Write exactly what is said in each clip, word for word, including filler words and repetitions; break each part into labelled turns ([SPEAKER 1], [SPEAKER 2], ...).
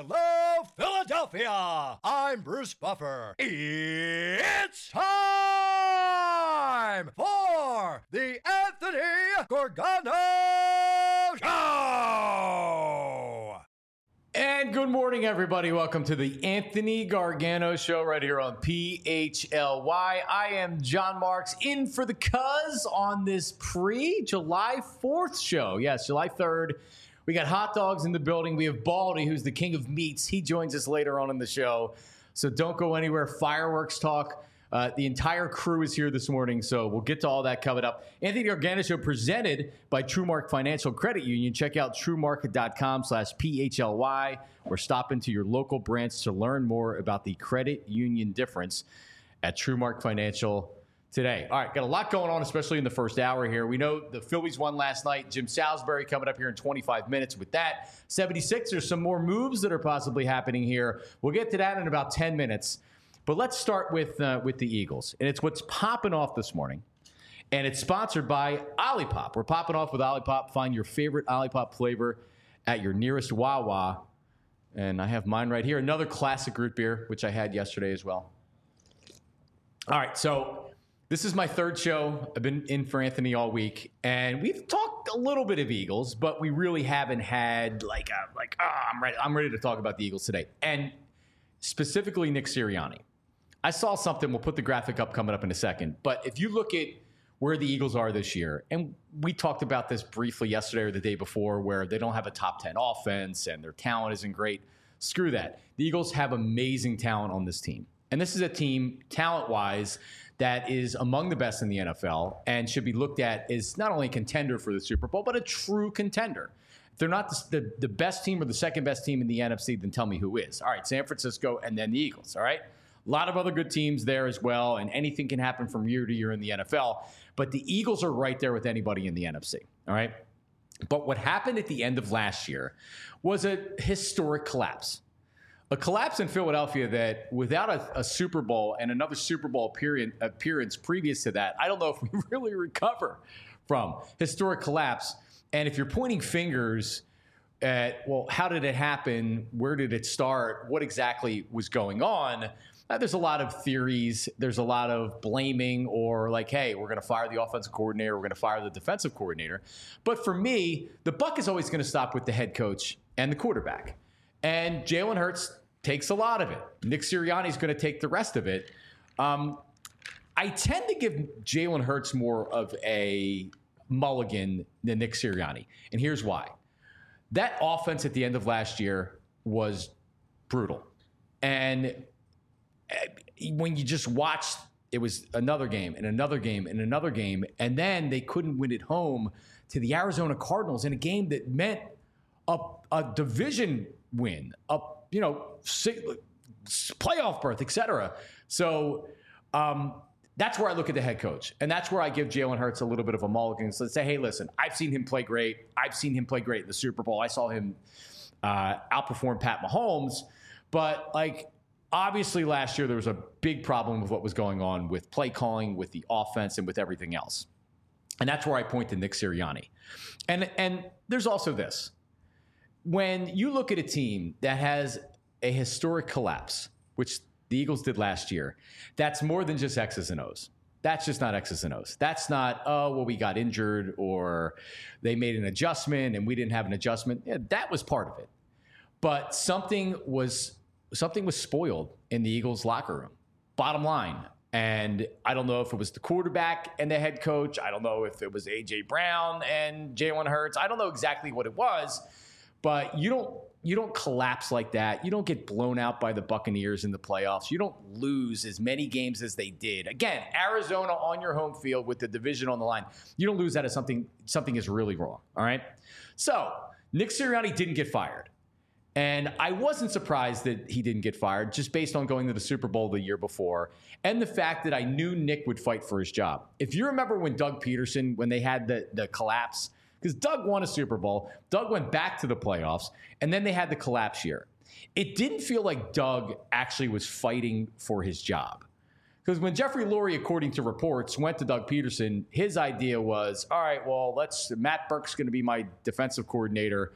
[SPEAKER 1] Hello, Philadelphia! I'm Bruce Buffer. It's time for the Anthony Gargano Show!
[SPEAKER 2] And good morning, everybody. Welcome to the Anthony Gargano Show right here on P H L Y. I am John Marks in for the Cuz on this pre-July fourth show. Yes, July third. We got hot dogs in the building. We have Baldy, who's the king of meats. He joins us later on in the show. So don't go anywhere. Fireworks talk. Uh, the entire crew is here this morning, so we'll get to all that coming up. Anthony Gargano Show presented by TrueMark Financial Credit Union. Check out truemarket.com slash PHLY or stop into your local branch to learn more about the credit union difference at TrueMark Financial today. All right, got a lot going on, especially in the first hour here. We know the Phillies won last night. Jim Salisbury coming up here in twenty-five minutes with that. seventy-sixers, some more moves that are possibly happening here. We'll get to that in about ten minutes. But let's start with uh, with the Eagles. And it's what's popping off this morning. And it's sponsored by Olipop. We're popping off with Olipop. Find your favorite Olipop flavor at your nearest Wawa. And I have mine right here. Another classic root beer, which I had yesterday as well. All right, so this is my third show. I've been in for Anthony all week. And we've talked a little bit of Eagles, but we really haven't had like, a, like oh, I'm ready. I'm ready to talk about the Eagles today. And specifically Nick Sirianni. I saw something. We'll put the graphic up coming up in a second. But if you look at where the Eagles are this year, and we talked about this briefly yesterday or the day before, where they don't have a top ten offense and their talent isn't great. Screw that. The Eagles have amazing talent on this team. And this is a team, talent-wise, that is among the best in the N F L and should be looked at as not only a contender for the Super Bowl, but a true contender. If they're not the, the, the best team or the second best team in the N F C, then tell me who is. All right, San Francisco and then the Eagles, all right? A lot of other good teams there as well, and anything can happen from year to year in the N F L. But the Eagles are right there with anybody in the N F C, all right? But what happened at the end of last year was a historic collapse. A collapse in Philadelphia that without a, a Super Bowl and another Super Bowl appearance, appearance previous to that, I don't know if we really recover from. Historic collapse. And if you're pointing fingers at, well, how did it happen? Where did it start? What exactly was going on? Uh, there's a lot of theories. There's a lot of blaming or like, hey, we're going to fire the offensive coordinator. We're going to fire the defensive coordinator. But for me, the buck is always going to stop with the head coach and the quarterback. And Jalen Hurts takes a lot of it. Nick Sirianni is going to take the rest of it. Um, I tend to give Jalen Hurts more of a mulligan than Nick Sirianni. And here's why. That offense at the end of last year was brutal. And when you just watched, it was another game and another game and another game. And then they couldn't win at home to the Arizona Cardinals in a game that meant a, a division win, a you know, playoff berth, et cetera. So um, that's where I look at the head coach. And that's where I give Jalen Hurts a little bit of a mulligan. So let's say, hey, listen, I've seen him play great. I've seen him play great in the Super Bowl. I saw him uh, outperform Pat Mahomes. But, like, obviously last year there was a big problem with what was going on with play calling, with the offense, and with everything else. And that's where I point to Nick Sirianni. And And there's also this. When you look at a team that has a historic collapse, which the Eagles did last year, that's more than just X's and O's. That's just not X's and O's. That's not, oh, well, we got injured or they made an adjustment and we didn't have an adjustment. Yeah, that was part of it. But something was something was spoiled in the Eagles locker room, bottom line. And I don't know if it was the quarterback and the head coach. I don't know if it was A J Brown and Jalen Hurts. I don't know exactly what it was. But you don't you don't collapse like that. You don't get blown out by the Buccaneers in the playoffs. You don't lose as many games as they did. Again, Arizona on your home field with the division on the line. You don't lose that as something something is really wrong. All right. So Nick Sirianni didn't get fired. And I wasn't surprised that he didn't get fired just based on going to the Super Bowl the year before and the fact that I knew Nick would fight for his job. If you remember when Doug Peterson, when they had the, the collapse, because Doug won a Super Bowl, Doug went back to the playoffs, and then they had the collapse year. It didn't feel like Doug actually was fighting for his job. Because when Jeffrey Lurie, according to reports, went to Doug Peterson, his idea was, all right, well, let's Matt Burke's going to be my defensive coordinator.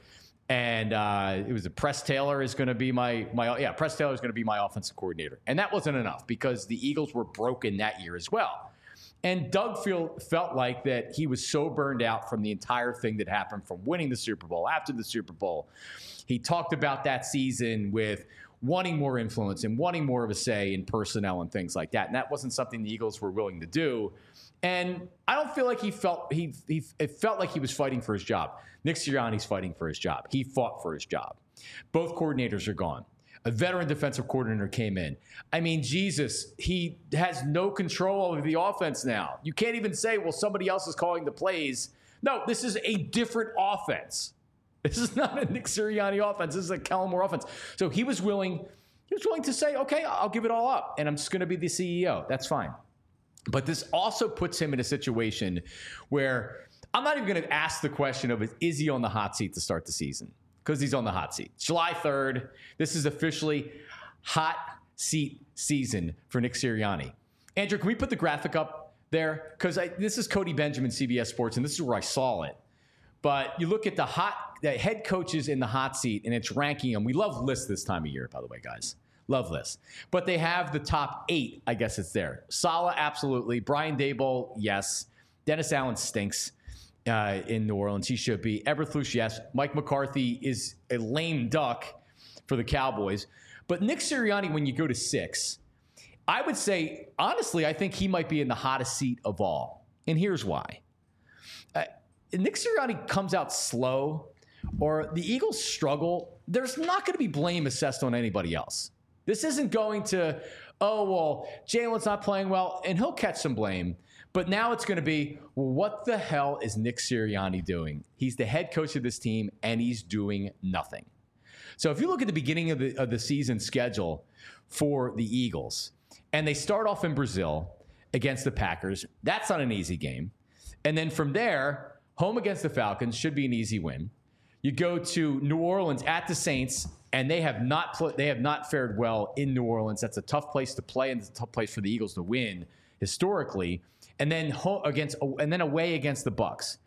[SPEAKER 2] And uh, it was a Press Taylor is going to be my my yeah Press Taylor is going to be my offensive coordinator, and that wasn't enough because the Eagles were broken that year as well. And Doug feel, felt like that he was so burned out from the entire thing that happened from winning the Super Bowl after the Super Bowl. He talked about that season with wanting more influence and wanting more of a say in personnel and things like that, and that wasn't something the Eagles were willing to do. And I don't feel like he felt he, he it felt like he was fighting for his job. Nick Sirianni's fighting for his job. He fought for his job. Both coordinators are gone. A veteran defensive coordinator came in. I mean, Jesus, he has no control over the offense now. You can't even say, well, somebody else is calling the plays. No, this is a different offense. This is not a Nick Sirianni offense. This is a Kellen Moore offense. So he was willing, he was willing to say, okay, I'll give it all up, and I'm just going to be the C E O. That's fine. But this also puts him in a situation where I'm not even going to ask the question of, is he on the hot seat to start the season? Because he's on the hot seat. July third, this is officially hot seat season for Nick Sirianni. Andrew, can we put the graphic up there? Because this is Cody Benjamin, C B S Sports, and this is where I saw it. But you look at the hot the head coaches in the hot seat, and it's ranking them. We love lists this time of year, by the way, guys. Love lists. But they have the top eight, I guess it's there. Saleh, absolutely. Brian Daboll, yes. Dennis Allen stinks uh, in New Orleans. He should be. Eberflus, yes. Mike McCarthy is a lame duck for the Cowboys. But Nick Sirianni, when you go to six, I would say, honestly, I think he might be in the hottest seat of all. And here's why. Uh, Nick Sirianni comes out slow, or the Eagles struggle, there's not going to be blame assessed on anybody else. This isn't going to, oh, well, Jalen's not playing well, and he'll catch some blame. But now it's going to be, well, what the hell is Nick Sirianni doing? He's the head coach of this team, and he's doing nothing. So if you look at the beginning of the, of the season schedule for the Eagles, and they start off in Brazil against the Packers, that's not an easy game. And then from there, home against the Falcons should be an easy win. You go to New Orleans at the Saints, and they have not pl- they have not fared well in New Orleans. That's a tough place to play, and it's a tough place for the Eagles to win historically. And then ho- against and then away against the Bucs.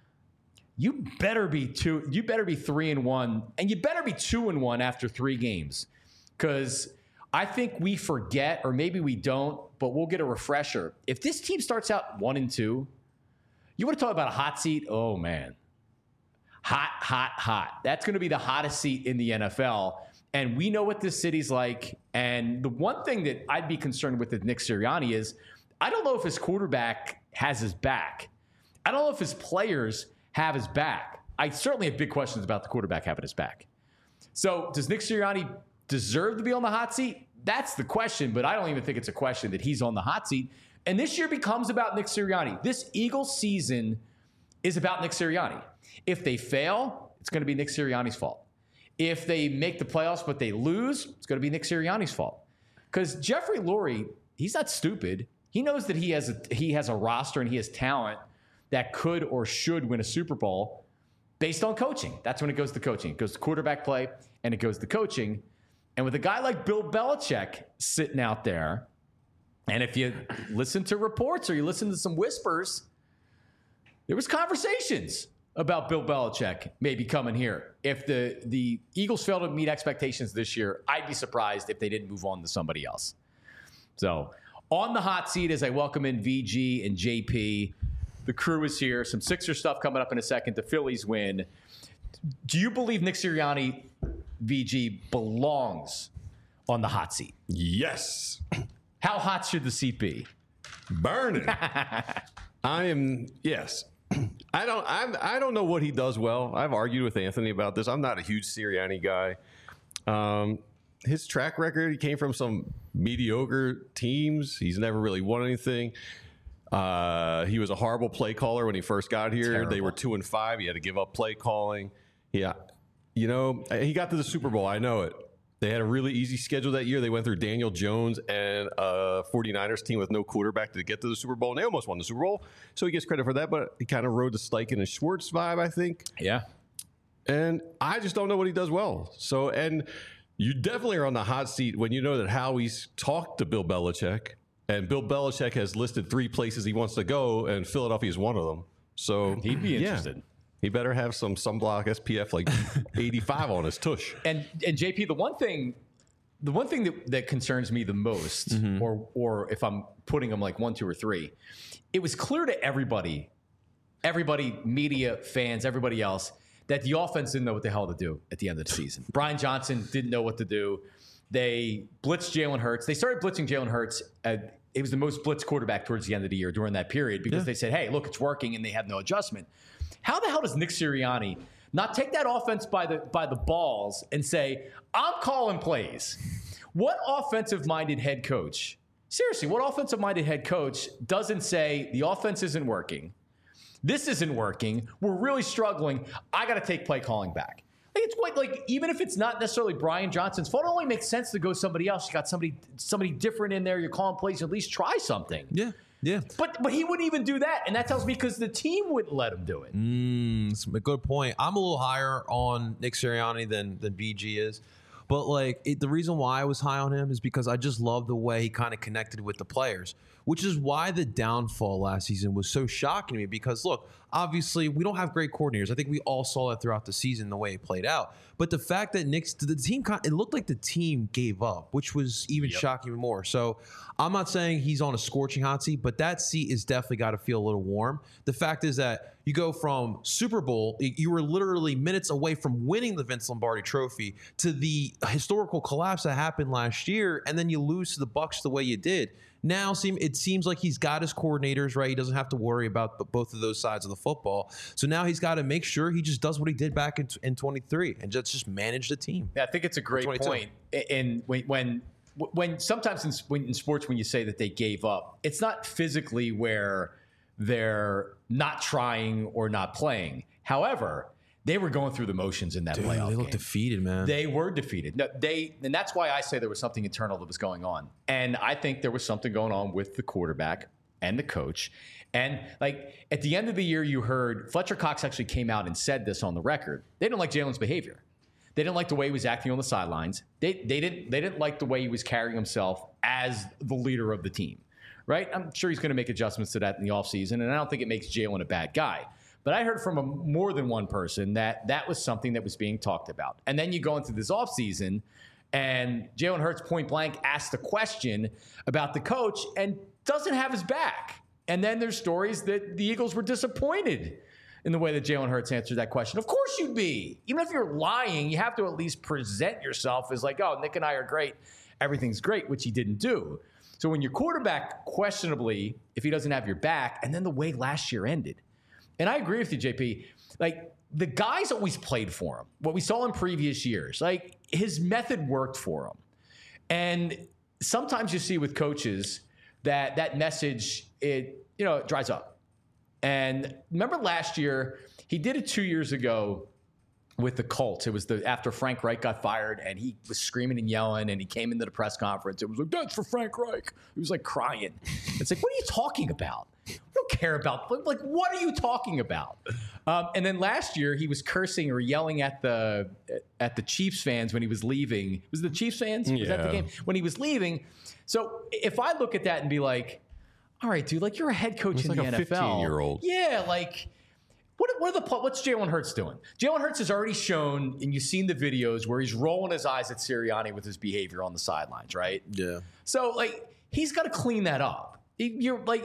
[SPEAKER 2] You better be two. You better be three and one, and you better be two and one after three games, because I think we forget, or maybe we don't, but we'll get a refresher. If this team starts out one and two, you want to talk about a hot seat? Oh man. Hot, hot, hot. That's going to be the hottest seat in the N F L. And we know what this city's like. And the one thing that I'd be concerned with with Nick Sirianni is I don't know if his quarterback has his back. I don't know if his players have his back. I certainly have big questions about the quarterback having his back. So does Nick Sirianni deserve to be on the hot seat? That's the question, but I don't even think it's a question that he's on the hot seat. And this year becomes about Nick Sirianni. This Eagles season is about Nick Sirianni. If they fail, it's going to be Nick Sirianni's fault. If they make the playoffs but they lose, it's going to be Nick Sirianni's fault. Because Jeffrey Lurie, he's not stupid. He knows that he has a, he has a roster and he has talent that could or should win a Super Bowl based on coaching. That's when it goes to coaching. It goes to quarterback play, and it goes to coaching. And with a guy like Bill Belichick sitting out there, and if you listen to reports or you listen to some whispers, there was conversations about Bill Belichick maybe coming here. If the, the Eagles fail to meet expectations this year, I'd be surprised if they didn't move on to somebody else. So on the hot seat as I welcome in V G and J P, the crew is here. Some Sixer stuff coming up in a second. The Phillies win. Do you believe Nick Sirianni, V G, belongs on the hot seat?
[SPEAKER 3] Yes.
[SPEAKER 2] How hot should the seat be?
[SPEAKER 3] Burning. I am, yes. I don't I'm, I don't know what he does well. I've argued with Anthony about this. I'm not a huge Sirianni guy. Um, his track record, he came from some mediocre teams. He's never really won anything. Uh, he was a horrible play caller when he first got here.
[SPEAKER 2] Terrible.
[SPEAKER 3] They were two and five. He had to give up play calling. Yeah. You know, he got to the Super Bowl. I know it. They had a really easy schedule that year. They went through Daniel Jones and a 49ers team with no quarterback to get to the Super Bowl, and they almost won the Super Bowl. So he gets credit for that, but he kind of rode the Steichen and Schwartz vibe, I think.
[SPEAKER 2] Yeah.
[SPEAKER 3] And I just don't know what he does well. So, and you definitely are on the hot seat when you know that Howie's talked to Bill Belichick, and Bill Belichick has listed three places he wants to go, and Philadelphia is one of them. So
[SPEAKER 2] he'd be interested.
[SPEAKER 3] Yeah. He better have some sunblock S P F like eighty-five on his tush.
[SPEAKER 2] And and J P, the one thing, the one thing that, that concerns me the most, mm-hmm. or or if I'm putting them like one, two, or three, it was clear to everybody, everybody, media, fans, everybody else, that the offense didn't know what the hell to do at the end of the season. Brian Johnson didn't know what to do. They blitzed Jalen Hurts. They started blitzing Jalen Hurts. At, it was the most blitzed quarterback towards the end of the year during that period because yeah. they said, hey, look, it's working, and they had no adjustment. How the hell does Nick Sirianni not take that offense by the by the balls and say, I'm calling plays? What offensive-minded head coach, seriously, what offensive-minded head coach doesn't say the offense isn't working, this isn't working, we're really struggling, I got to take play calling back? Like, it's quite like, even if it's not necessarily Brian Johnson's fault, it only makes sense to go somebody else. You got somebody somebody different in there, you're calling plays, at least try something.
[SPEAKER 4] Yeah. Yeah,
[SPEAKER 2] but but he wouldn't even do that, and that tells me because the team wouldn't let him do it.
[SPEAKER 4] Mm, it's a good point. I'm a little higher on Nick Sirianni than than B G is, but like it, the reason why I was high on him is because I just love the way he kind of connected with the players, which is why the downfall last season was so shocking to me. Because look, obviously we don't have great coordinators. I think we all saw that throughout the season the way it played out. But the fact that Nick's the team, it looked like the team gave up, which was even yep. shocking more. So I'm not saying he's on a scorching hot seat, but that seat is definitely got to feel a little warm. The fact is that you go from Super Bowl, you were literally minutes away from winning the Vince Lombardi Trophy, to the historical collapse that happened last year, and then you lose to the Bucs the way you did. Now it seems like he's got his coordinators, right? He doesn't have to worry about both of those sides of the football. So now he's got to make sure he just does what he did back in, in twenty-three and just, just manage the team.
[SPEAKER 2] Yeah, I think it's a great point. And when, when when sometimes in, when, in sports, when you say that they gave up, it's not physically where they're not trying or not playing. However, they were going through the motions in that
[SPEAKER 4] Dude,
[SPEAKER 2] playoff
[SPEAKER 4] They looked
[SPEAKER 2] game.
[SPEAKER 4] defeated, man.
[SPEAKER 2] They were defeated. No, they, and that's why I say there was something internal that was going on. And I think there was something going on with the quarterback and the coach. And like at the end of the year, you heard Fletcher Cox actually came out and said this on the record. They didn't like Jalen's behavior. They didn't like the way he was acting on the sidelines. They they didn't they didn't like the way he was carrying himself as the leader of the team. Right? I'm sure he's going to make adjustments to that in the offseason, and I don't think it makes Jalen a bad guy. But I heard from a, more than one person that that was something that was being talked about. And then you go into this offseason, and Jalen Hurts point blank asked a question about the coach and doesn't have his back. And then there's stories that the Eagles were disappointed in the way that Jalen Hurts answered that question. Of course you'd be. Even if you're lying, you have to at least present yourself as like, oh, Nick and I are great. Everything's great, which he didn't do. So when your quarterback, questionably, if he doesn't have your back, and then the way last year ended. And I agree with you, J P. Like, the guys always played for him. What we saw in previous years, like, his method worked for him. And sometimes you see with coaches that that message, it, you know, it dries up. And remember last year, he did it two years ago with the Colts. It was the after Frank Reich got fired, and he was screaming and yelling, and he came into the press conference. It was like, that's for Frank Reich. He was like crying. It's like, what are you talking about? I don't care about, like, what are you talking about? Um, and then last year, he was cursing or yelling at the at the Chiefs fans when he was leaving. Was it the Chiefs fans? Was
[SPEAKER 3] yeah.
[SPEAKER 2] that the game? When he was leaving. So if I look at that and be like, all right, dude, like, you're a head coach
[SPEAKER 3] it's
[SPEAKER 2] in
[SPEAKER 3] like
[SPEAKER 2] the
[SPEAKER 3] a
[SPEAKER 2] N F L.
[SPEAKER 3] fifteen-year-old.
[SPEAKER 2] Yeah, like, what, what are the what's Jalen Hurts doing? Jalen Hurts has already shown, and you've seen the videos where he's rolling his eyes at Sirianni with his behavior on the sidelines, right?
[SPEAKER 4] Yeah.
[SPEAKER 2] So, like, he's got to clean that up. You're like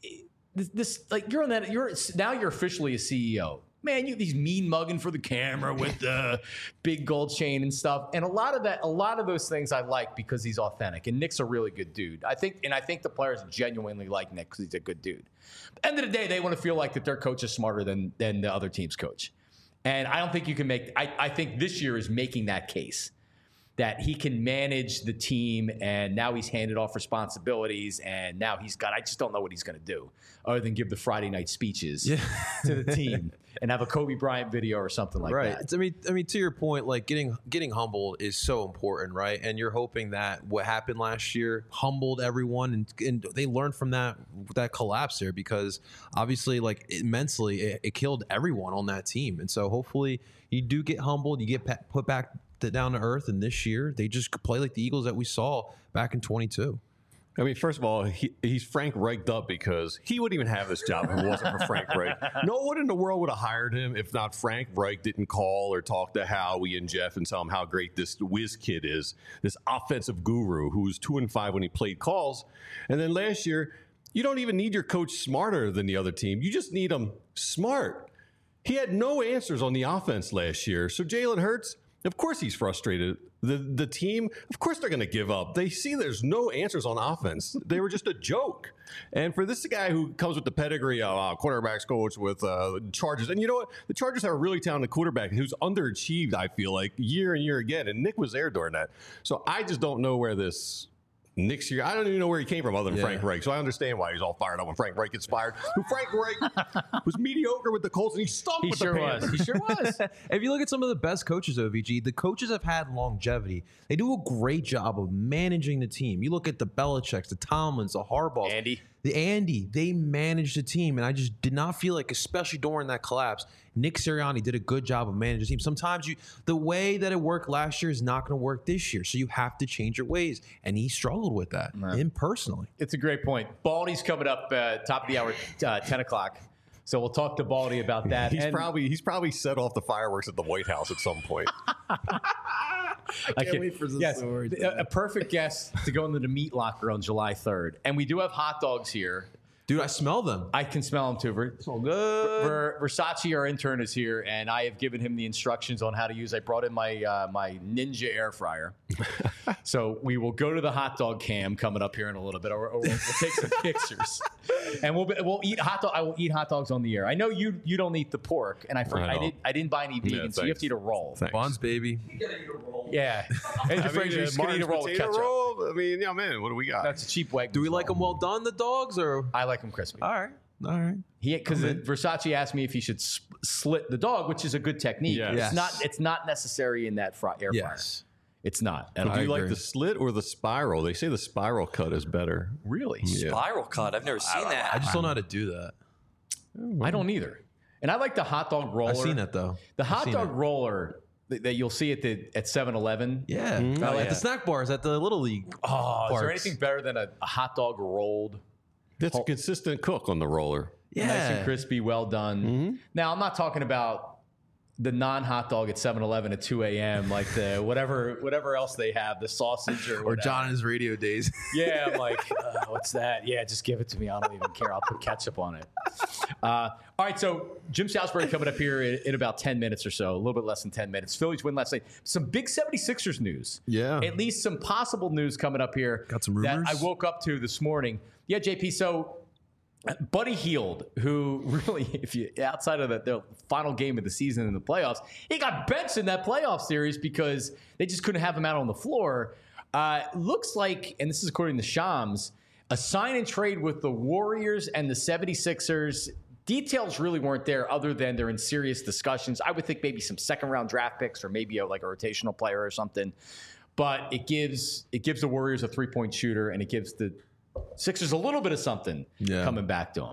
[SPEAKER 2] this, this, like you're on that. You're now you're officially a C E O. Man, you these mean mugging for the camera with the big gold chain and stuff. And a lot of that, a lot of those things I like because he's authentic. And Nick's a really good dude. I think, and I think the players genuinely like Nick because he's a good dude. At the end of the day, they want to feel like that their coach is smarter than than the other team's coach. And I don't think you can make. I, I think this year is making that case that he can manage the team, and now he's handed off responsibilities, and now he's got. I just don't know what he's going to do other than give the Friday night speeches yeah. to the team and have a Kobe Bryant video or something like
[SPEAKER 4] right.
[SPEAKER 2] that.
[SPEAKER 4] I mean, I mean, to your point, like getting getting humbled is so important, right? And you're hoping that what happened last year humbled everyone, and, and they learned from that that collapse there, because obviously, like it, mentally, it, it killed everyone on that team. And so hopefully, you do get humbled, you get put back down to earth, and this year they just play like the Eagles that we saw back in twenty-two.
[SPEAKER 3] I mean, first of all, he, he's Frank Reich'd up because he wouldn't even have this job if it wasn't for Frank Reich. No one in the world would have hired him if not Frank Reich didn't call or talk to Howie and Jeff and tell him how great this whiz kid is, this offensive guru who was two and five when he played calls. And then last year, you don't even need your coach smarter than the other team. You just need him smart. He had no answers on the offense last year. So Jalen Hurts, of course he's frustrated. The the team, of course they're going to give up. They see there's no answers on offense. They were just a joke. And for this guy who comes with the pedigree of uh, quarterbacks coach with uh, Chargers, and you know what? The Chargers have a really talented quarterback who's underachieved, I feel like, year and year again. And Nick was there during that. So I just don't know where this Nick's year, I don't even know where he came from other than
[SPEAKER 4] yeah.
[SPEAKER 3] Frank Reich. So I understand why he's all fired up when Frank Reich gets fired. Who Frank Reich was mediocre with the Colts and he stunk
[SPEAKER 2] He
[SPEAKER 3] with
[SPEAKER 2] sure
[SPEAKER 3] the
[SPEAKER 2] was.
[SPEAKER 3] Panthers.
[SPEAKER 2] He sure was.
[SPEAKER 4] If you look at some of the best coaches, O V G, the coaches have had longevity. They do a great job of managing the team. You look at the Belichicks, the Tomlins, the Harbaughs.
[SPEAKER 2] Andy.
[SPEAKER 4] The Andy, they managed the team, and I just did not feel like, especially during that collapse, Nick Sirianni did a good job of managing the team. Sometimes you, the way that it worked last year is not going to work this year, so you have to change your ways, and he struggled with that, him personally.
[SPEAKER 2] It's a great point. Baldy's coming up uh, top of the hour, uh, ten o'clock. So we'll talk to Baldy about that.
[SPEAKER 3] He's
[SPEAKER 2] And
[SPEAKER 3] probably he's probably set off the fireworks at the White House at some point.
[SPEAKER 2] I can't wait for this. Yes,
[SPEAKER 4] story.
[SPEAKER 2] a, a perfect guest to go into the meat locker on July third. And we do have hot dogs here.
[SPEAKER 4] Dude, I smell them.
[SPEAKER 2] I can smell them too. Ver-
[SPEAKER 4] Smell good.
[SPEAKER 2] Ver- Versace, our intern, is here, and I have given him the instructions on how to use. I brought in my uh, my Ninja air fryer, so we will go to the hot dog cam coming up here in a little bit, or, or we'll, we'll take some pictures, and we'll be, we'll eat hot dog. I will eat hot dogs on the air. I know you you don't eat the pork, and I forgot,
[SPEAKER 3] I
[SPEAKER 2] I,
[SPEAKER 3] don't.
[SPEAKER 2] did I didn't buy any vegan,
[SPEAKER 3] Yeah,
[SPEAKER 2] so you have
[SPEAKER 3] thanks.
[SPEAKER 2] to eat a roll.
[SPEAKER 3] Thanks.
[SPEAKER 4] Buns, baby.
[SPEAKER 2] Yeah, and your
[SPEAKER 3] I
[SPEAKER 2] friends
[SPEAKER 3] mean,
[SPEAKER 2] are
[SPEAKER 3] uh,
[SPEAKER 2] just gonna eat a
[SPEAKER 3] Martin's
[SPEAKER 2] roll with
[SPEAKER 3] potato
[SPEAKER 2] ketchup.
[SPEAKER 3] roll. I mean, yeah, man, what do we got?
[SPEAKER 2] That's a cheap Wegmans.
[SPEAKER 4] Do we like
[SPEAKER 2] roll.
[SPEAKER 4] them well done, the dogs, or?
[SPEAKER 2] I like them crispy.
[SPEAKER 4] All right. All right.
[SPEAKER 2] He because Versace asked me if he should sp- slit the dog, which is a good technique.
[SPEAKER 3] Yes.
[SPEAKER 2] It's
[SPEAKER 4] Yes.
[SPEAKER 2] not. It's not necessary in that fry, air fryer.
[SPEAKER 4] Yes.
[SPEAKER 2] It's not. at
[SPEAKER 3] do
[SPEAKER 2] all.
[SPEAKER 3] you
[SPEAKER 4] I
[SPEAKER 3] like
[SPEAKER 4] agree.
[SPEAKER 3] the slit or the spiral? They say the spiral cut is better.
[SPEAKER 2] Really?
[SPEAKER 3] Yeah.
[SPEAKER 5] Spiral cut. I've never seen that.
[SPEAKER 4] I just don't know how to do that.
[SPEAKER 2] I don't either. And I like the hot dog roller.
[SPEAKER 4] I've seen that, though.
[SPEAKER 2] The
[SPEAKER 4] I've
[SPEAKER 2] hot
[SPEAKER 4] seen
[SPEAKER 2] dog
[SPEAKER 4] it.
[SPEAKER 2] roller that, that you'll see at the at seven eleven.
[SPEAKER 4] Yeah.
[SPEAKER 3] Mm-hmm.
[SPEAKER 4] I
[SPEAKER 2] Oh,
[SPEAKER 4] like
[SPEAKER 2] yeah.
[SPEAKER 4] the snack bars at the Little League.
[SPEAKER 2] Oh, is there
[SPEAKER 4] Parks.
[SPEAKER 2] anything better than a, a hot dog rolled,
[SPEAKER 3] That's a consistent cook on the roller.
[SPEAKER 4] Yeah.
[SPEAKER 2] nice and crispy, well done? Now I'm not talking about the non-hot dog at seven eleven at two a.m. like the whatever whatever else they have, the sausage or
[SPEAKER 4] Or
[SPEAKER 2] whatever.
[SPEAKER 4] John in his radio days.
[SPEAKER 2] Yeah, I'm like, uh, what's that? Yeah, just give it to me. I don't even care. I'll put ketchup on it. Uh, all right, so Jim Salisbury coming up here in, in about ten minutes or so, a little bit less than ten minutes. Phillies win last night. Some big seventy-sixers news.
[SPEAKER 3] Yeah.
[SPEAKER 2] At least some possible news coming up here.
[SPEAKER 4] Got some
[SPEAKER 2] that
[SPEAKER 4] rumors?
[SPEAKER 2] I woke up to this morning. Yeah, J P, so Buddy Hield, who really, if you outside of the, the final game of the season in the playoffs, he got benched in that playoff series because they just couldn't have him out on the floor. Uh, looks like, and this is according to Shams, a sign and trade with the Warriors and the seventy-sixers. Details really weren't there other than they're in serious discussions. I would think maybe some second round draft picks or maybe a, like a rotational player or something. But it gives it gives the Warriors a three point shooter and it gives the Sixers a little bit of something
[SPEAKER 4] Yeah.
[SPEAKER 2] coming back to them.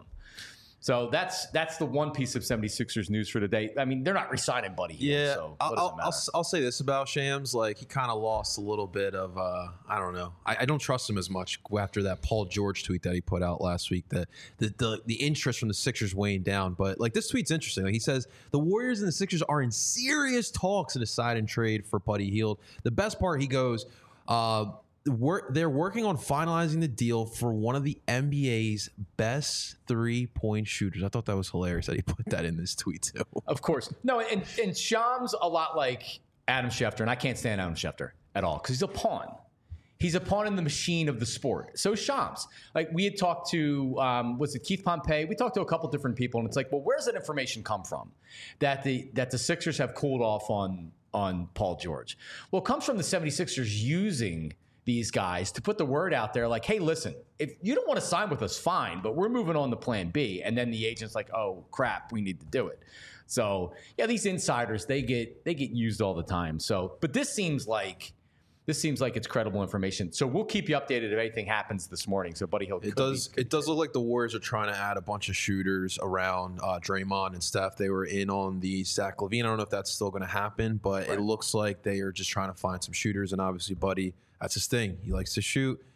[SPEAKER 2] So that's that's the one piece of seventy-sixers news for today. I mean, they're not re-signing Buddy Hield,
[SPEAKER 4] Yeah,
[SPEAKER 2] so what
[SPEAKER 4] I'll,
[SPEAKER 2] does it
[SPEAKER 4] I'll,
[SPEAKER 2] matter?
[SPEAKER 4] I'll, I'll say this about Shams. Like, he kind of lost a little bit of, uh, I don't know. I, I don't trust him as much after that Paul George tweet that he put out last week. The, the, the, the interest from the Sixers weighing down. But, like, this tweet's interesting. Like, he says, the Warriors and the Sixers are in serious talks to decide and trade for Buddy Hield. The best part, he goes, uh, We're, they're working on finalizing the deal for one of the N B A's best three-point shooters. I thought that was hilarious that he put that in this tweet, too.
[SPEAKER 2] Of course. No, and, and Shams a lot like Adam Schefter, and I can't stand Adam Schefter at all because he's a pawn. He's a pawn in the machine of the sport. So Shams, like we had talked to, um, was it Keith Pompey? We talked to a couple different people, and it's like, well, where's that information come from? That the that the Sixers have cooled off on, on Paul George. Well, it comes from the seventy-sixers using these guys to put the word out there like, hey, listen, if you don't want to sign with us, fine, but we're moving on to plan B. And then the agent's like, oh, crap, we need to do it. So, yeah, these insiders, they get they get used all the time. So, but this seems like this seems like it's credible information. So we'll keep you updated if anything happens this morning. So Buddy Hield,
[SPEAKER 4] It does. It does look like the Warriors are trying to add a bunch of shooters around uh, Draymond and Steph. They were in on the Zach LaVine. I don't know if that's still going to happen, but it looks like they are just trying to find some shooters. And obviously, Buddy, that's his thing. He likes to shoot.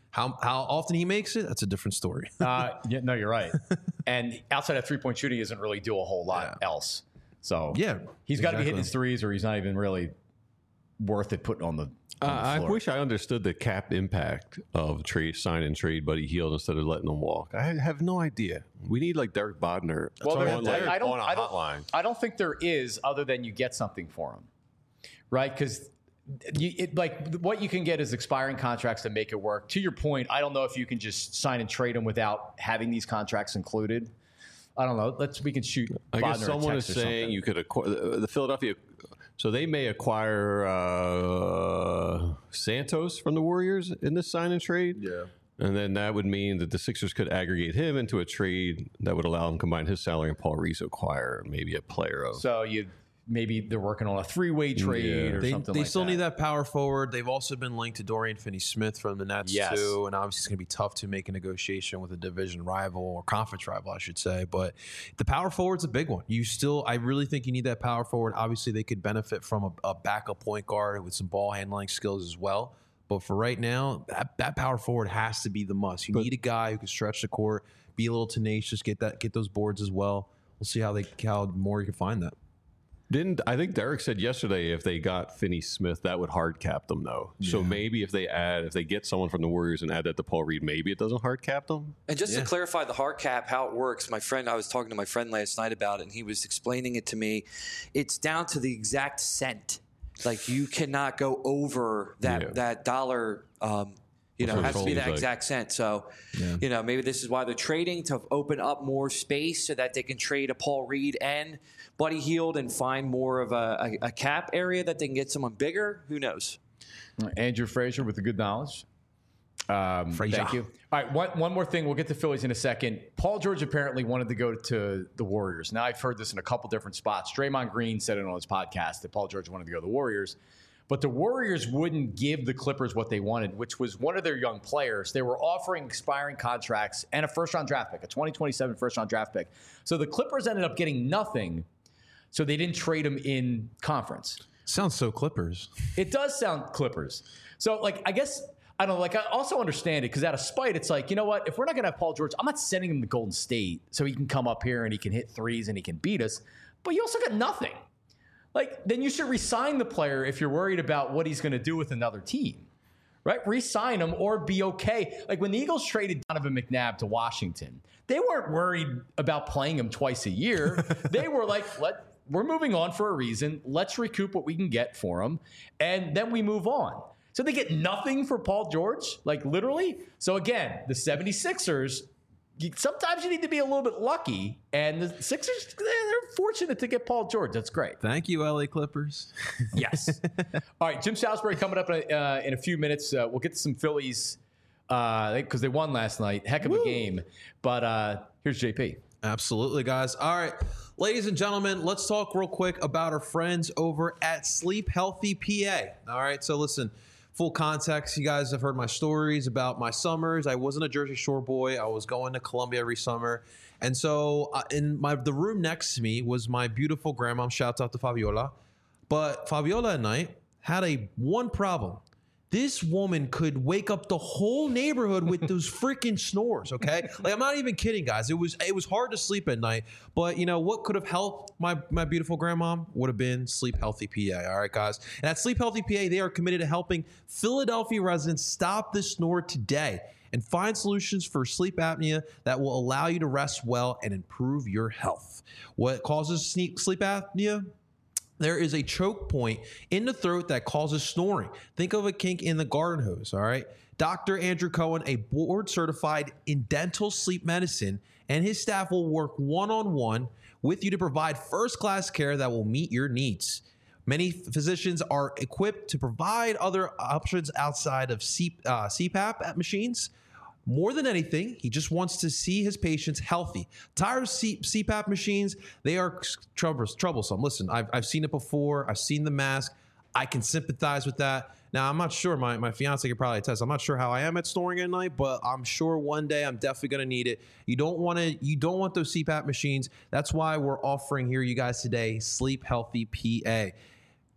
[SPEAKER 4] How how often he makes it, that's a different story.
[SPEAKER 2] uh, yeah, no, you're right. And outside of three-point shooting, he doesn't really do a whole lot
[SPEAKER 4] Yeah.
[SPEAKER 2] else. So
[SPEAKER 4] Yeah,
[SPEAKER 2] he's got to be hitting
[SPEAKER 4] exactly.
[SPEAKER 2] his threes, or he's not even really worth it putting on the.
[SPEAKER 3] Uh,
[SPEAKER 2] on the
[SPEAKER 3] I
[SPEAKER 2] floor.
[SPEAKER 3] wish I understood the cap impact of trade sign and trade Buddy Hield instead of letting him walk. I have no idea. We need like Derek Bodner
[SPEAKER 2] Well,
[SPEAKER 3] on,
[SPEAKER 2] there-
[SPEAKER 3] like,
[SPEAKER 2] I don't-
[SPEAKER 3] on a
[SPEAKER 2] I don't-
[SPEAKER 3] hotline.
[SPEAKER 2] I don't think there is, other than you get something for him, right? Because you, it, like what you can get is expiring contracts to make it work. To your point, I don't know if you can just sign and trade them without having these contracts included. I don't know. Let's we can shoot.
[SPEAKER 3] I guess
[SPEAKER 2] Bodner a
[SPEAKER 3] someone is
[SPEAKER 2] text or
[SPEAKER 3] saying
[SPEAKER 2] something.
[SPEAKER 3] you could acquire the Philadelphia. So they may acquire uh, Santos from the Warriors in this sign and trade.
[SPEAKER 4] Yeah.
[SPEAKER 3] And then that would mean that the Sixers could aggregate him into a trade that would allow him to combine his salary and Paul Reese acquire maybe a player of.
[SPEAKER 2] So you maybe they're working on a three-way trade
[SPEAKER 3] Yeah.
[SPEAKER 2] or
[SPEAKER 4] They,
[SPEAKER 2] something
[SPEAKER 4] they
[SPEAKER 2] like
[SPEAKER 4] still
[SPEAKER 2] that.
[SPEAKER 4] need that power forward. They've also been linked to Dorian Finney-Smith from the Nets
[SPEAKER 2] Yes.
[SPEAKER 4] too, and obviously it's going to be tough to make a negotiation with a division rival or conference rival, I should say. But the power forward's a big one. You still, I really think you need that power forward. Obviously, they could benefit from a, a backup point guard with some ball handling skills as well. But for right now, that, that power forward has to be the must. You
[SPEAKER 3] But-
[SPEAKER 4] need a guy who can stretch the court, be a little tenacious, get that, get those boards as well. We'll see how they how more you can find that.
[SPEAKER 3] Didn't I think Derek said yesterday if they got Finney Smith, that would hard cap them though. So maybe if they add, if they get someone from the Warriors and add that to Paul Reed, maybe it doesn't hard cap them.
[SPEAKER 5] And just
[SPEAKER 4] Yeah.
[SPEAKER 5] to clarify the hard cap, how it works, my friend, I was talking to my friend last night about it, and he was explaining it to me. It's down to the exact cent. Like you cannot go over that
[SPEAKER 3] Yeah.
[SPEAKER 5] that dollar. Um, you know,
[SPEAKER 3] That's
[SPEAKER 5] it has
[SPEAKER 3] what
[SPEAKER 5] to be
[SPEAKER 3] it
[SPEAKER 5] that
[SPEAKER 3] seems like.
[SPEAKER 5] exact cent. So, you know, maybe this is why they're trading to open up more space so that they can trade a Paul Reed and Buddy Hield and find more of a, a, a cap area that they can get someone bigger. Who knows?
[SPEAKER 2] Andrew Frazier with the good knowledge. Um,
[SPEAKER 4] Frazier.
[SPEAKER 2] Thank you. All right, one, one more thing. We'll get to Phillies in a second. Paul George apparently wanted to go to the Warriors. Now, I've heard this in a couple different spots. Draymond Green said it on his podcast that Paul George wanted to go to the Warriors. But the Warriors wouldn't give the Clippers what they wanted, which was one of their young players. They were offering expiring contracts and a first-round draft pick, a twenty twenty-seven first-round draft pick. So the Clippers ended up getting nothing, so they didn't trade him in conference.
[SPEAKER 4] Sounds so Clippers.
[SPEAKER 2] It does sound Clippers. So, like, I guess, I don't know, like, I also understand it because out of spite, it's like, you know what? If we're not going to have Paul George, I'm not sending him to Golden State so he can come up here and he can hit threes and he can beat us. But you also got nothing. Like, then you should re-sign the player if you're worried about what he's going to do with another team, right? Re-sign him or be okay. Like, when the Eagles traded Donovan McNabb to Washington, they weren't worried about playing him twice a year. They were like, let we're moving on for a reason. Let's recoup what we can get for him, and then we move on. So they get nothing for Paul George, like literally. So again, the 76ers, you, sometimes you need to be a little bit lucky, and the Sixers, they're, they're fortunate to get Paul George. That's great.
[SPEAKER 4] Thank you, L A Clippers.
[SPEAKER 2] Yes. All right, Jim Salisbury coming up in a, uh, in a few minutes. Uh, we'll get to some Phillies because uh, they won last night. Heck of a game. But uh, here's J P.
[SPEAKER 4] Absolutely, guys. All right, ladies and gentlemen, let's talk real quick about our friends over at Sleep Healthy P A. All right, so listen, full context, you guys have heard my stories about my summers. I wasn't a Jersey Shore boy. I was going to Columbia every summer. And so uh, in my the room next to me was my beautiful grandma. Shout out to Fabiola. But Fabiola at night had a one problem. This woman could wake up the whole neighborhood with those freaking snores, okay? Like, I'm not even kidding, guys. It was it was hard to sleep at night. But, you know, what could have helped my, my beautiful grandma would have been Sleep Healthy P A, all right, guys? And at Sleep Healthy P A, they are committed to helping Philadelphia residents stop the snore today and find solutions for sleep apnea that will allow you to rest well and improve your health. What causes sleep apnea? There is a choke point in the throat that causes snoring. Think of a kink in the garden hose, all right? Doctor Andrew Cohen, a board certified in dental sleep medicine, and his staff will work one-on-one with you to provide first-class care that will meet your needs. Many physicians are equipped to provide other options outside of C, uh, C PAP machines. More than anything, he just wants to see his patients healthy. Tired of C- CPAP machines? They are troubles- troublesome. Listen, I've, I've seen it before. I've seen the mask. I can sympathize with that. Now, I'm not sure. My, my fiance could probably attest. I'm not sure how I am at snoring at night, but I'm sure one day I'm definitely going to need it. You don't want to. You don't want those C PAP machines. That's why we're offering here, you guys, today, Sleep Healthy P A.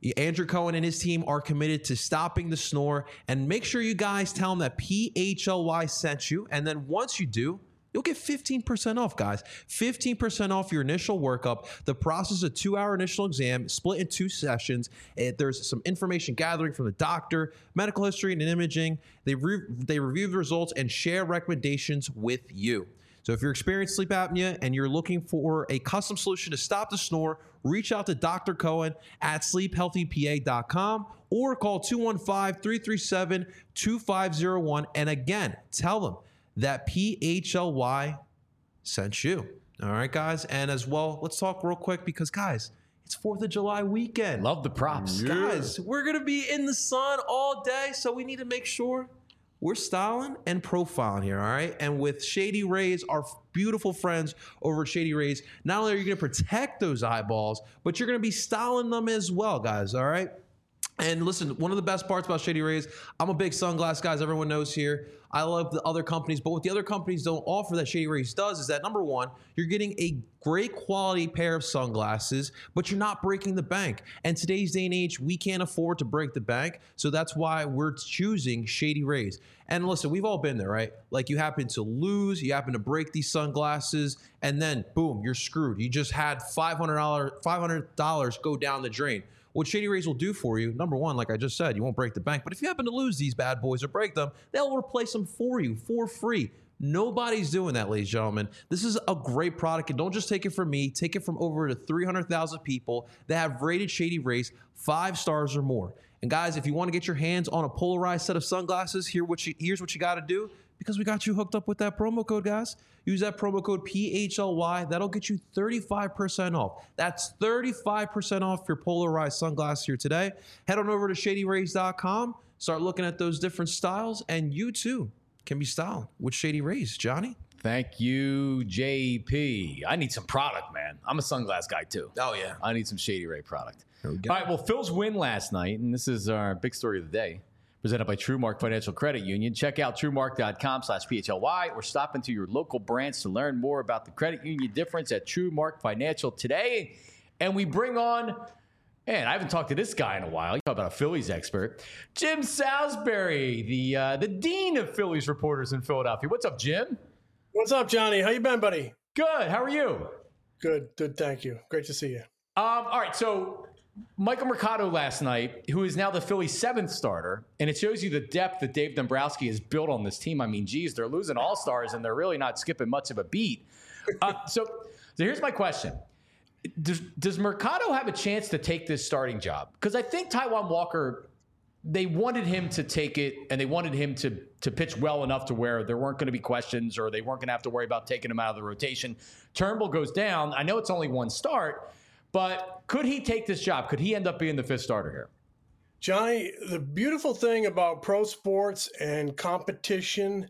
[SPEAKER 4] Andrew Cohen and his team are committed to stopping the snore. And make sure you guys tell them that P H L Y sent you. And then once you do, you'll get fifteen percent off, guys. fifteen percent off your initial workup. The process is a two-hour initial exam split in two sessions. It, there's some information gathering from the doctor, medical history, and imaging. They, re- they review the results and share recommendations with you. So if you're experiencing sleep apnea and you're looking for a custom solution to stop the snore, reach out to Doctor Cohen at sleep healthy P A dot com or call two one five, three three seven, two five zero one. And again, tell them that P H L Y sent you. All right, guys. And as well, let's talk real quick because, guys, it's fourth of July weekend.
[SPEAKER 2] Love the props.
[SPEAKER 4] Guys, we're going to be in the sun all day, so we need to make sure we're styling and profiling here, all right? And with Shady Rays, our beautiful friends over at Shady Rays, not only are you going to protect those eyeballs, but you're going to be styling them as well, guys, all right? And listen, one of the best parts about Shady Rays, I'm a big sunglass guy, as everyone knows here. I love the other companies, but what the other companies don't offer that Shady Rays does is that, number one, you're getting a great quality pair of sunglasses, but you're not breaking the bank. And today's day and age, we can't afford to break the bank, so that's why we're choosing Shady Rays. And listen, we've all been there, right? Like you happen to lose, you happen to break these sunglasses, and then boom, you're screwed. You just had five hundred dollars five hundred dollars go down the drain. What Shady Rays will do for you, number one, like I just said, you won't break the bank. But if you happen to lose these bad boys or break them, they'll replace them for you for free. Nobody's doing that, ladies and gentlemen. This is a great product, and don't just take it from me. Take it from over to three hundred thousand people that have rated Shady Rays five stars or more. And guys, if you want to get your hands on a polarized set of sunglasses, here what you, here's what you got to do, because we got you hooked up with that promo code, guys. Use that promo code P H L Y. That'll get you thirty-five percent off. That's thirty-five percent off your polarized sunglasses here today. Head on over to shady rays dot com. Start looking at those different styles, and you too can be styled with Shady Rays. Johnny?
[SPEAKER 2] Thank you, J P. I need some product, man. I'm a sunglass guy, too.
[SPEAKER 4] Oh, yeah.
[SPEAKER 2] I need some Shady Ray product.
[SPEAKER 4] There we go.
[SPEAKER 2] All right, well, Phil's win last night, and this is our big story of the day, presented by TrueMark Financial Credit Union. Check out truemark dot com slash P H L Y or stop into your local branch to learn more about the credit union difference at TrueMark Financial today. And we bring on, man, I haven't talked to this guy in a while. You talk about a Phillies expert. Jim Salisbury, the uh, the dean of Phillies reporters in Philadelphia. What's up, Jim?
[SPEAKER 6] What's up, Johnny? How you been, buddy?
[SPEAKER 2] Good. How are you?
[SPEAKER 6] Good. Good. Thank you. Great to see you.
[SPEAKER 2] Um, all right, so Michael Mercado last night, who is now the Phillies' seventh starter, and it shows you the depth that Dave Dombrowski has built on this team. I mean, geez, they're losing all-stars, and they're really not skipping much of a beat. Uh, so, so here's my question. Does, does Mercado have a chance to take this starting job? Because I think Taijuan Walker, they wanted him to take it, and they wanted him to, to pitch well enough to where there weren't going to be questions or they weren't going to have to worry about taking him out of the rotation. Turnbull goes down. I know it's only one start, but could he take this job? Could he end up being the fifth starter here?
[SPEAKER 6] Johnny, the beautiful thing about pro sports and competition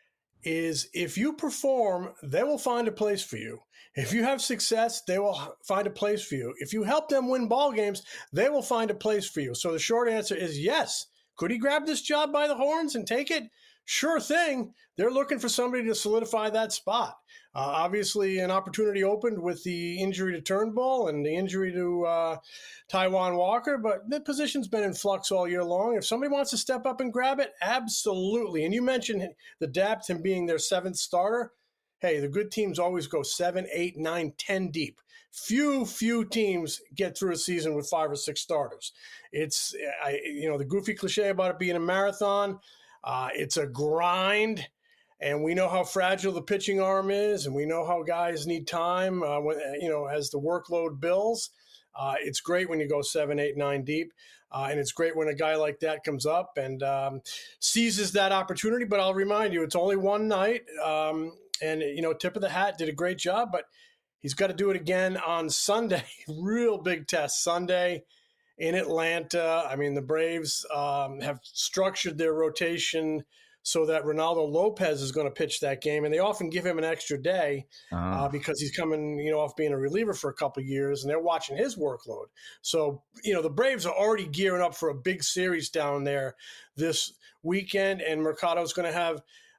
[SPEAKER 6] is if you perform, they will find a place for you. If you have success, they will find a place for you. If you help them win ball games, they will find a place for you. So the short answer is yes. Could he grab this job by the horns and take it? Sure thing. They're looking for somebody to solidify that spot. Uh, obviously, an opportunity opened with the injury to Turnbull and the injury to uh, Taijuan Walker, but the position's been in flux all year long. If somebody wants to step up and grab it, absolutely. And you mentioned the depth, him being their seventh starter. Hey, the good teams always go seven, eight, nine, ten deep. Few, few teams get through a season with five or six starters. It's, I, you know, the goofy cliche about it being a marathon. Uh, it's a grind. And we know how fragile the pitching arm is, and we know how guys need time, uh, when, you know, as the workload builds. Uh, it's great when you go seven, eight, nine deep, uh, and it's great when a guy like that comes up and um, seizes that opportunity. But I'll remind you, it's only one night, um, and, you know, tip of the hat, did a great job, but he's got to do it again on Sunday. Real big test Sunday in Atlanta. I mean, the Braves um, have structured their rotation so that Ronaldo Lopez is going to pitch that game. And they often give him an extra day uh-huh. uh, because he's coming, you know, off being a reliever for a couple of years, and they're watching his workload. So, you know, the Braves are already gearing up for a big series down there this weekend, and Mercado's going to have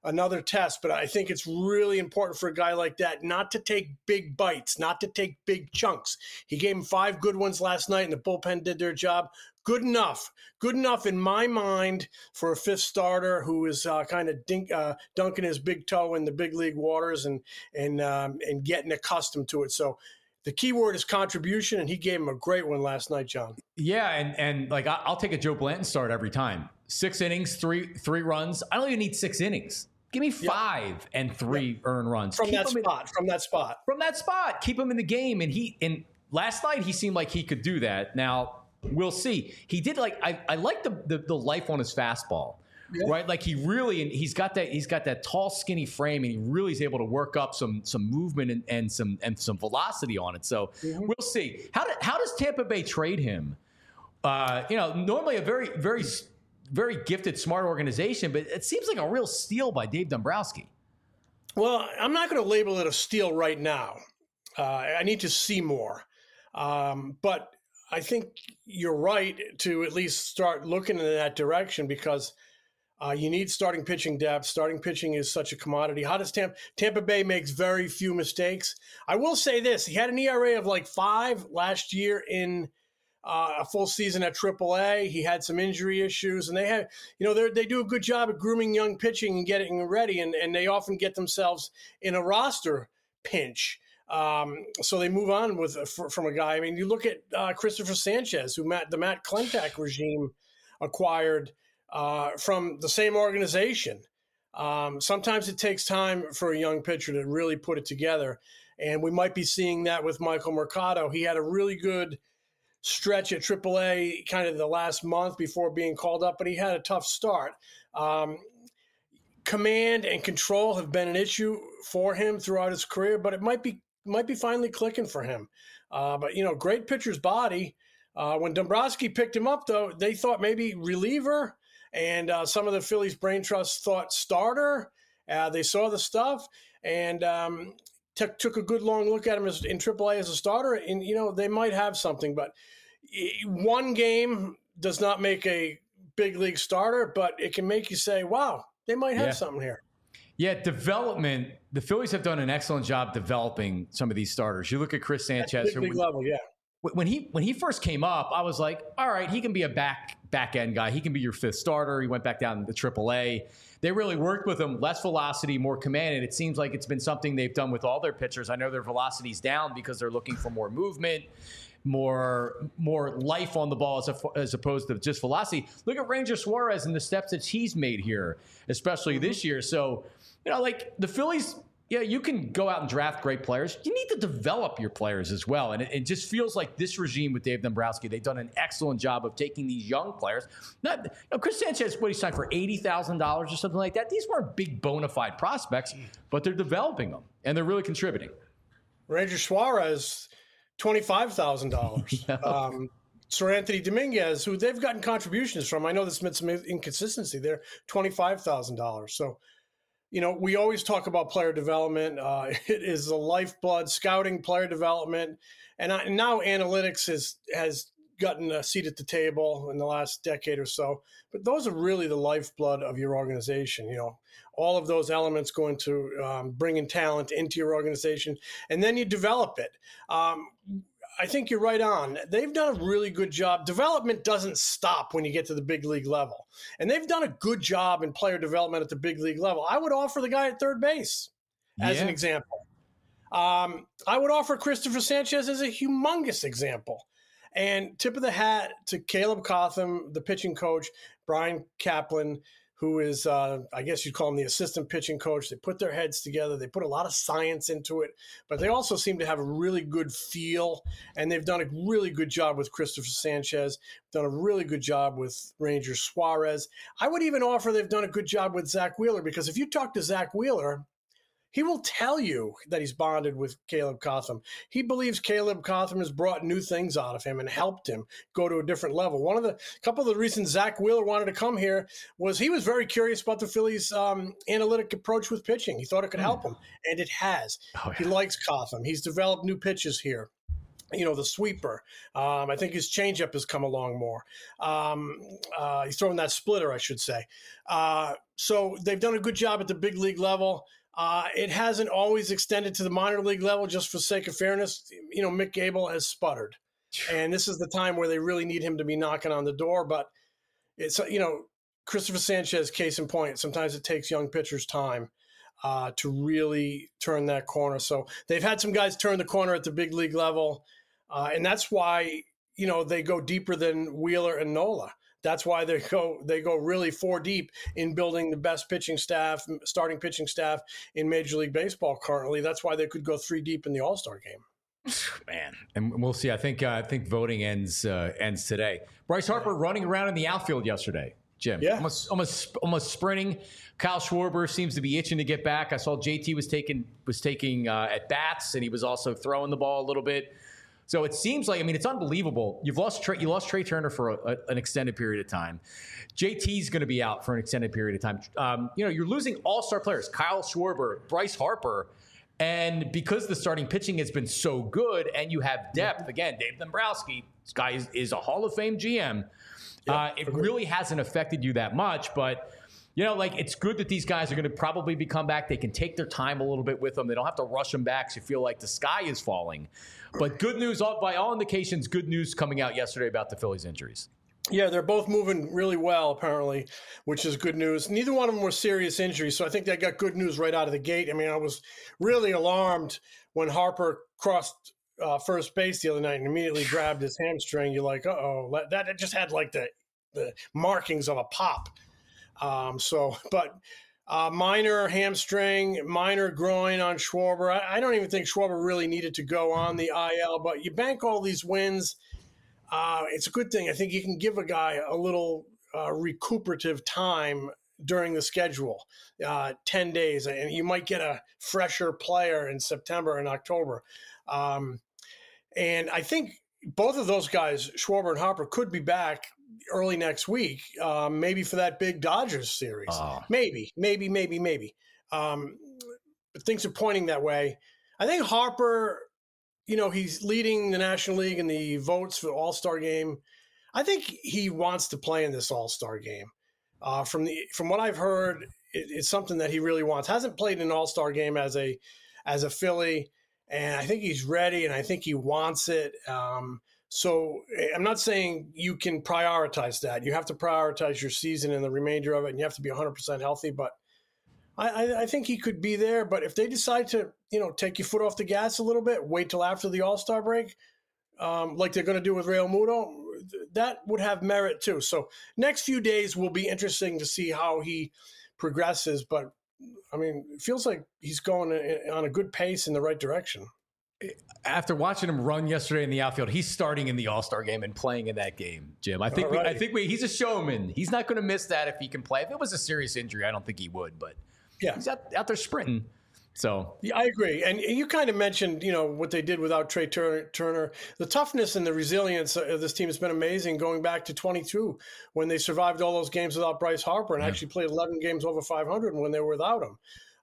[SPEAKER 6] another test. But I think it's really important for a guy like that not to take big bites, not to take big chunks. He gave him five good ones last night, and the bullpen did their job. Good enough. Good enough in my mind for a fifth starter who is uh, kind of dink, uh, dunking his big toe in the big league waters and and um, and getting accustomed to it. So the key word is contribution, and he gave him a great one last night, John.
[SPEAKER 2] Yeah, and and like I- I'll take a Joe Blanton start every time. Six innings, three three runs. I don't even need six innings. Give me five yep. and three yep. earned runs
[SPEAKER 6] from
[SPEAKER 2] Keep
[SPEAKER 6] that spot. In, from that spot.
[SPEAKER 2] From that spot. Keep him in the game. And he and last night he seemed like he could do that. Now we'll see. He did like I, I like the, the the life on his fastball. Yeah. Right, like he really, and he's got that. He's got that tall, skinny frame, and he really is able to work up some some movement and, and some and some velocity on it. So mm-hmm. we'll see. How do, how does Tampa Bay trade him? Uh, you know, normally a very very very gifted, smart organization, but it seems like a real steal by Dave Dombrowski.
[SPEAKER 6] Well, I'm not going to label it a steal right now. Uh, I need to see more, um, but I think you're right to at least start looking in that direction because. Uh, you need starting pitching depth. Starting pitching is such a commodity. How does Tampa, Tampa Bay makes very few mistakes. I will say this. He had an E R A of like five last year in uh, a full season at triple A. He had some injury issues, and they had, you know, they do a good job at grooming young pitching and getting ready, and, and they often get themselves in a roster pinch. Um, so they move on with from a guy. I mean, you look at uh, Christopher Sanchez, who Matt, the Matt Klentak regime acquired Uh, from the same organization. Um, sometimes it takes time for a young pitcher to really put it together. And we might be seeing that with Michael Mercado. He had a really good stretch at triple A kind of the last month before being called up, but he had a tough start. Um, command and control have been an issue for him throughout his career, but it might be might be finally clicking for him. Uh, but, you know, great pitcher's body. Uh, when Dombrowski picked him up, though, they thought maybe reliever. And uh, some of the Phillies brain trust thought starter. Uh, they saw the stuff and um, t- took a good long look at him as, in triple A as a starter. And, you know, they might have something. But one game does not make a big league starter, but it can make you say, wow, they might have yeah. something here.
[SPEAKER 2] Yeah, development. The Phillies have done an excellent job developing some of these starters. You look at Chris Sanchez.
[SPEAKER 6] At big, big level, yeah.
[SPEAKER 2] When he when he first came up, I was like, all right, he can be a back back end guy. He can be your fifth starter. He went back down to triple A. They really worked with him, less velocity, more command, and it seems like it's been something they've done with all their pitchers. I know their velocity's down because they're looking for more movement, more more life on the ball as, a, as opposed to just velocity. Look at Ranger Suarez and the steps that he's made here, especially mm-hmm. this year. So, you know, like the Phillies. Yeah, you can go out and draft great players. You need to develop your players as well. And it, it just feels like this regime with Dave Dombrowski, they've done an excellent job of taking these young players. Not, you know, Chris Sanchez, what he signed for eighty thousand dollars or something like that. These weren't big bona fide prospects, but they're developing them, and they're really contributing.
[SPEAKER 6] Ranger Suarez, twenty-five thousand dollars. yeah. um, Sir Anthony Dominguez, who they've gotten contributions from. I know there's been some inconsistency there, twenty-five thousand dollars. So, you know, we always talk about player development. Uh, it is the lifeblood, scouting, player development. And, I, and now analytics has, has gotten a seat at the table in the last decade or so. But those are really the lifeblood of your organization. You know, all of those elements go into um, bringing talent into your organization, and then you develop it. Um, I think you're right on. They've done a really good job. Development doesn't stop when you get to the big league level. And they've done a good job in player development at the big league level. I would offer the guy at third base as yeah. an example. Um, I would offer Christopher Sanchez as a humongous example. And tip of the hat to Caleb Cotham, the pitching coach, Brian Kaplan, who is, uh, I guess you'd call him the assistant pitching coach. They put their heads together. They put a lot of science into it, but they also seem to have a really good feel, and they've done a really good job with Christopher Sanchez, done a really good job with Ranger Suarez. I would even offer they've done a good job with Zach Wheeler, because if you talk to Zach Wheeler, he will tell you that he's bonded with Caleb Cotham. He believes Caleb Cotham has brought new things out of him and helped him go to a different level. One of the couple of the reasons Zach Wheeler wanted to come here was he was very curious about the Phillies' um, analytic approach with pitching. He thought it could help him, and it has. Oh, yeah. He likes Cotham. He's developed new pitches here. you know, the sweeper. Um, I think his changeup has come along more. Um, uh, he's throwing that splitter, I should say. Uh, so they've done a good job at the big league level. Uh, it hasn't always extended to the minor league level, just for sake of fairness. You know, Mick Gable has sputtered. And this is the time where they really need him to be knocking on the door. But it's, you know, Christopher Sanchez, case in point, sometimes it takes young pitchers time uh, to really turn that corner. So they've had some guys turn the corner at the big league level. Uh, and that's why, you know, they go deeper than Wheeler and Nola. That's why they go they go really four deep in building the best pitching staff, starting pitching staff in Major League Baseball currently. That's why they could go three deep in the All-Star game.
[SPEAKER 2] Man, and we'll see. I think uh, I think voting ends uh, ends today. Bryce Harper running around in the outfield yesterday, Jim.
[SPEAKER 6] Yeah,
[SPEAKER 2] almost almost almost sprinting. Kyle Schwarber seems to be itching to get back. I saw J T was taking was taking uh, at bats, and he was also throwing the ball a little bit. So it seems like, I mean, it's unbelievable. You've lost Trey, you lost Trey Turner for a, a, an extended period of time. J T's going to be out for an extended period of time. Um, you know, you're losing all-star players, Kyle Schwarber, Bryce Harper, and because the starting pitching has been so good and you have depth, again, Dave Dombrowski, this guy is, is a Hall of Fame G M. Yep, uh, it agreed. Really hasn't affected you that much, but you know, like, it's good that these guys are going to probably be come back. They can take their time a little bit with them. They don't have to rush them back so you feel like the sky is falling. But good news, by all indications, good news coming out yesterday about the Phillies' injuries.
[SPEAKER 6] Yeah, they're both moving really well, apparently, which is good news. Neither one of them were serious injuries, so I think they got good news right out of the gate. I mean, I was really alarmed when Harper crossed uh, first base the other night and immediately grabbed his hamstring. You're like, uh-oh, that, that just had like the, the markings of a pop. Um, so, but uh, minor hamstring, minor groin on Schwarber. I, I don't even think Schwarber really needed to go on the I L, but you bank all these wins. Uh, it's a good thing. I think you can give a guy a little uh, recuperative time during the schedule, uh, ten days, and you might get a fresher player in September and October. Um, and I think both of those guys, Schwarber and Harper, could be back early next week, um, maybe for that big Dodgers series. Oh. Maybe, maybe, maybe, maybe. Um, but things are pointing that way. I think Harper, you know, he's leading the National League in the votes for the All-Star game. I think he wants to play in this All-Star game. Uh, from the from what I've heard, it, it's something that he really wants. Hasn't played in an All-Star game as a as a Philly, and I think he's ready, and I think he wants it. Um, So I'm not saying you can prioritize that. You have to prioritize your season and the remainder of it, and you have to be one hundred percent healthy. But I, I, I think he could be there. But if they decide to, you know, take your foot off the gas a little bit, wait till after the All-Star break, um, like they're going to do with Real Muto, that would have merit too. So next few days will be interesting to see how he progresses. But, I mean, it feels like he's going on a good pace in the right direction.
[SPEAKER 2] After watching him run yesterday in the outfield, he's starting in the All-Star game and playing in that game, Jim. I think we, I think we, he's a showman. He's not going to miss that if he can play. If it was a serious injury, I don't think he would, but yeah, he's out, out there sprinting. So
[SPEAKER 6] yeah, I agree. And you kind of mentioned, you know, what they did without Trey Turner. The toughness and the resilience of this team has been amazing going back to twenty-two when they survived all those games without Bryce Harper and yeah. actually played eleven games over five hundred when they were without him.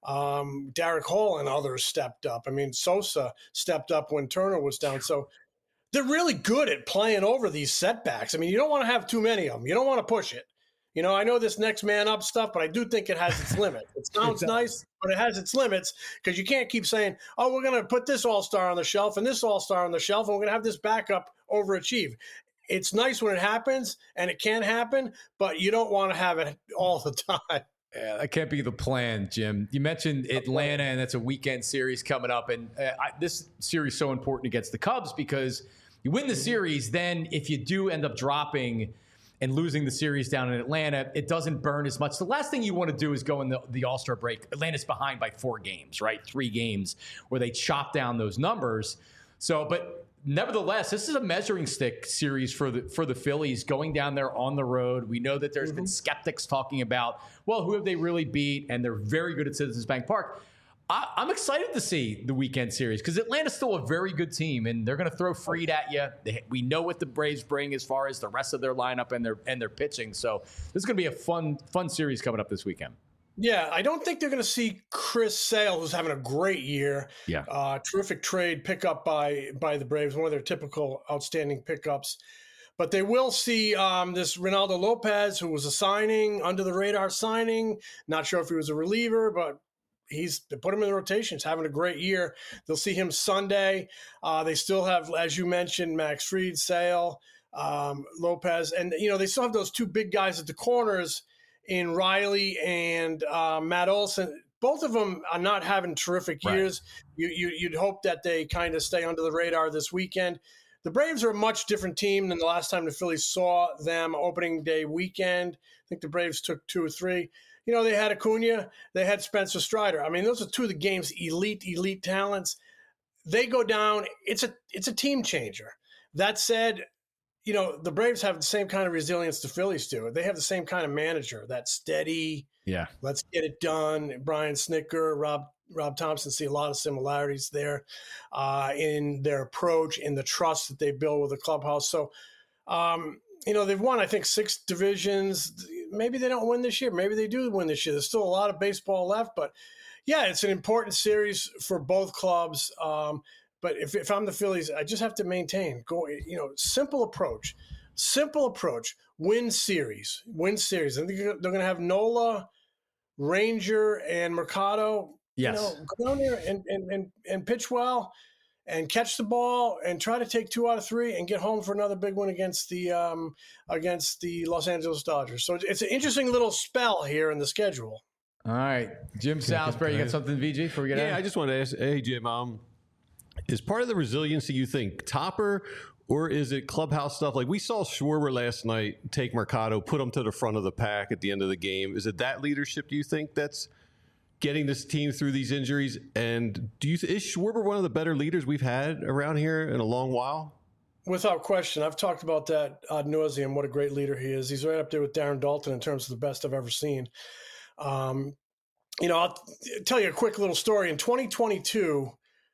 [SPEAKER 6] Um, Derek Hall and others stepped up. I mean, Sosa stepped up when Turner was down. So they're really good at playing over these setbacks. I mean, you don't want to have too many of them. You don't want to push it. You know, I know this next man up stuff, but I do think it has its limit. It sounds exactly. nice, but it has its limits because you can't keep saying, oh, we're going to put this all-star on the shelf and this all-star on the shelf, and we're going to have this backup overachieve. It's nice when it happens, and it can happen, but you don't want to have it all the time.
[SPEAKER 2] Yeah, that can't be the plan, Jim. You mentioned Atlanta, and that's a weekend series coming up. And uh, I, this series is so important against the Cubs because you win the series, then if you do end up dropping and losing the series down in Atlanta, it doesn't burn as much. The last thing you want to do is go in the, the All-Star break. Atlanta's behind by four games, right? Three games where they chop down those numbers. So, but nevertheless, this is a measuring stick series for the for the Phillies going down there on the road. We know that there's mm-hmm. been skeptics talking about, well, who have they really beat? And they're very good at Citizens Bank Park. I, I'm excited to see the weekend series because Atlanta's still a very good team, and they're going to throw Fried at you. They, we know what the Braves bring as far as the rest of their lineup and their and their pitching. So this is going to be a fun fun series coming up this weekend.
[SPEAKER 6] Yeah, I don't think they're going to see Chris Sale, who's having a great year.
[SPEAKER 3] Yeah.
[SPEAKER 6] Uh, terrific trade pickup by by the Braves, one of their typical outstanding pickups. But they will see um, this Ronaldo Lopez, who was a signing, under the radar signing. Not sure if he was a reliever, but he's they put him in the rotation. He's having a great year. They'll see him Sunday. Uh, they still have, as you mentioned, Max Fried, Sale, um, Lopez, and you know they still have those two big guys at the corners in Riley and uh, Matt Olson. Both of them are not having terrific years. Right. You, you, you'd hope that they kind of stay under the radar this weekend. The Braves are a much different team than the last time the Phillies saw them opening day weekend. I think the Braves took two or three. You know, they had Acuna, they had Spencer Strider. I mean, those are two of the game's elite, elite talents. They go down. It's a it's a team changer. That said, you know, the Braves have the same kind of resilience the Phillies do. They have the same kind of manager, that steady,
[SPEAKER 2] yeah,
[SPEAKER 6] let's get it done. Brian Snitker, Rob Rob Thompson, see a lot of similarities there uh, in their approach, in the trust that they build with the clubhouse. So, um, you know, they've won, I think, six divisions. Maybe they don't win this year. Maybe they do win this year. There's still a lot of baseball left. But, yeah, it's an important series for both clubs. Um, But if, if I'm the Phillies, I just have to maintain, go, you know, simple approach, simple approach, win series, win series. I think they're going to have Nola, Ranger, and Mercado.
[SPEAKER 2] Yes.
[SPEAKER 6] You know, go down there and, and, and, and pitch well and catch the ball and try to take two out of three and get home for another big one against the um, against the Los Angeles Dodgers. So it's an interesting little spell here in the schedule.
[SPEAKER 2] All right. Jim Salisbury, you got something, V G, before we get out?
[SPEAKER 3] Yeah, I just want to ask, hey, Jim, um, is part of the resiliency, you think, Topper, or is it clubhouse stuff? Like we saw Schwarber last night take Mercado, put him to the front of the pack at the end of the game. Is it that leadership, do you think, that's getting this team through these injuries? And do you is Schwarber one of the better leaders we've had around here in a long while?
[SPEAKER 6] Without question. I've talked about that ad nauseum, what a great leader he is. He's right up there with Darren Dalton in terms of the best I've ever seen. Um, you know, I'll tell you a quick little story. In twenty twenty-two,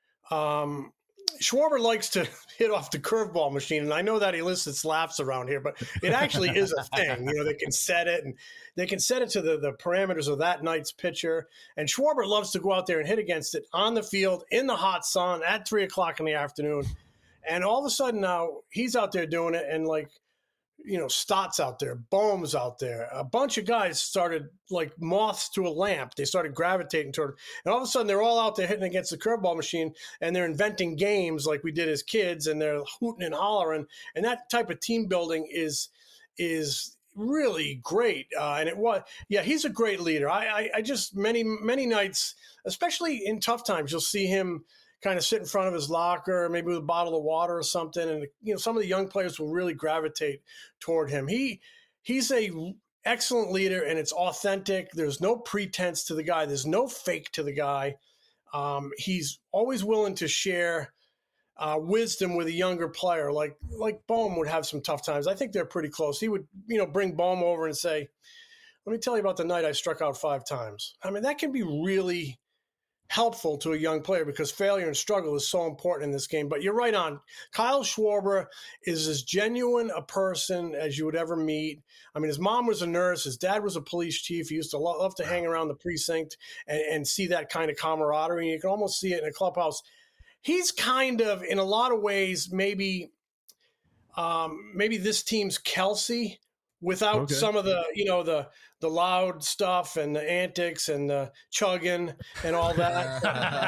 [SPEAKER 6] Um, Schwarber likes to hit off the curveball machine, and I know that elicits laughs around here, but it actually is a thing. You know, they can set it, and they can set it to the, the parameters of that night's pitcher. And Schwarber loves to go out there and hit against it on the field in the hot sun at three o'clock in the afternoon. And all of a sudden now he's out there doing it, and like, you know, Stott's out there, Bohm's out there. A bunch of guys started like moths to a lamp. They started gravitating toward it. And all of a sudden, they're all out there hitting against the curveball machine, and they're inventing games like we did as kids, and they're hooting and hollering. And that type of team building is is really great. Uh, and it was, yeah, he's a great leader. I, I, I just, many, many nights, especially in tough times, you'll see him kind of sit in front of his locker, maybe with a bottle of water or something. And, you know, some of the young players will really gravitate toward him. He he's a excellent leader, and it's authentic. There's no pretense to the guy. There's no fake to the guy. Um, he's always willing to share uh, wisdom with a younger player. Like, like Bohm would have some tough times. I think they're pretty close. He would, you know, bring Bohm over and say, let me tell you about the night I struck out five times. I mean, that can be really helpful to a young player because failure and struggle is so important in this game. But you're right on. Kyle Schwarber is as genuine a person as you would ever meet. I mean, his mom was a nurse. His dad was a police chief. He used to lo- love to hang around the precinct and, and see that kind of camaraderie. And you can almost see it in a clubhouse. He's kind of, in a lot of ways, maybe um, maybe this team's Kelsey without okay. some of the, you know, the the loud stuff and the antics and the chugging and all that.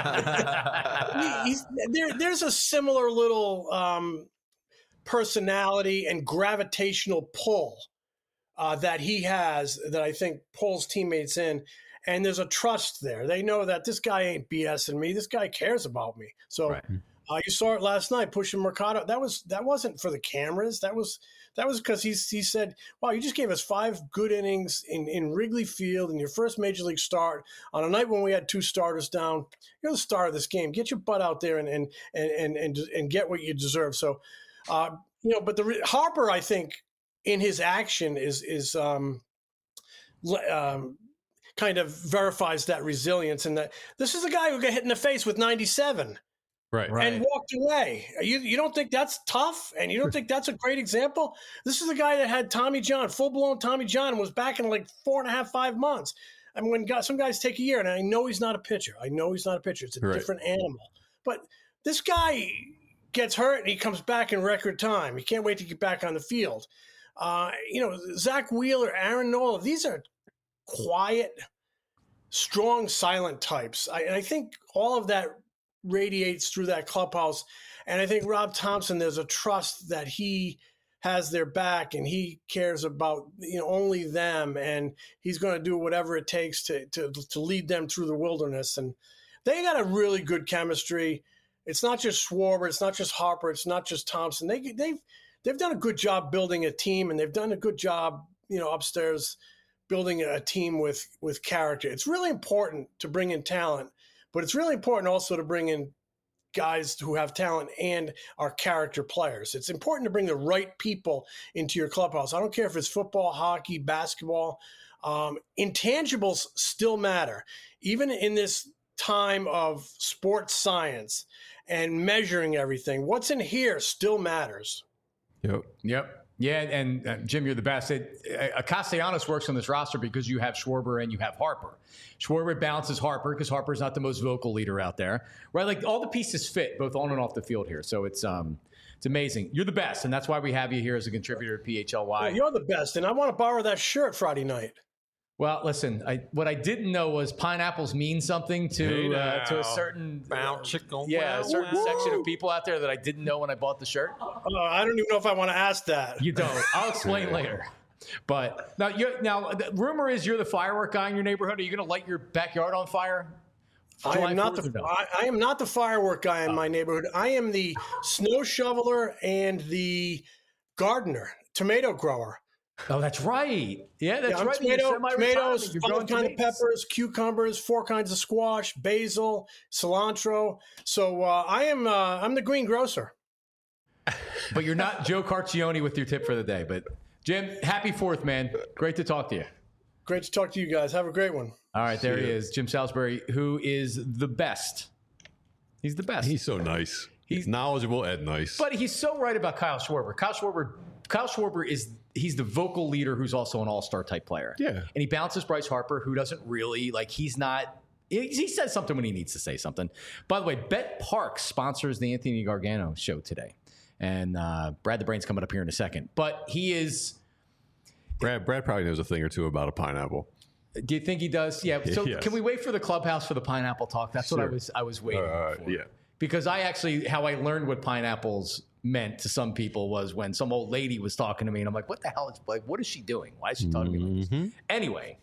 [SPEAKER 6] he, he's, there, there's a similar little um, personality and gravitational pull uh, that he has that I think pulls teammates in. And there's a trust there. They know that this guy ain't BSing me. This guy cares about me. So right. uh, you saw it last night, pushing Mercado. That was that wasn't for the cameras. That was that was because he he said, "Wow, you just gave us five good innings in, in Wrigley Field in your first major league start on a night when we had two starters down. You're the star of this game. Get your butt out there and and and and and, and get what you deserve." So, uh, you know, but the Harper, I think, in his action is is um, um, kind of verifies that resilience, and that this is a guy who got hit in the face with ninety-seven.
[SPEAKER 3] Right.
[SPEAKER 6] And walked away. You you don't think that's tough? And you don't think that's a great example? This is a guy that had Tommy John, full-blown Tommy John, and was back in like four and a half, five months. I mean, when guys, some guys take a year, and I know he's not a pitcher. I know he's not a pitcher. It's a
[SPEAKER 3] Right.
[SPEAKER 6] different animal. But this guy gets hurt, and he comes back in record time. He can't wait to get back on the field. Uh, you know, Zach Wheeler, Aaron Nola, these are quiet, strong, silent types. I, and I think all of that radiates through that clubhouse. And I think Rob Thompson, there's a trust that he has their back and he cares about, you know, only them, and he's going to do whatever it takes to, to to lead them through the wilderness. And they got a really good chemistry. It's not just Schwarber, it's not just Harper, it's not just Thompson. They they've they've done a good job building a team, and they've done a good job, you know, upstairs building a team with with character. It's really important to bring in talent, but it's really important also to bring in guys who have talent and are character players. It's important to bring the right people into your clubhouse. I don't care if it's football, hockey, basketball. Um, intangibles still matter. Even in this time of sports science and measuring everything, what's in here still matters.
[SPEAKER 3] Yep.
[SPEAKER 2] Yep. Yeah, and uh, Jim, you're the best. It, uh, Castellanos works on this roster because you have Schwarber and you have Harper. Schwarber balances Harper because Harper's not the most vocal leader out there, right? Like all the pieces fit both on and off the field here. So it's um, it's amazing. You're the best, and that's why we have you here as a contributor to P H L Y.
[SPEAKER 6] Yeah, you're the best, and I want to borrow that shirt Friday night.
[SPEAKER 2] Well, listen, I, what I didn't know was pineapples mean something to
[SPEAKER 3] Hey
[SPEAKER 2] uh, to a
[SPEAKER 3] now.
[SPEAKER 2] certain
[SPEAKER 4] Bow chicken.
[SPEAKER 2] yeah, a
[SPEAKER 4] Wow,
[SPEAKER 2] certain
[SPEAKER 4] wow.
[SPEAKER 2] section of people out there that I didn't know when I bought the shirt.
[SPEAKER 6] Uh, I don't even know if I want to ask that.
[SPEAKER 2] You don't. I'll explain later. But now, you're, now the rumor is you're the firework guy in your neighborhood. Are you going to light your backyard on fire?
[SPEAKER 6] I
[SPEAKER 2] July
[SPEAKER 6] am not
[SPEAKER 2] fourth
[SPEAKER 6] the
[SPEAKER 2] or no?
[SPEAKER 6] I, I am not the firework guy in my neighborhood. I am the snow shoveler and the gardener, tomato grower.
[SPEAKER 2] Oh, that's right. Yeah, that's
[SPEAKER 6] Yeah, I'm
[SPEAKER 2] right.
[SPEAKER 6] tomato,
[SPEAKER 2] You're semi-retired.
[SPEAKER 6] tomatoes,
[SPEAKER 2] You're
[SPEAKER 6] five
[SPEAKER 2] growing
[SPEAKER 6] kinds of
[SPEAKER 2] tomatoes.
[SPEAKER 6] peppers, cucumbers, four kinds of squash, basil, cilantro. So uh, I am uh, I'm the green grocer.
[SPEAKER 2] But you're not Joe Carcione with your tip for the day. But Jim, happy Fourth, man. Great to talk to you.
[SPEAKER 6] Great to talk to you guys. Have a great one.
[SPEAKER 2] All right, there he is, Jim Salisbury, who is the best. He's the best.
[SPEAKER 3] He's so nice. He's knowledgeable and nice.
[SPEAKER 2] But he's so right about Kyle Schwarber. Kyle Schwarber, Kyle Schwarber is he's the vocal leader who's also an all-star type player.
[SPEAKER 3] Yeah.
[SPEAKER 2] And he bounces Bryce Harper, who doesn't really like. He's not. He, he says something when he needs to say something. By the way, Bet Parks sponsors the Anthony Gargano show today, and uh, Brad the Brain's coming up here in a second. But he is.
[SPEAKER 3] Brad, Brad probably knows a thing or two about a pineapple.
[SPEAKER 2] Do you think he does? Yeah. So
[SPEAKER 3] Yes.
[SPEAKER 2] can we wait for the clubhouse for the pineapple talk? That's what I
[SPEAKER 3] Sure.
[SPEAKER 2] was. I was waiting
[SPEAKER 3] Uh,
[SPEAKER 2] for.
[SPEAKER 3] yeah.
[SPEAKER 2] Because I actually, how I learned what pineapples meant to some people was when some old lady was talking to me, and I'm like, "What the hell is like? What is she doing? Why is she talking to me like
[SPEAKER 3] Mm-hmm.
[SPEAKER 2] this?" Anyway,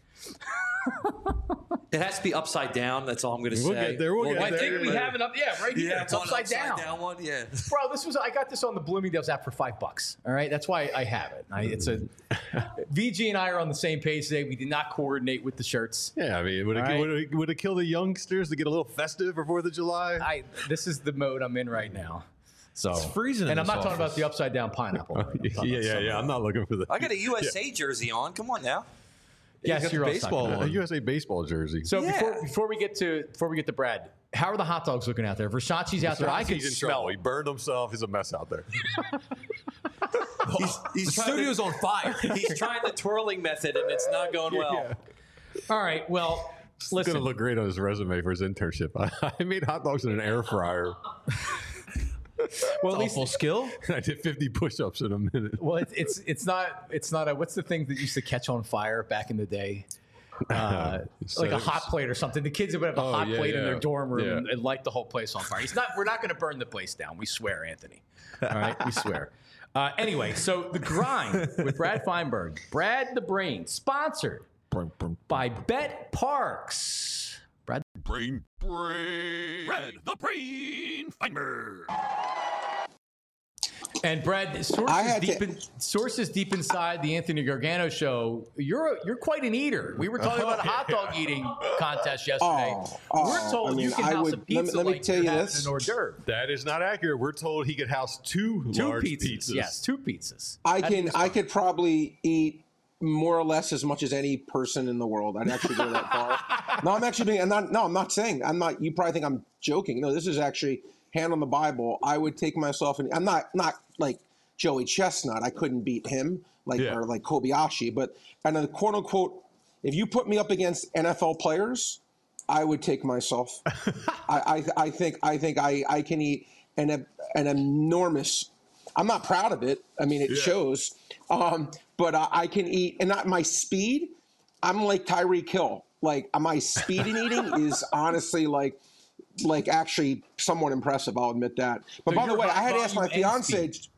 [SPEAKER 5] It has to be upside down. That's all I'm going to
[SPEAKER 3] We'll
[SPEAKER 5] say.
[SPEAKER 3] get there, we'll get
[SPEAKER 2] I think we
[SPEAKER 3] there.
[SPEAKER 2] have it up. Yeah, right here.
[SPEAKER 5] Yeah,
[SPEAKER 2] It's
[SPEAKER 5] one
[SPEAKER 2] upside, down.
[SPEAKER 5] one. Yeah.
[SPEAKER 2] Bro, this was I got this on the Bloomingdale's app for five bucks. All right, that's why I have it. I, it's a V G and I are on the same page today. We did not coordinate with the shirts.
[SPEAKER 3] Yeah, I mean, would it,
[SPEAKER 2] All right.
[SPEAKER 3] would, it, would it kill the youngsters to get a little festive for fourth of July?
[SPEAKER 2] I this is the mode I'm in right now. So
[SPEAKER 4] It's freezing in
[SPEAKER 2] and I'm
[SPEAKER 4] this
[SPEAKER 2] not talking about
[SPEAKER 4] office.
[SPEAKER 2] the upside down pineapple. I'm talking
[SPEAKER 3] yeah,
[SPEAKER 2] about
[SPEAKER 3] yeah,
[SPEAKER 2] something
[SPEAKER 3] yeah. I'm not looking for the
[SPEAKER 5] I got a U S A jersey on. Come on now.
[SPEAKER 2] Yes,
[SPEAKER 4] got the
[SPEAKER 2] you're all
[SPEAKER 4] baseball
[SPEAKER 2] talking
[SPEAKER 3] a
[SPEAKER 2] about it.
[SPEAKER 3] U S A baseball jersey.
[SPEAKER 2] So
[SPEAKER 5] Yeah.
[SPEAKER 2] before before we get to before we get to Brad, how are the hot dogs looking out there? Versace's out there. I can
[SPEAKER 3] He's in
[SPEAKER 2] smell.
[SPEAKER 3] trouble. He
[SPEAKER 2] it.
[SPEAKER 3] burned himself. He's a mess out there.
[SPEAKER 5] He's, he's
[SPEAKER 4] The
[SPEAKER 5] trying
[SPEAKER 4] studio's
[SPEAKER 5] to,
[SPEAKER 4] on fire.
[SPEAKER 5] He's trying the twirling method, and it's not going well.
[SPEAKER 3] Yeah.
[SPEAKER 2] All right. Well,
[SPEAKER 3] It's
[SPEAKER 2] listen.
[SPEAKER 3] going to look great on his resume for his internship. I, I made hot dogs in an air fryer.
[SPEAKER 2] Well, at least
[SPEAKER 4] Awful skill.
[SPEAKER 3] I did fifty push-ups in a minute.
[SPEAKER 2] well, it's it's it's not it's not a what's the thing that used to catch on fire back in the day? Uh, like a hot plate or something. The kids would have a
[SPEAKER 3] Oh,
[SPEAKER 2] hot
[SPEAKER 3] yeah,
[SPEAKER 2] plate in
[SPEAKER 3] yeah.
[SPEAKER 2] their dorm room
[SPEAKER 3] Yeah.
[SPEAKER 2] and, and light the whole place on fire. He's not. We're not going to burn the place down. We swear, Anthony. All right, we swear. Uh, anyway, so the grind with Brad Feinberg, Brad the Brain, sponsored by Bet Parks. Brad.
[SPEAKER 1] Brain, brain. Brad the Brain Feinberg.
[SPEAKER 2] And Brad,
[SPEAKER 7] I
[SPEAKER 2] sources
[SPEAKER 7] had
[SPEAKER 2] deep
[SPEAKER 7] to-
[SPEAKER 2] in, sources deep inside the Anthony Gargano show. You're a, you're quite an eater. We were talking about a hot dog eating contest yesterday.
[SPEAKER 7] Oh, oh,
[SPEAKER 2] we're told
[SPEAKER 7] I mean,
[SPEAKER 2] you can
[SPEAKER 7] I
[SPEAKER 2] house
[SPEAKER 7] would-
[SPEAKER 2] a
[SPEAKER 7] let me-
[SPEAKER 2] pizza
[SPEAKER 7] let me
[SPEAKER 2] like
[SPEAKER 7] tell
[SPEAKER 2] you're
[SPEAKER 7] you
[SPEAKER 2] having
[SPEAKER 7] this.
[SPEAKER 2] an hors d'oeuvre.
[SPEAKER 3] That is not accurate. We're told he could house two,
[SPEAKER 2] Two
[SPEAKER 3] large
[SPEAKER 2] pizzas.
[SPEAKER 3] pizzas.
[SPEAKER 2] Yes, two pizzas.
[SPEAKER 7] I
[SPEAKER 2] That
[SPEAKER 7] can
[SPEAKER 2] is
[SPEAKER 7] I
[SPEAKER 2] fine.
[SPEAKER 7] could probably eat more or less as much as any person in the world. I'd actually go that far. No, I'm actually being. I'm not. No, I'm not saying. I'm not. You probably think I'm joking. No, this is actually hand on the Bible. I would take myself and I'm not not like Joey Chestnut. I couldn't beat him like
[SPEAKER 3] Yeah.
[SPEAKER 7] or like Kobayashi, but and a quote unquote If you put me up against N F L players, I would take myself. I, I I think I think I, I can eat an an enormous. I'm not proud of it. I mean, it yeah. shows. Um, but I, I can eat, and not my speed. I'm like Tyreek Hill. Like my speed in eating is honestly like like actually somewhat impressive. I'll admit that. But so by the way, I had to ask my fiance. Speed.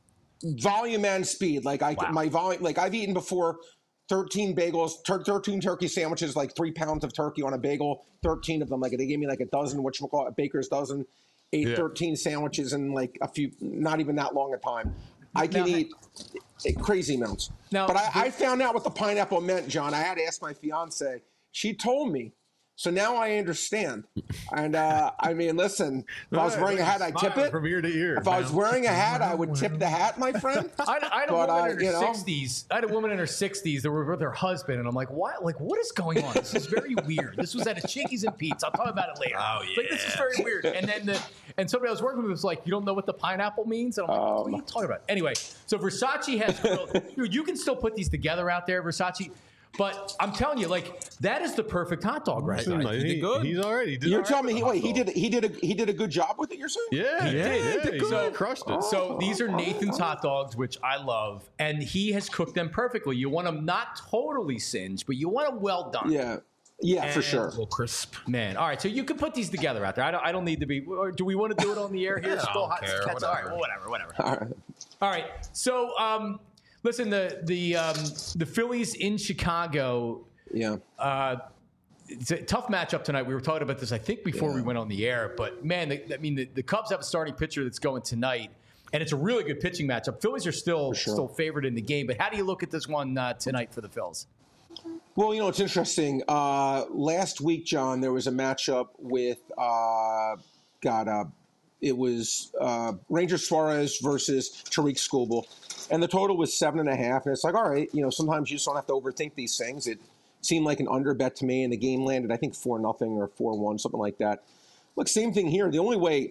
[SPEAKER 7] Volume and speed. Like I, wow. my volume. Like I've eaten before. thirteen bagels, tur- thirteen turkey sandwiches, like three pounds of turkey on a bagel, thirteen of them. Like they gave me like a dozen, whatchamacallit, a baker's dozen, ate yeah. thirteen sandwiches in like a few, not even that long a time. I can now, eat crazy amounts. Now, but I, I found out what the pineapple meant, John. I had to ask my fiance. She told me. So now I understand. And uh, I mean, listen, if I was wearing a hat, I'd tip it.
[SPEAKER 3] From ear to ear.
[SPEAKER 7] If man. I was wearing a hat, I would tip the hat, my friend.
[SPEAKER 2] I, I had a but, woman uh, in her you know, sixties. I had a woman in her sixties that were with her husband, and I'm like, what? Like, what is going on? This is very weird. This was at a Chickies and Pete's. I'll talk about it later. Oh yeah. Like, this is very weird. And then the and somebody I was working with was like, you don't know what the pineapple means? And I'm like, um, what are you talking about? Anyway, so Versace has grilled. Dude, you can still put these together out there, Versace. But I'm telling you, like that is the perfect hot dog, right?
[SPEAKER 3] He, he did good. He's already. He did
[SPEAKER 7] you're
[SPEAKER 3] right
[SPEAKER 7] telling me he wait he did he did a he did a good job with it. You're saying?
[SPEAKER 3] Yeah,
[SPEAKER 2] he
[SPEAKER 3] yeah,
[SPEAKER 2] did.
[SPEAKER 3] yeah. He
[SPEAKER 2] so
[SPEAKER 3] crushed it.
[SPEAKER 2] So these are Nathan's hot dogs, which I love, and he has cooked them perfectly. You want them not totally singed, but you want them well done.
[SPEAKER 7] Yeah. Yeah,
[SPEAKER 2] and
[SPEAKER 7] for sure.
[SPEAKER 4] A little crisp.
[SPEAKER 2] Man, all right. So you can put these together out there. I don't. I don't need to be. Or do we want to do it on the air here?
[SPEAKER 4] Yeah,
[SPEAKER 2] Still
[SPEAKER 4] I don't
[SPEAKER 2] hot.
[SPEAKER 4] care,
[SPEAKER 2] All right. Well, whatever. Whatever.
[SPEAKER 7] All right.
[SPEAKER 2] All right. So, um, listen. The the um, the Phillies in Chicago.
[SPEAKER 7] Yeah.
[SPEAKER 2] Uh, it's a tough matchup tonight. We were talking about this, I think, before yeah. we went on the air. But, man, the, I mean, the, the Cubs have a starting pitcher that's going tonight, and it's a really good pitching matchup. Phillies are still sure. still favored in the game. But how do you look at this one uh, tonight for the Phils?
[SPEAKER 7] Well, you know, it's interesting. Uh, last week, John, there was a matchup with, uh, God, uh, it was uh, Ranger Suarez versus Tariq Skubal. And the total was seven and a half. And it's like, all right, you know, sometimes you just don't have to overthink these things. It seemed like an under bet to me, and the game landed, I think, four nothing or four one, something like that. Look, same thing here. The only way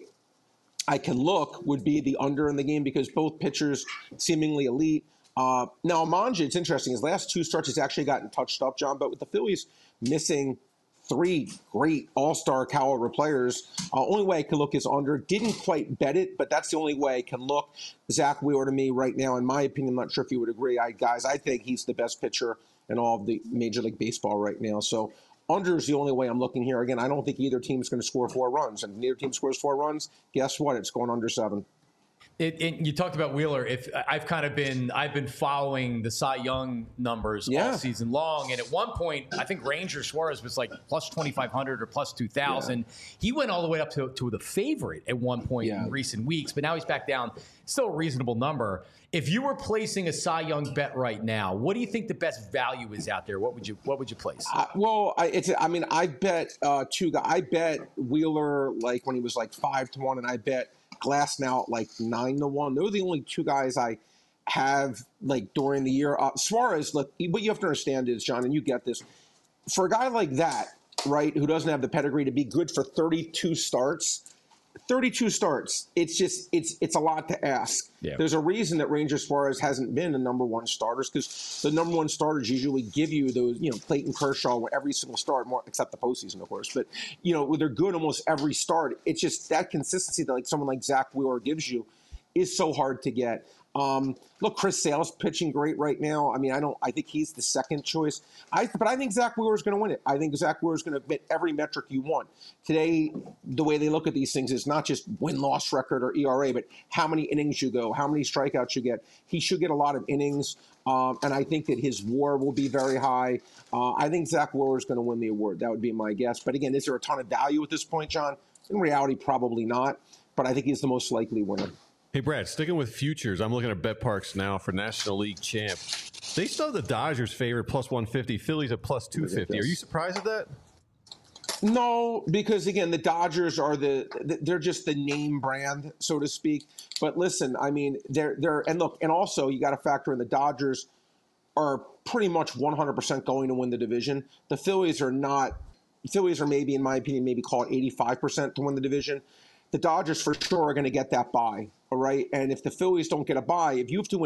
[SPEAKER 7] I can look would be the under in the game because both pitchers seemingly elite. Uh, now, Manja, it's interesting. His last two starts, he's actually gotten touched up, John, but with the Phillies missing three great all-star caliber players, uh, only way I can look is under. Didn't quite bet it, but that's the only way I can look. Zach Wheeler to me right now, in my opinion, I'm not sure if you would agree. I guys, I think he's the best pitcher in all of the Major League Baseball right now. So under is the only way I'm looking here. Again, I don't think either team is going to score four runs. And if neither team scores four runs, guess what? It's going under seven.
[SPEAKER 2] It, it, you talked about Wheeler. If I've kind of been, I've been following the Cy Young numbers yeah. all season long, and at one point, I think Ranger Suarez was like plus twenty-five hundred or plus two thousand. Yeah. He went all the way up to, to the favorite at one point yeah. in recent weeks, but now he's back down. Still a reasonable number. If you were placing a Cy Young bet right now, what do you think the best value is out there? What would you What would you place?
[SPEAKER 7] Uh, well, I, it's. I mean, I bet uh, two guys. I bet Wheeler like when he was like five to one, and I bet Glass now at like nine to one. Those are the only two guys I have like during the year. Uh, Suarez, look, what you have to understand is, John, and you get this, for a guy like that, right, who doesn't have the pedigree to be good for thirty-two starts, thirty-two starts, it's just, it's it's a lot to ask. Yeah. There's a reason that Ranger Suarez hasn't been the number one starters because the number one starters usually give you those, you know, Clayton Kershaw, every single start, more except the postseason, of course. But, you know, they're good almost every start. It's just that consistency that like someone like Zach Wheeler gives you is so hard to get. Um, look, Chris Sale's pitching great right now. I mean, I don't. I think he's the second choice. I, but I think Zach Wheeler is going to win it. I think Zach Wheeler is going to hit every metric you want. Today, the way they look at these things is not just win-loss record or E R A, but how many innings you go, how many strikeouts you get. He should get a lot of innings, um, and I think that his WAR will be very high. Uh, I think Zach Wheeler is going to win the award. That would be my guess. But again, is there a ton of value at this point, John? In reality, probably not. But I think he's the most likely winner.
[SPEAKER 3] Hey, Brad, sticking with futures, I'm looking at BetParks now for National League champ. They still have the Dodgers favored plus one fifty, Phillies at plus two fifty. Are you surprised at that?
[SPEAKER 7] No, because, again, the Dodgers are the – they're just the name brand, so to speak. But listen, I mean, they're – they're and look, and also you got to factor in the Dodgers are pretty much one hundred percent going to win the division. The Phillies are not – Phillies are maybe, in my opinion, maybe call it eighty-five percent to win the division. The Dodgers for sure are going to get that bye, all right? And if the Phillies don't get a bye, if you have to win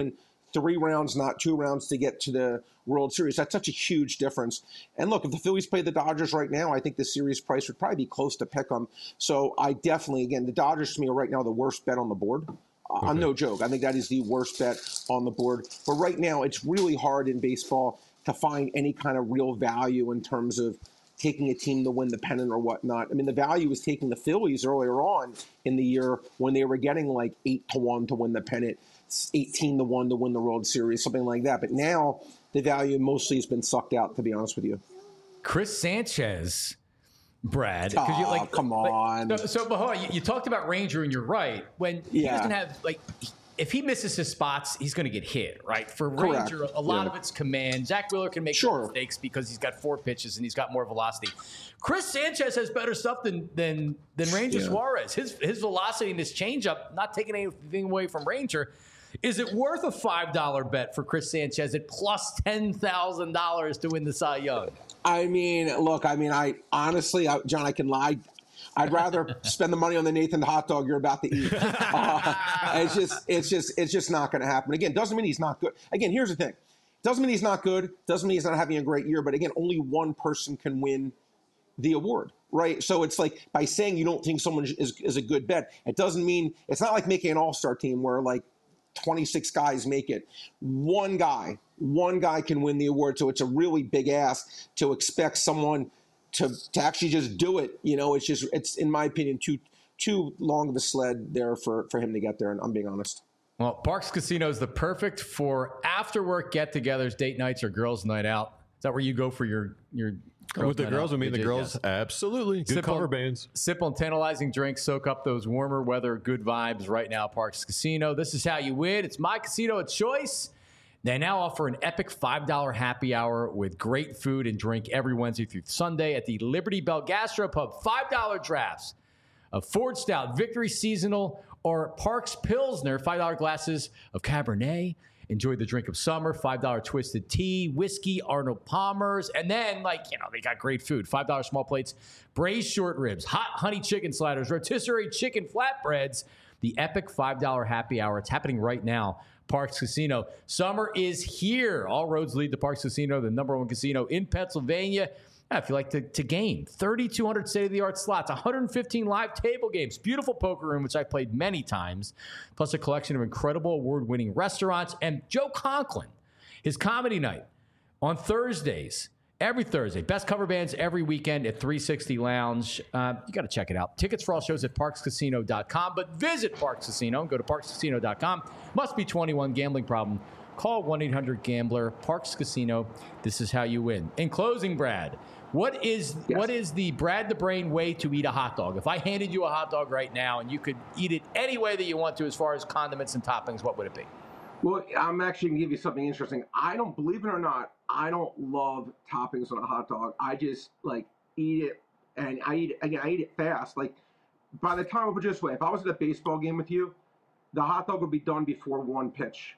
[SPEAKER 7] three rounds, not two rounds, to get to the World Series. That's such a huge difference. And look, if the Phillies played the Dodgers right now, I think the series price would probably be close to pick 'em. So I definitely, again, the Dodgers to me are right now the worst bet on the board. Okay. I'm no joke. I think that is the worst bet on the board. But right now, it's really hard in baseball to find any kind of real value in terms of taking a team to win the pennant or whatnot. I mean, the value was taking the Phillies earlier on in the year when they were getting like eight to one to win the pennant, eighteen to one to win the World Series, something like that. But now the value mostly has been sucked out, to be honest with you.
[SPEAKER 2] Chris Sanchez, Brad.
[SPEAKER 7] Oh,
[SPEAKER 2] you, like,
[SPEAKER 7] come on.
[SPEAKER 2] Like, so, so but hold on, you, you talked about Ranger, and you're right. When he
[SPEAKER 7] yeah.
[SPEAKER 2] doesn't have, like, if he misses his spots, he's going to get hit, right? For Ranger,
[SPEAKER 7] Correct.
[SPEAKER 2] a lot
[SPEAKER 7] yeah.
[SPEAKER 2] of it's command. Zach Wheeler can make
[SPEAKER 7] sure.
[SPEAKER 2] mistakes because he's got four pitches and he's got more velocity. Chris Sanchez has better stuff than than than Ranger yeah. Suarez. His his velocity and his changeup, not taking anything away from Ranger. Is it worth a five dollar bet for Chris Sanchez at plus ten thousand dollars to win the Cy Young?
[SPEAKER 7] I mean, look, I mean, I honestly, I, John, I can lie. I'd rather spend the money on the Nathan hot dog you're about to eat. Uh, it's just, it's just, it's just not going to happen. Again, doesn't mean he's not good. Again, here's the thing: doesn't mean he's not good. Doesn't mean he's not having a great year. But again, only one person can win the award, right? So it's like by saying you don't think someone is is a good bet, it doesn't mean it's not like making an all-star team where like twenty-six guys make it. One guy, one guy can win the award. So it's a really big ask to expect someone to to actually just do it. You know, it's just, it's, in my opinion, too too long of a sled there for, for him to get there, and I'm being honest.
[SPEAKER 2] Well, Parx Casino is the perfect for after-work get-togethers, date nights, or girls' night out. Is that where you go for your your girls'
[SPEAKER 3] With the
[SPEAKER 2] night
[SPEAKER 3] girls,
[SPEAKER 2] out?
[SPEAKER 3] I mean the
[SPEAKER 2] Yes.
[SPEAKER 3] girls, absolutely. Good
[SPEAKER 2] Sip
[SPEAKER 3] cover
[SPEAKER 2] on,
[SPEAKER 3] bands.
[SPEAKER 2] Sip on tantalizing drinks, soak up those warmer weather, good vibes right now, Parx Casino. This is how you win. It's my casino of choice. They now offer an epic five dollar happy hour with great food and drink every Wednesday through Sunday at the Liberty Bell Gastropub. five dollar drafts of Ford Stout, Victory Seasonal, or Parks Pilsner, five dollar glasses of Cabernet. Enjoy the drink of summer, five dollar Twisted Tea, whiskey, Arnold Palmer's, and then, like, you know, they got great food. five dollar small plates, braised short ribs, hot honey chicken sliders, rotisserie chicken flatbreads. The epic five dollar happy hour. It's happening right now. Parx Casino. Summer is here. All roads lead to Parx Casino, the number one casino in Pennsylvania. Yeah, if you like to, to game, thirty-two hundred state-of-the-art slots, one hundred fifteen live table games, beautiful poker room, which I've played many times, plus a collection of incredible award-winning restaurants, and Joe Conklin, his comedy night on Thursdays, every Thursday. Best cover bands every weekend at three sixty Lounge. Uh, you got to check it out. Tickets for all shows at parx casino dot com, but visit Parx Casino. Go to parx casino dot com. Must be twenty-one. Gambling problem. Call one eight hundred gambler. Parx Casino. This is how you win. In closing, Brad, what is
[SPEAKER 7] Yes.
[SPEAKER 2] what is the Brad the Brain way to eat a hot dog? If I handed you a hot dog right now and you could eat it any way that you want to as far as condiments and toppings, what would it be?
[SPEAKER 7] Well, I'm actually going to give you something interesting. I don't, believe it or not, I don't love toppings on a hot dog. I just, like, eat it, and I eat it, again, I eat it fast. Like, by the time, I'll put it this way, if I was at a baseball game with you, the hot dog would be done before one pitch.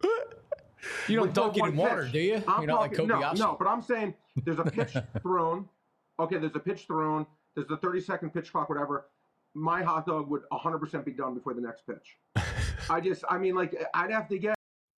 [SPEAKER 2] You don't
[SPEAKER 7] Before
[SPEAKER 2] dunk it
[SPEAKER 7] one
[SPEAKER 2] in water,
[SPEAKER 7] pitch.
[SPEAKER 2] do you?
[SPEAKER 7] I'm
[SPEAKER 2] You're not like
[SPEAKER 7] talking-
[SPEAKER 2] Kobayashi.
[SPEAKER 7] No, no, but I'm saying there's a pitch thrown. Okay, there's a pitch thrown. There's the thirty-second pitch clock, whatever. My hot dog would one hundred percent be done before the next pitch. I just, I mean, like, I'd have to get.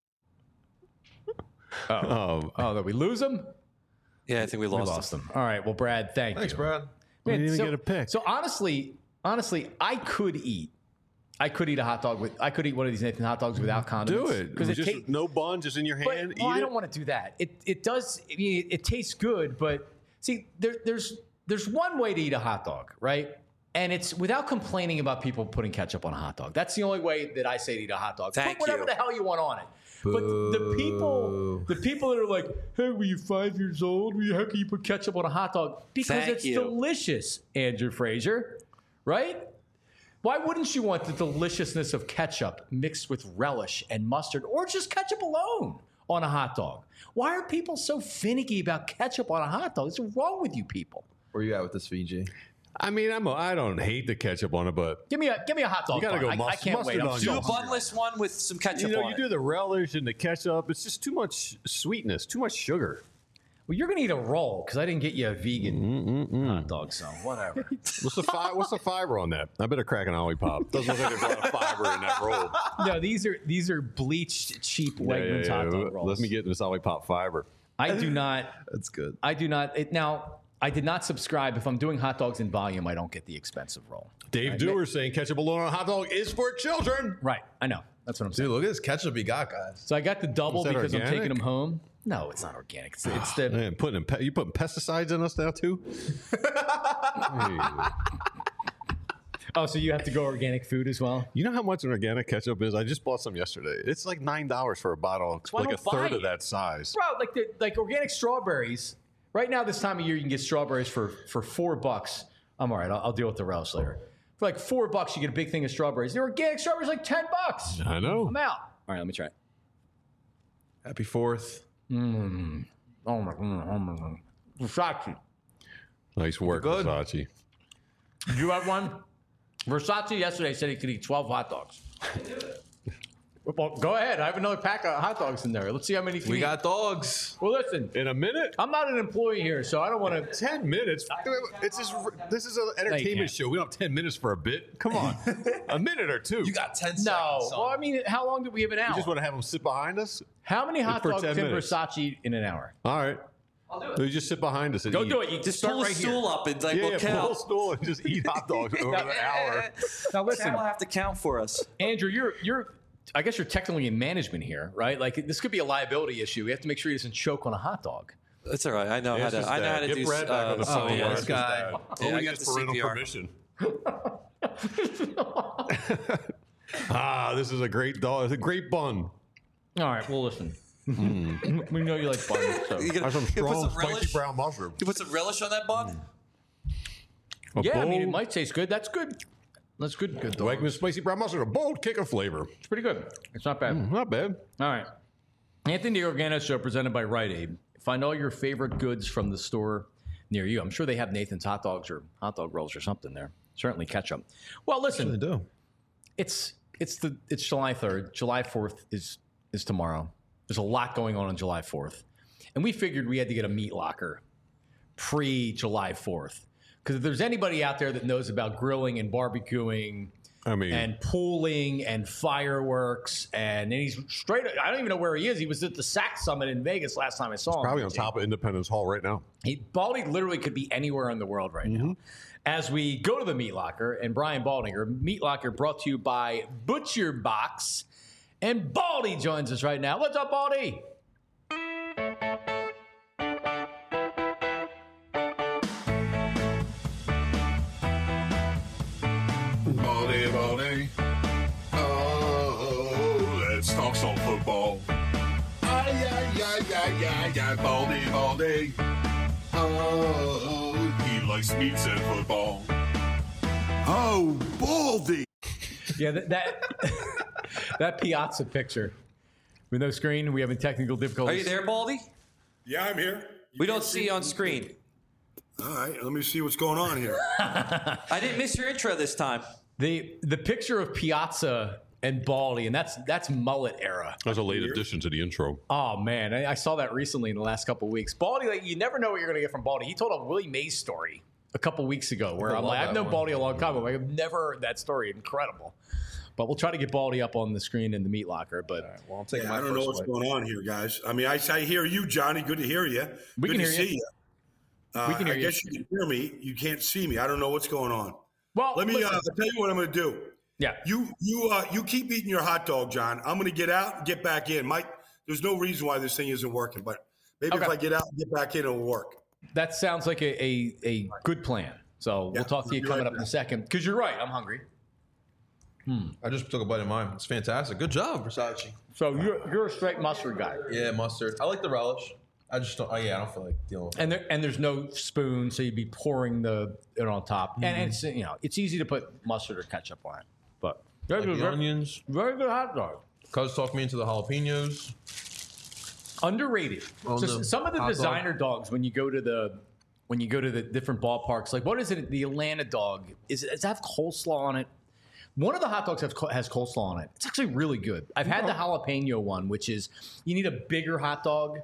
[SPEAKER 3] Oh,
[SPEAKER 2] Oh, that we lose them?
[SPEAKER 5] Yeah, I think we
[SPEAKER 2] We
[SPEAKER 5] lost,
[SPEAKER 2] lost them. All right. Well, Brad, thank
[SPEAKER 4] Thanks,
[SPEAKER 2] you.
[SPEAKER 4] Brad.
[SPEAKER 3] we didn't even
[SPEAKER 2] so,
[SPEAKER 3] get a pick.
[SPEAKER 2] So honestly, honestly, I could eat. I could eat a hot dog with. I could eat one of these Nathan hot dogs without condiments.
[SPEAKER 3] Do it.
[SPEAKER 2] because it
[SPEAKER 3] just
[SPEAKER 2] tastes.
[SPEAKER 3] no bun, just in your
[SPEAKER 2] But
[SPEAKER 3] hand.
[SPEAKER 2] well,
[SPEAKER 3] eat
[SPEAKER 2] I
[SPEAKER 3] it.
[SPEAKER 2] don't want to do that. It it does. I mean, it, it tastes good, but see, there, there's there's one way to eat a hot dog, right? And it's without complaining about people putting ketchup on a hot dog. That's the only way that I say to eat a hot dog.
[SPEAKER 5] Thank
[SPEAKER 2] Put whatever
[SPEAKER 5] you.
[SPEAKER 2] the hell you want on it. But the people, the people that are like, "Hey, were you five years old? How can you put ketchup on a hot dog?" Because
[SPEAKER 5] Thank
[SPEAKER 2] it's
[SPEAKER 5] you.
[SPEAKER 2] delicious, Andrew Frazier, right? Why wouldn't you want the deliciousness of ketchup mixed with relish and mustard, or just ketchup alone on a hot dog? Why are people so finicky about ketchup on a hot dog? What's wrong with you people?
[SPEAKER 4] Where you at with this, V G?
[SPEAKER 3] I mean, I'm a, I don't hate the ketchup on it, but
[SPEAKER 2] Give me a give me a hot dog.
[SPEAKER 3] You gotta
[SPEAKER 2] bun.
[SPEAKER 3] go
[SPEAKER 2] I, I
[SPEAKER 3] must-
[SPEAKER 2] can't wait.
[SPEAKER 3] mustard
[SPEAKER 2] I'm
[SPEAKER 3] on
[SPEAKER 2] so
[SPEAKER 3] yours.
[SPEAKER 5] Do a
[SPEAKER 2] hungry.
[SPEAKER 5] bunless one with some ketchup
[SPEAKER 3] you know,
[SPEAKER 5] on
[SPEAKER 3] you
[SPEAKER 5] it.
[SPEAKER 3] do the relish and the ketchup. It's just too much sweetness, too much sugar.
[SPEAKER 2] Well, you're gonna eat a roll because I didn't get you a vegan
[SPEAKER 3] Mm-mm-mm.
[SPEAKER 2] hot dog, so whatever.
[SPEAKER 3] What's the fi- What's the fiber on that? I better crack an Ollie Pop. Doesn't look like there's a lot of fiber in that roll.
[SPEAKER 2] No, these are these are bleached, cheap
[SPEAKER 3] Yeah,
[SPEAKER 2] Wegmans
[SPEAKER 3] yeah, yeah.
[SPEAKER 2] hot dog rolls.
[SPEAKER 3] Let me get this Ollie Pop fiber.
[SPEAKER 2] I do not.
[SPEAKER 4] That's good.
[SPEAKER 2] I do not. It, now, I did not subscribe. If I'm doing hot dogs in volume, I don't get the expensive roll.
[SPEAKER 3] Dave
[SPEAKER 2] Right.
[SPEAKER 3] Dewar saying ketchup alone on a hot dog is for children.
[SPEAKER 2] Right. I know. That's what I'm saying.
[SPEAKER 4] Dude, look at this ketchup he got, guys.
[SPEAKER 2] So I got the double
[SPEAKER 3] Is that
[SPEAKER 2] because I'm
[SPEAKER 3] organic?
[SPEAKER 2] taking them home. No, it's not organic. It's, it's the.
[SPEAKER 3] Man, putting in pe- you putting pesticides in us now too? Hey.
[SPEAKER 2] Oh, so you have to go organic food as well?
[SPEAKER 3] You know how much an organic ketchup is? I just bought some yesterday. It's like nine dollars for a bottle,
[SPEAKER 2] why I
[SPEAKER 3] like a
[SPEAKER 2] don't buy
[SPEAKER 3] third of
[SPEAKER 2] it.
[SPEAKER 3] that size.
[SPEAKER 2] Bro, like the like organic strawberries. Right now, this time of year, you can get strawberries for for four bucks. I'm all right. I'll, I'll deal with the relish later. For like four bucks, you get a big thing of strawberries. The organic strawberries like ten bucks.
[SPEAKER 3] I know.
[SPEAKER 2] I'm out. All right, let me try it.
[SPEAKER 4] Happy Fourth.
[SPEAKER 2] Mm. Oh my god. Oh my god. Versace.
[SPEAKER 3] Nice work,
[SPEAKER 4] Good.
[SPEAKER 3] Versace.
[SPEAKER 2] Did you have one? Versace yesterday said he could eat twelve hot dogs. Well, go ahead. I have another pack of hot dogs in there. Let's see how many can
[SPEAKER 4] We
[SPEAKER 2] eat.
[SPEAKER 4] got dogs.
[SPEAKER 2] Well, listen.
[SPEAKER 3] In a minute?
[SPEAKER 2] I'm not an employee here, so I don't want to.
[SPEAKER 3] Ten minutes? It's just, this is an entertainment
[SPEAKER 2] can't.
[SPEAKER 3] show. We don't have ten minutes for a bit. Come on. A minute or two.
[SPEAKER 4] You got ten seconds.
[SPEAKER 2] No.
[SPEAKER 4] son.
[SPEAKER 2] Well, I mean, how long do we have an hour?
[SPEAKER 3] You just want to have them sit behind us?
[SPEAKER 2] How many hot
[SPEAKER 3] for
[SPEAKER 2] dogs
[SPEAKER 3] ten
[SPEAKER 2] can
[SPEAKER 3] minutes.
[SPEAKER 2] Versace eat in an hour?
[SPEAKER 3] All right.
[SPEAKER 5] I'll do it.
[SPEAKER 3] You just sit behind us and
[SPEAKER 2] Go
[SPEAKER 3] eat.
[SPEAKER 2] do it. You
[SPEAKER 5] Just
[SPEAKER 2] just start
[SPEAKER 5] pull a
[SPEAKER 2] right
[SPEAKER 5] stool
[SPEAKER 2] here.
[SPEAKER 5] up and like
[SPEAKER 3] Yeah,
[SPEAKER 5] we'll
[SPEAKER 3] yeah, pull a
[SPEAKER 5] count.
[SPEAKER 3] stool and just eat hot dogs over an hour.
[SPEAKER 2] Now listen,
[SPEAKER 5] Cal will have to count for us.
[SPEAKER 2] Andrew, you're you're. I guess you're technically in management here, right? Like this could be a liability issue. We have to make sure he doesn't choke on a hot dog.
[SPEAKER 5] That's all right. I know
[SPEAKER 3] Yeah,
[SPEAKER 5] how
[SPEAKER 3] it's
[SPEAKER 5] to.
[SPEAKER 3] just
[SPEAKER 5] I know
[SPEAKER 3] that.
[SPEAKER 5] how to
[SPEAKER 3] Get
[SPEAKER 5] do.
[SPEAKER 3] Brad back
[SPEAKER 5] uh,
[SPEAKER 3] on the
[SPEAKER 5] oh,
[SPEAKER 3] phone.
[SPEAKER 5] yeah,
[SPEAKER 3] It's
[SPEAKER 5] this
[SPEAKER 3] just
[SPEAKER 5] guy.
[SPEAKER 3] that.
[SPEAKER 5] Yeah, I
[SPEAKER 3] Only
[SPEAKER 5] got
[SPEAKER 3] gets
[SPEAKER 5] the
[SPEAKER 3] parental
[SPEAKER 5] C P R.
[SPEAKER 3] permission. Ah, this is a great dog. It's a great bun.
[SPEAKER 2] All right. Well, listen. We know you like buns. So.
[SPEAKER 5] You gonna,
[SPEAKER 3] Has some
[SPEAKER 5] you put
[SPEAKER 3] strong,
[SPEAKER 5] some
[SPEAKER 3] spicy
[SPEAKER 5] relish.
[SPEAKER 3] brown mushroom.
[SPEAKER 5] You put some relish on that bun.
[SPEAKER 3] A
[SPEAKER 2] Yeah, I mean, it
[SPEAKER 3] bold
[SPEAKER 2] might taste good. That's good. That's good. Good dog.
[SPEAKER 3] Wegmans spicy brown mushroom. A bold kick of flavor.
[SPEAKER 2] It's pretty good. It's not bad.
[SPEAKER 3] Not bad.
[SPEAKER 2] All right. Anthony Organo Show presented by Rite Aid. Find all your favorite goods from the store near you. I'm sure they have Nathan's hot dogs or hot dog rolls or something there. Certainly ketchup. Well, listen,
[SPEAKER 4] They do.
[SPEAKER 2] it's it's the it's July third. July fourth is is tomorrow. There's a lot going on on July fourth. And we figured we had to get a meat locker pre-July fourth. Because if there's anybody out there that knows about grilling and barbecuing
[SPEAKER 3] I mean,
[SPEAKER 2] and pooling and fireworks, and then he's straight. I don't even know where he is. He was at the S A C Summit in Vegas last time I saw him.
[SPEAKER 3] probably on top of Independence Hall right now.
[SPEAKER 2] He, Baldy literally could be anywhere in the world right now. As we go to the Meat Locker, and Brian Baldinger, Meat Locker brought to you by Butcher Box, and Baldy joins us right now. What's up, Baldy?
[SPEAKER 1] Baldy, baldy. Oh, let's talk some football. Ay, ay, ay, ay, ay, ay, baldy, baldy. Oh, he likes meats and football. Oh, baldy.
[SPEAKER 2] Yeah, that that, that Piazza picture with no screen. We having technical difficulties.
[SPEAKER 5] Are you there, Baldy?
[SPEAKER 8] Yeah, I'm here. You
[SPEAKER 5] We don't
[SPEAKER 8] can't
[SPEAKER 5] see you on screen.
[SPEAKER 8] All right, let me see what's going on here.
[SPEAKER 5] I didn't miss your intro this time.
[SPEAKER 2] The the picture of Piazza and Baldy, and that's that's mullet era.
[SPEAKER 3] That was a late addition to the intro.
[SPEAKER 2] Oh man, I, I saw that recently in the last couple of weeks. Baldy, like you never know what you're going to get from Baldy. He told a Willie Mays story a couple of weeks ago, where
[SPEAKER 4] I
[SPEAKER 2] I'm
[SPEAKER 4] love
[SPEAKER 2] like, I've
[SPEAKER 4] that
[SPEAKER 2] known
[SPEAKER 4] one.
[SPEAKER 2] Baldy a long time, but like, I've never heard that story. Incredible. But we'll try to get Baldy up on the screen in the meat locker. But
[SPEAKER 4] Well, I'm taking
[SPEAKER 8] Yeah,
[SPEAKER 4] my
[SPEAKER 8] I don't
[SPEAKER 4] first
[SPEAKER 8] know what's
[SPEAKER 4] bite.
[SPEAKER 8] going on here, guys. I mean, I, I hear you, Johnny. Good to hear you.
[SPEAKER 2] We
[SPEAKER 8] Good
[SPEAKER 2] can
[SPEAKER 8] to
[SPEAKER 2] hear you.
[SPEAKER 8] see you. Uh,
[SPEAKER 2] We can hear
[SPEAKER 8] I
[SPEAKER 2] you.
[SPEAKER 8] guess you can hear me. You can't see me. I don't know what's going on.
[SPEAKER 2] well,
[SPEAKER 8] Let me. Uh,
[SPEAKER 2] listen.
[SPEAKER 8] I'll tell you what I'm going to do.
[SPEAKER 2] yeah.
[SPEAKER 8] You you uh, you keep eating your hot dog, John. I'm going to get out and get back in. Mike, there's no reason why this thing isn't working, but maybe if
[SPEAKER 2] Okay.
[SPEAKER 8] I get out and get back in, it'll work.
[SPEAKER 2] That sounds like a, a, a good plan. So
[SPEAKER 8] Yeah,
[SPEAKER 2] we'll talk to you
[SPEAKER 8] I'll be
[SPEAKER 2] coming
[SPEAKER 8] right
[SPEAKER 2] up in a
[SPEAKER 8] back.
[SPEAKER 2] second. Because you're right. I'm hungry.
[SPEAKER 4] I just took a bite of mine. It's fantastic. Good job, Versace.
[SPEAKER 2] So you're you're a straight mustard guy.
[SPEAKER 4] Yeah, mustard. I like the relish. I just don't. Oh yeah, I don't feel like dealing with it.
[SPEAKER 2] And there and there's no spoon, so you'd be pouring the it on top.
[SPEAKER 4] Mm-hmm.
[SPEAKER 2] And it's you know it's easy to put mustard or ketchup on it. But very
[SPEAKER 4] Like
[SPEAKER 2] good,
[SPEAKER 4] the
[SPEAKER 2] very,
[SPEAKER 4] onions.
[SPEAKER 2] very good hot dog.
[SPEAKER 4] Cuz talked me into the jalapenos.
[SPEAKER 2] Underrated.
[SPEAKER 4] Well,
[SPEAKER 2] So
[SPEAKER 4] the
[SPEAKER 2] some of the
[SPEAKER 4] hot dog-
[SPEAKER 2] designer dogs when you go to the when you go to the different ballparks, like what is it? The Atlanta dog is it, does it have coleslaw on it? One of the hot dogs have, co- has coleslaw on it. It's actually really good. I've had the jalapeno one, which is you need a bigger hot dog.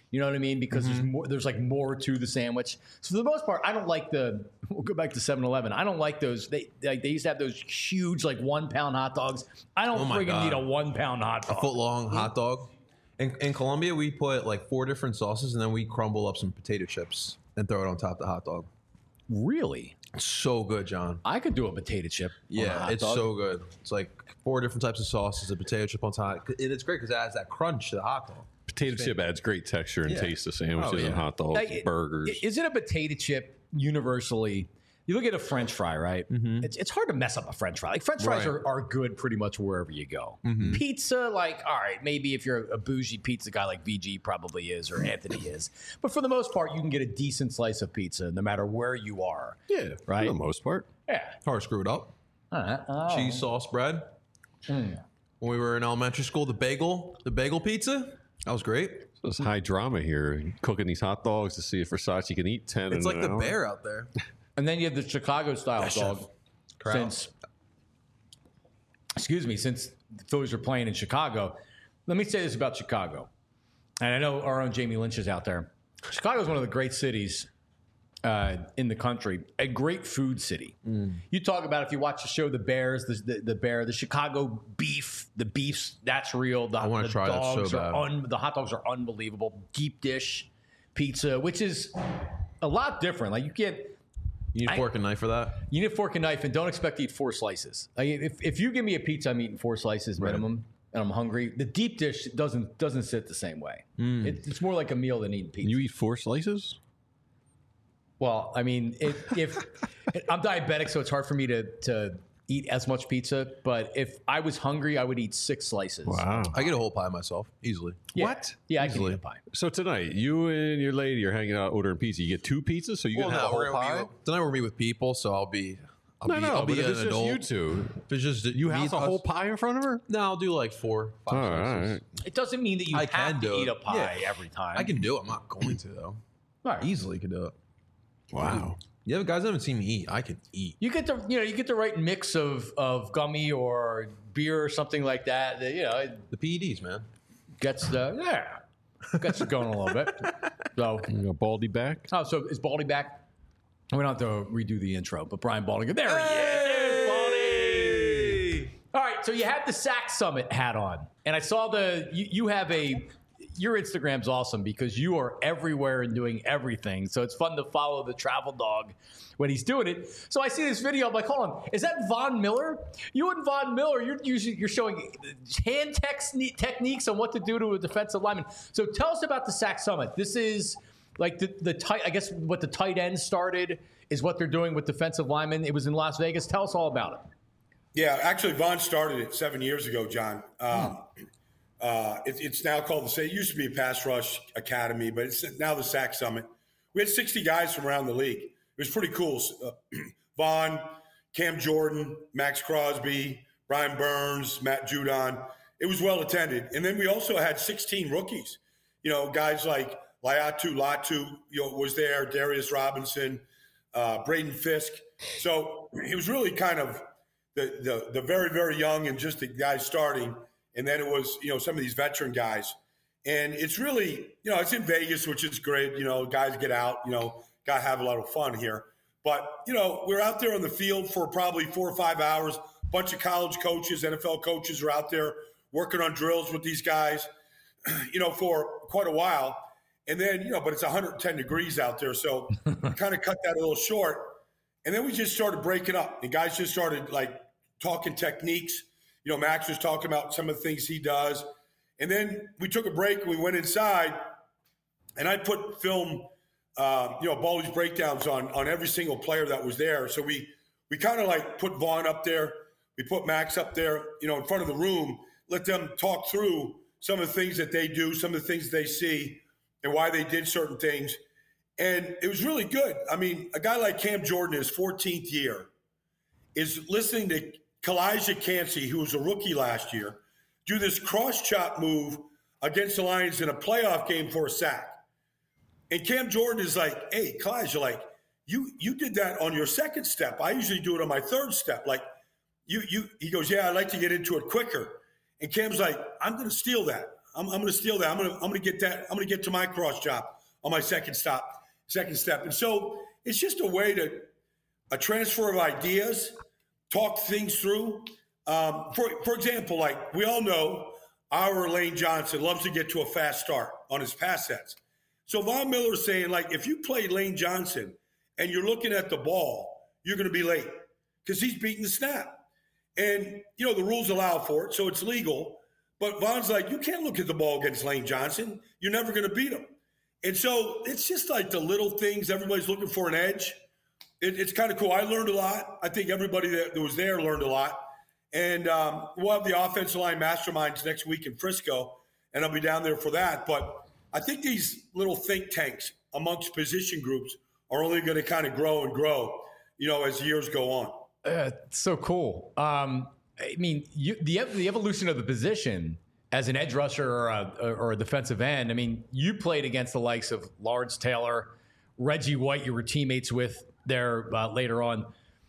[SPEAKER 2] You know what I mean? Because mm-hmm. there's more, there's like more to the sandwich. So for the most part, I don't like the. We'll go back to seven eleven. I don't like those. They like they used to have those huge like one pound hot dogs. I don't
[SPEAKER 4] oh
[SPEAKER 2] friggin' need a one pound hot dog.
[SPEAKER 4] A foot long hot dog. In, in Colombia, we put like four different sauces, and then we crumble up some potato chips and throw it on top of the hot dog.
[SPEAKER 2] Really?
[SPEAKER 4] It's so good, John.
[SPEAKER 2] I could do a potato chip.
[SPEAKER 4] Yeah, it's
[SPEAKER 2] dog.
[SPEAKER 4] so good. It's like four different types of sauces, a potato chip on top. And it's great because it adds that crunch to the hot dog.
[SPEAKER 3] Potato chip adds great texture and
[SPEAKER 4] yeah.
[SPEAKER 3] taste to sandwiches
[SPEAKER 4] oh, yeah.
[SPEAKER 3] and hot dogs,
[SPEAKER 2] now,
[SPEAKER 3] and burgers.
[SPEAKER 2] Isn't a potato chip universally? You look at a French fry, right? Mm-hmm. It's, it's hard to mess up a French fry. Like French fries
[SPEAKER 4] right.
[SPEAKER 2] are, are good pretty much wherever you go. Mm-hmm. Pizza, like, all right, maybe if you're a bougie pizza guy like V G probably is or Anthony is. But for the most part, you can get a decent slice of pizza no matter where you are.
[SPEAKER 3] Yeah,
[SPEAKER 2] right?
[SPEAKER 3] For the most part.
[SPEAKER 2] Yeah.
[SPEAKER 4] Hard screwed up.
[SPEAKER 2] All right. Oh.
[SPEAKER 4] Cheese sauce bread. Mm. When we were in elementary school, the bagel, the bagel pizza, that was great.
[SPEAKER 3] So it's high drama here, cooking these hot dogs to see if Versace can eat ten.
[SPEAKER 4] It's
[SPEAKER 3] in
[SPEAKER 4] like
[SPEAKER 3] an
[SPEAKER 4] the
[SPEAKER 3] hour.
[SPEAKER 4] bear out there.
[SPEAKER 2] And then you have the Chicago style
[SPEAKER 4] Yes,
[SPEAKER 2] dog.
[SPEAKER 4] chef.
[SPEAKER 2] Since, excuse me, since the Phillies are playing in Chicago, let me say this about Chicago. And I know our own Jamie Lynch is out there. Chicago is one of the great cities uh, in the country, a great food city. Mm. You talk about if you watch the show The Bears, the, the, the Bear, the Chicago beef, the beef's that's real. The,
[SPEAKER 4] I want to try that so bad.
[SPEAKER 2] Are un, the hot dogs are unbelievable. Deep dish pizza, which is a lot different. Like you get.
[SPEAKER 4] You need a fork I, and knife for that?
[SPEAKER 2] You need a fork and knife, and don't expect to eat four slices. Like if, if you give me a pizza, I'm eating four slices minimum, right. and I'm hungry. The deep dish doesn't doesn't sit the same way. Mm. It, it's more like a meal than eating pizza.
[SPEAKER 3] You eat four slices?
[SPEAKER 2] Well, I mean, it, if I'm diabetic, so it's hard for me to to eat as much pizza. But if I was hungry, I would eat six slices.
[SPEAKER 3] Wow!
[SPEAKER 4] I get a whole pie myself easily.
[SPEAKER 2] Yeah.
[SPEAKER 3] What?
[SPEAKER 2] Yeah,
[SPEAKER 4] easily.
[SPEAKER 2] I can eat a pie.
[SPEAKER 3] So tonight, you and your lady are hanging out ordering pizza. You get two pizzas, so you
[SPEAKER 4] well,
[SPEAKER 3] can have
[SPEAKER 4] no,
[SPEAKER 3] a whole pie.
[SPEAKER 4] With, tonight we're meet with people, so I'll be. I'll
[SPEAKER 3] no,
[SPEAKER 4] be,
[SPEAKER 3] no,
[SPEAKER 4] I'll be
[SPEAKER 3] but
[SPEAKER 4] an
[SPEAKER 3] if it's
[SPEAKER 4] adult.
[SPEAKER 3] just you two,
[SPEAKER 4] if it's just
[SPEAKER 3] you house a whole
[SPEAKER 4] us.
[SPEAKER 3] pie in front of her.
[SPEAKER 4] No, I'll do like four, five
[SPEAKER 3] all
[SPEAKER 4] slices.
[SPEAKER 3] right.
[SPEAKER 2] It doesn't mean that you
[SPEAKER 4] I
[SPEAKER 2] have
[SPEAKER 4] can
[SPEAKER 2] to
[SPEAKER 4] do
[SPEAKER 2] eat
[SPEAKER 4] it.
[SPEAKER 2] a pie
[SPEAKER 4] Yeah.
[SPEAKER 2] every time.
[SPEAKER 4] I can do it. I'm not going to though.
[SPEAKER 2] All right.
[SPEAKER 4] Easily can do it.
[SPEAKER 3] Wow.
[SPEAKER 4] Yeah, guys haven't seen me eat. I can eat.
[SPEAKER 2] You get the you know you get the right mix of of gummy or beer or something like that. That, you know, it
[SPEAKER 4] The P E Ds, man.
[SPEAKER 2] gets the yeah gets it going a little bit. So
[SPEAKER 3] You got Baldy back.
[SPEAKER 2] oh, so is Baldy back? We don't have to redo the intro, but Brian Baldy, there he is. There's Baldy. All right, so you have the Sack Summit hat on, and I saw the you, you have a. Your Instagram's awesome because you are everywhere and doing everything. So it's fun to follow the travel dog when he's doing it. So I see this video. I'm like, hold on, is that Von Miller? You and Von Miller, you're using, you're showing hand tex- techniques on what to do to a defensive lineman. So tell us about the Sack Summit. This is like the, the tight, I guess what the tight end started is what they're doing with defensive linemen. It was in Las Vegas. Tell us all about it.
[SPEAKER 8] Yeah, actually, Von started it seven years ago, John. Um, hmm. Uh, it, it's now called the, it used to be a pass rush academy, but it's now the Sack Summit. We had sixty guys from around the league. It was pretty cool. Uh, Vaughn, Cam Jordan, Max Crosby, Brian Burns, Matt Judon. It was well attended. And then we also had sixteen rookies. You know, guys like Laiatu Latu, you know, was there, Darius Robinson, uh, Braden Fisk. So it was really kind of the, the, the very, very young and just the guys starting. And then it was, you know, some of these veteran guys. And it's really, you know, it's in Vegas, which is great. You know, guys get out, you know, got to have a lot of fun here. But, you know, we're out there on the field for probably four or five hours. A bunch of college coaches, N F L coaches are out there working on drills with these guys, you know, for quite a while. And then, you know, but it's one hundred ten degrees out there. So we kind of cut that a little short. And then we just started breaking up. And guys just started, like, talking techniques. You know, Max was talking about some of the things he does. And then we took a break and we went inside, and I put film, uh, you know, Baldy's breakdowns on on every single player that was there. So we we kind of like put Vaughn up there. We put Max up there, you know, in front of the room, let them talk through some of the things that they do, some of the things they see, and why they did certain things. And it was really good. I mean, a guy like Cam Jordan, his fourteenth year, is listening to Kalijah Cansey, who was a rookie last year, do this cross-chop move against the Lions in a playoff game for a sack. And Cam Jordan is like, hey, Kalijah, like, you you did that on your second step. I usually do it on my third step. Like, you, you. He goes, yeah, I'd like to get into it quicker. And Cam's like, I'm going to steal that. I'm, I'm going to steal that. I'm going to I'm going to get that. I'm going to get to my cross chop on my second stop, second step. And so it's just a way to a transfer of ideas, talk things through. Um, for for example, like we all know, our Lane Johnson loves to get to a fast start on his pass sets. So Von Miller is saying, like, if you play Lane Johnson and you're looking at the ball, you're going to be late because he's beating the snap. And, you know, the rules allow for it, so it's legal. But Von's like, you can't look at the ball against Lane Johnson. You're never going to beat him. And so it's just like the little things. Everybody's looking for an edge. It, it's kind of cool. I learned a lot. I think everybody that, that was there learned a lot. And um, we'll have the offensive line masterminds next week in Frisco, and I'll be down there for that. But I think these little think tanks amongst position groups are only going to kind of grow and grow, you know, as years go on.
[SPEAKER 2] Uh, so cool. Um, I mean, you, the the evolution of the position as an edge rusher or a, or a defensive end. I mean, you played against the likes of Lawrence Taylor, Reggie White. You were teammates with there uh, later on.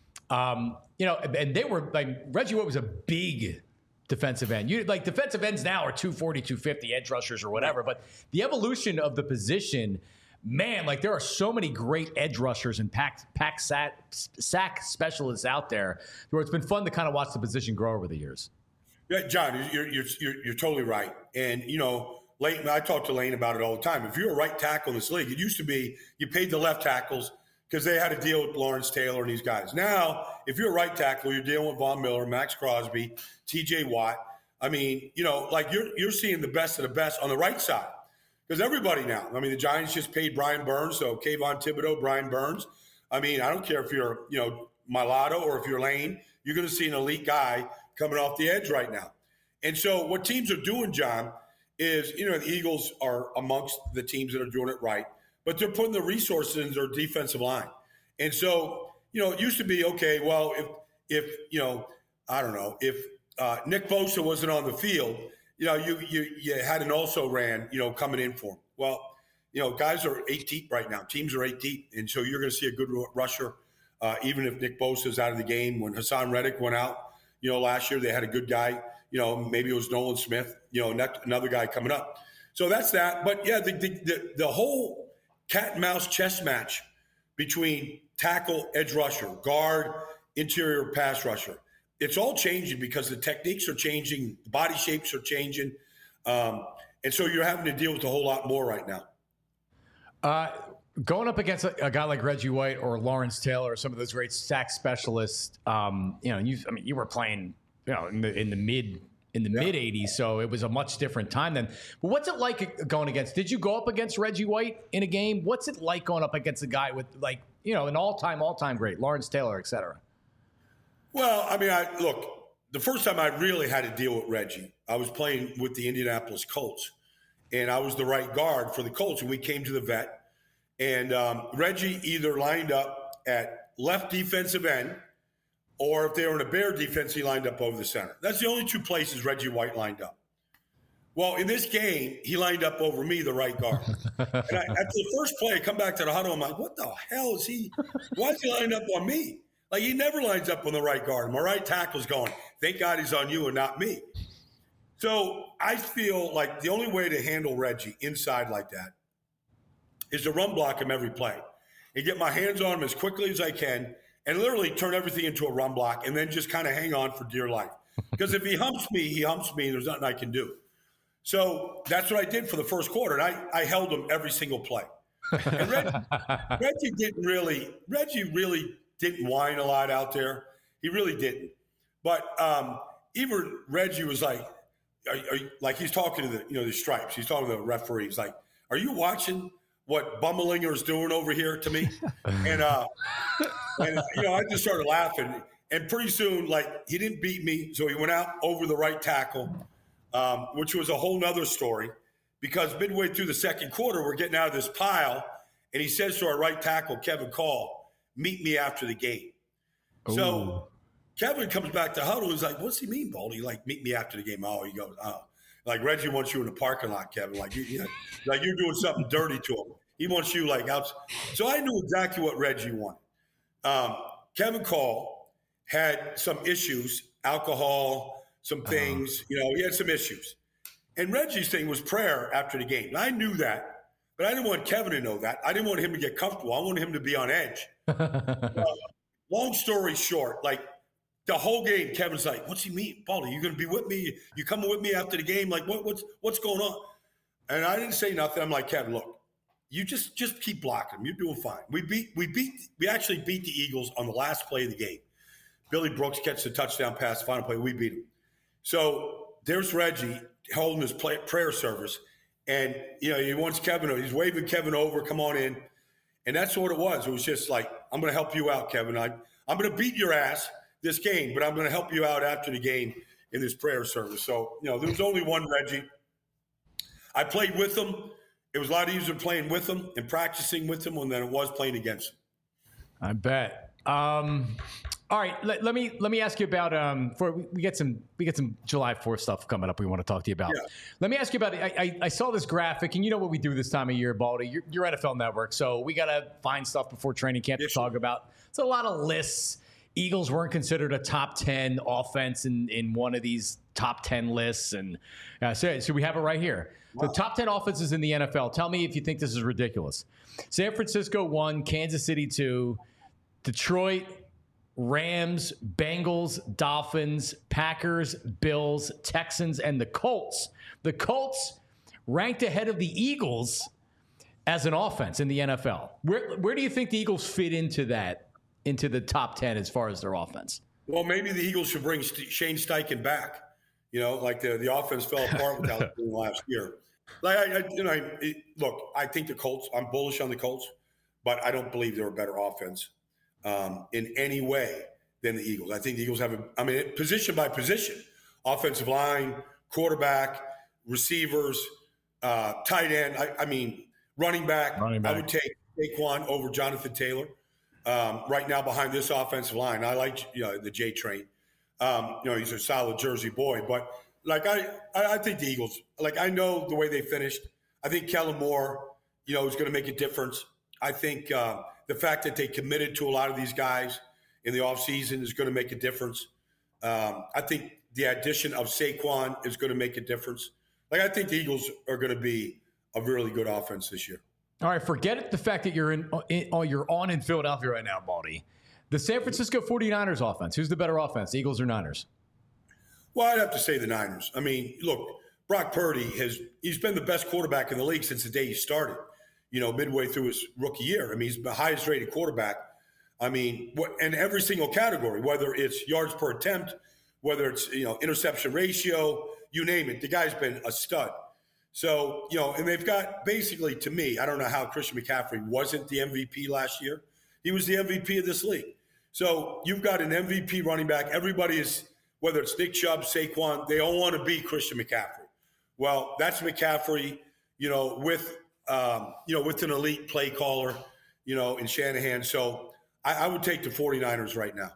[SPEAKER 2] Um, you know, and they were like Reggie White was a big defensive end. You like defensive ends now are two forty, two fifty edge rushers or whatever. But the evolution of the position. Man, like there are so many great edge rushers and pack, pack sack, sack specialists out there where it's been fun to kind of watch the position grow over the years.
[SPEAKER 8] Yeah, John, you're, you're, you're, you're totally right. And, you know, Lane, I talk to Lane about it all the time. If you're a right tackle in this league, it used to be you paid the left tackles because they had to deal with Lawrence Taylor and these guys. Now, if you're a right tackle, you're dealing with Von Miller, Max Crosby, T J Watt. I mean, you know, like you're you're seeing the best of the best on the right side. Because everybody now, I mean, the Giants just paid Brian Burns, so Kayvon Thibodeau, Brian Burns. I mean, I don't care if you're, you know, Mulatto or if you're Lane, you're going to see an elite guy coming off the edge right now. And so what teams are doing, John, is, you know, the Eagles are amongst the teams that are doing it right, but they're putting the resources in their defensive line. And so, you know, it used to be, okay, well, if, if you know, I don't know, if uh, Nick Bosa wasn't on the field, you know, you, you you had an also ran, you know, coming in for him. Well, you know, guys are eight deep right now. Teams are eight deep. And so you're going to see a good rusher, uh, even if Nick Bosa is out of the game. When Hassan Reddick went out, you know, last year they had a good guy. You know, maybe it was Nolan Smith, you know, another guy coming up. So that's that. But, yeah, the, the, the, the whole cat and mouse chess match between tackle, edge rusher, guard, interior pass rusher, it's all changing because the techniques are changing, the body shapes are changing. Um, and so you're having to deal with a whole lot more right now.
[SPEAKER 2] Uh, going up against a, a guy like Reggie White or Lawrence Taylor or some of those great sack specialists, um, you know, you, I mean, you were playing, you know, in the, in the mid in the yeah. mid eighties, so it was a much different time then. But what's it like going against? Did you go up against Reggie White in a game? What's it like going up against a guy with, like, you know, an all-time, all-time great, Lawrence Taylor, et cetera?
[SPEAKER 8] Well, I mean, I look, the first time I really had to deal with Reggie, I was playing with the Indianapolis Colts, and I was the right guard for the Colts, and we came to the vet, and um, Reggie either lined up at left defensive end, or if they were in a Bear defense, he lined up over the center. That's the only two places Reggie White lined up. Well, in this game, he lined up over me, the right guard. And I, after the first play, I come back to the huddle, I'm like, what the hell is he? Why is he lined up on me? Like, he never lines up on the right guard. My right tackle's going, thank God he's on you and not me. So I feel like the only way to handle Reggie inside like that is to run block him every play and get my hands on him as quickly as I can and literally turn everything into a run block and then just kind of hang on for dear life. Because if he humps me, he humps me, and there's nothing I can do. So that's what I did for the first quarter, and I, I held him every single play. And Reggie, Reggie didn't really – Reggie really – didn't whine a lot out there. He really didn't. But um, even Reggie was like, are, are you, like he's talking to the, you know, the stripes. He's talking to the referee. He's like, are you watching what Bummelinger is doing over here to me? and, uh, and, you know, I just started laughing. And pretty soon, like, he didn't beat me. So he went out over the right tackle, um, which was a whole nother story because midway through the second quarter, we're getting out of this pile. And he says to our right tackle, Kevin Call, meet me after the game. Ooh. So Kevin comes back to huddle. He's like, what's he mean, Baldy? Like, meet me after the game. Oh, he goes, oh. Like, Reggie wants you in the parking lot, Kevin. Like, you, you know, like you're doing something dirty to him. He wants you, like, out. So I knew exactly what Reggie wanted. Um, Kevin Call had some issues, alcohol, some things. Uh-huh. You know, he had some issues. And Reggie's thing was prayer after the game. And I knew that, but I didn't want Kevin to know that. I didn't want him to get comfortable. I wanted him to be on edge. uh, long story short, like the whole game, Kevin's like, what's he mean? Baldy, you going to be with me? You coming with me after the game? Like, what, what's what's going on? And I didn't say nothing. I'm like, Kevin, look, you just just keep blocking him. You're doing fine. We beat we beat we actually beat the Eagles on the last play of the game. Billy Brooks catches a touchdown pass, final play. We beat him. So there's Reggie holding his play, prayer service, and you know he wants Kevin. He's waving Kevin over. Come on in, and that's what it was. It was just like, I'm going to help you out, Kevin. I I'm going to beat your ass this game, but I'm going to help you out after the game in this prayer service. So you know there was only one Reggie. I played with him. It was a lot easier playing with him and practicing with him than it was playing against him.
[SPEAKER 2] I bet. Um, all right, let, let me let me ask you about. Um, for we, we get some we get some July fourth stuff coming up. We want to talk to you about.
[SPEAKER 8] Yeah.
[SPEAKER 2] Let me ask you about. I, I, I saw this graphic, and you know what we do this time of year, Baldy. You're, you're N F L Network, so we got to find stuff before training camp
[SPEAKER 8] Yes,
[SPEAKER 2] to talk about. It's a lot of lists. Eagles weren't considered a top ten offense in, in one of these top ten lists, and uh, so, so we have it right here. Wow. The top ten offenses in the N F L. Tell me if you think this is ridiculous. San Francisco one, Kansas City two, Detroit, Rams, Bengals, Dolphins, Packers, Bills, Texans, and the Colts. The Colts ranked ahead of the Eagles as an offense in the N F L. Where where do you think the Eagles fit into that? Into the top ten as far as their offense?
[SPEAKER 8] Well, maybe the Eagles should bring St- Shane Steichen back. You know, like the, the offense fell apart without him last year. Like I, I you know, I, it, look, I think the Colts. I'm bullish on the Colts, but I don't believe they're a better offense um, in any way than the Eagles. I think the Eagles have a. I mean, position by position, offensive line, quarterback, receivers, uh, tight end. I, I mean, running back.
[SPEAKER 2] Running back.
[SPEAKER 8] I would take Saquon over Jonathan Taylor. Um, right now behind this offensive line. I like you know, the J train. Um, you know, he's a solid Jersey boy. But, like, I, I think the Eagles, like, I know the way they finished. I think Kellen Moore, you know, is going to make a difference. I think uh, the fact that they committed to a lot of these guys in the offseason is going to make a difference. Um, I think the addition of Saquon is going to make a difference. Like, I think the Eagles are going to be a really good offense this year.
[SPEAKER 2] All right, forget the fact that you're in, in oh, you're on in Philadelphia right now, Baldy. The San Francisco forty-niners offense, who's the better offense, Eagles or Niners?
[SPEAKER 8] Well, I'd have to say the Niners. I mean, look, Brock Purdy has he's been the best quarterback in the league since the day he started, you know, midway through his rookie year. I mean, he's the highest rated quarterback. I mean, what in every single category, whether it's yards per attempt, whether it's, you know, interception ratio, you name it, the guy's been a stud. So, you know, and they've got basically, to me, I don't know how Christian McCaffrey wasn't the M V P last year. He was the M V P of this league. So you've got an M V P running back. Everybody is, whether it's Nick Chubb, Saquon, they all want to be Christian McCaffrey. Well, that's McCaffrey, you know, with, um, you know, with an elite play caller, you know, in Shanahan. So I, I would take the forty-niners right now.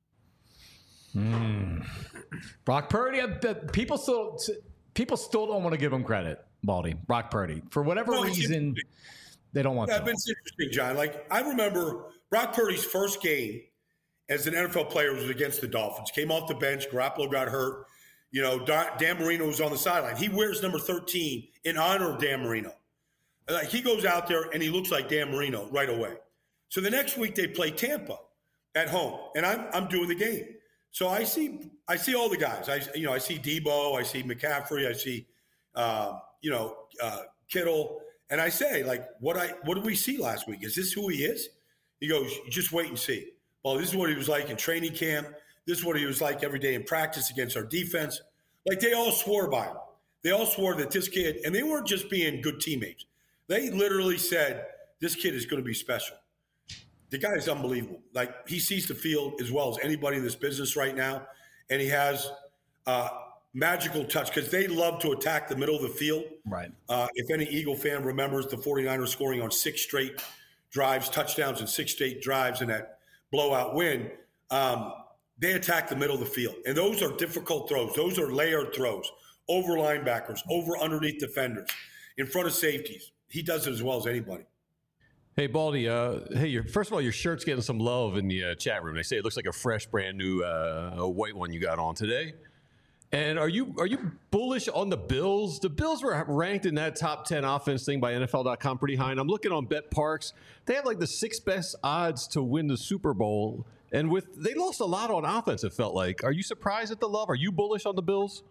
[SPEAKER 2] Mm. Brock Purdy, uh, people still... People still don't want to give him credit, Baldy, Brock Purdy. For whatever
[SPEAKER 8] no,
[SPEAKER 2] reason, they don't want
[SPEAKER 8] yeah,
[SPEAKER 2] to.
[SPEAKER 8] It's interesting, John. Like, I remember Brock Purdy's first game as an N F L player was against the Dolphins. Came off the bench. Garoppolo got hurt. You know, Dan Marino was on the sideline. He wears number thirteen in honor of Dan Marino. Like, he goes out there, and he looks like Dan Marino right away. So the next week, they play Tampa at home, and I'm I'm doing the game. So I see, I see all the guys. I, you know, I see Debo, I see McCaffrey, I see, uh, you know, uh, Kittle, and I say, like, what I, what did we see last week? Is this who he is? He goes, just wait and see. Well, this is what he was like in training camp. This is what he was like every day in practice against our defense. Like, they all swore by him. They all swore that this kid, and they weren't just being good teammates. They literally said, this kid is going to be special. The guy is unbelievable. Like, he sees the field as well as anybody in this business right now, and he has uh, magical touch because they love to attack the middle of the field.
[SPEAKER 2] Right.
[SPEAKER 8] Uh, if any Eagle fan remembers the forty-niners scoring on six straight drives, touchdowns, and six straight drives in that blowout win, um, they attack the middle of the field. And those are difficult throws. Those are layered throws, over linebackers, over underneath defenders, in front of safeties. He does it as well as anybody.
[SPEAKER 3] Hey, Baldy, uh, hey, your, first of all, your shirt's getting some love in the uh, chat room. They say it looks like a fresh, brand new uh, white one you got on today. And are you are you bullish on the Bills? The Bills were ranked in that top ten offense thing by N F L dot com pretty high. And I'm looking on BetParks. They have like the sixth best odds to win the Super Bowl. And with they lost a lot on offense, it felt like. Are you surprised at the love? Are you bullish on the Bills?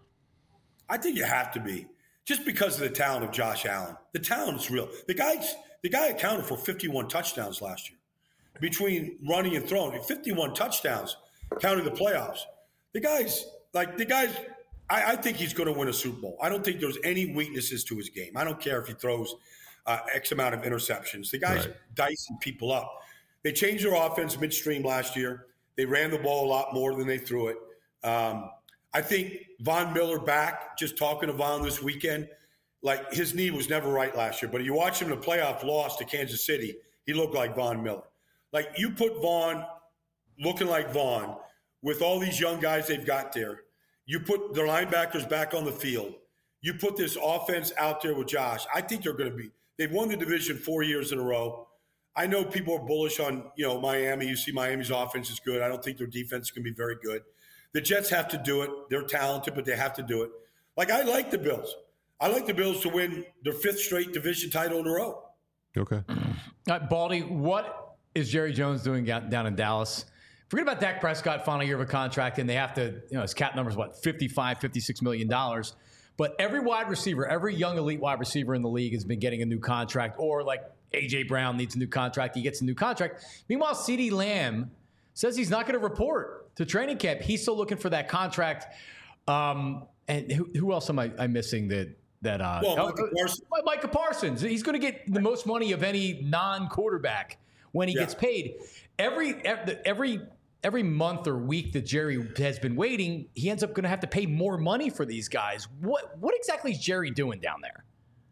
[SPEAKER 8] I think you have to be. Just because of the talent of Josh Allen. The talent is real. The guy's the guy accounted for fifty-one touchdowns last year. Between running and throwing. fifty-one touchdowns, counting the playoffs. The guy's like the guy's I, I think he's going to win a Super Bowl. I don't think there's any weaknesses to his game. I don't care if he throws uh, X amount of interceptions. The guy's right. dicing people up. They changed their offense midstream last year. They ran the ball a lot more than they threw it. Um, I think Von Miller back, just talking to Von this weekend, like his knee was never right last year. But you watch him in the playoff loss to Kansas City, he looked like Von Miller. Like you put Von looking like Von with all these young guys they've got there. You put their linebackers back on the field. You put this offense out there with Josh. I think they're going to be – they've won the division four years in a row. I know people are bullish on, you know, Miami. You see Miami's offense is good. I don't think their defense is going to be very good. The Jets have to do it. They're talented, but they have to do it. Like, I like the Bills. I like the Bills to win their fifth straight division title in a row.
[SPEAKER 3] Okay.
[SPEAKER 2] Uh, Baldy, what is Jerry Jones doing down in Dallas? Forget about Dak Prescott, final year of a contract, and they have to, you know, his cap number is what, fifty-five, fifty-six million dollars. But every wide receiver, every young elite wide receiver in the league has been getting a new contract, or like A J Brown needs a new contract, he gets a new contract. Meanwhile, CeeDee Lamb says he's not going to report to training camp. He's still looking for that contract. Um, and who, who else am I, I missing that? That uh,
[SPEAKER 8] well,
[SPEAKER 2] Micah, Parsons. Micah Parsons. He's going to get the most money of any non-quarterback when he yeah. gets paid. Every every every month or week that Jerry has been waiting, he ends up going to have to pay more money for these guys. What what exactly is Jerry doing down there?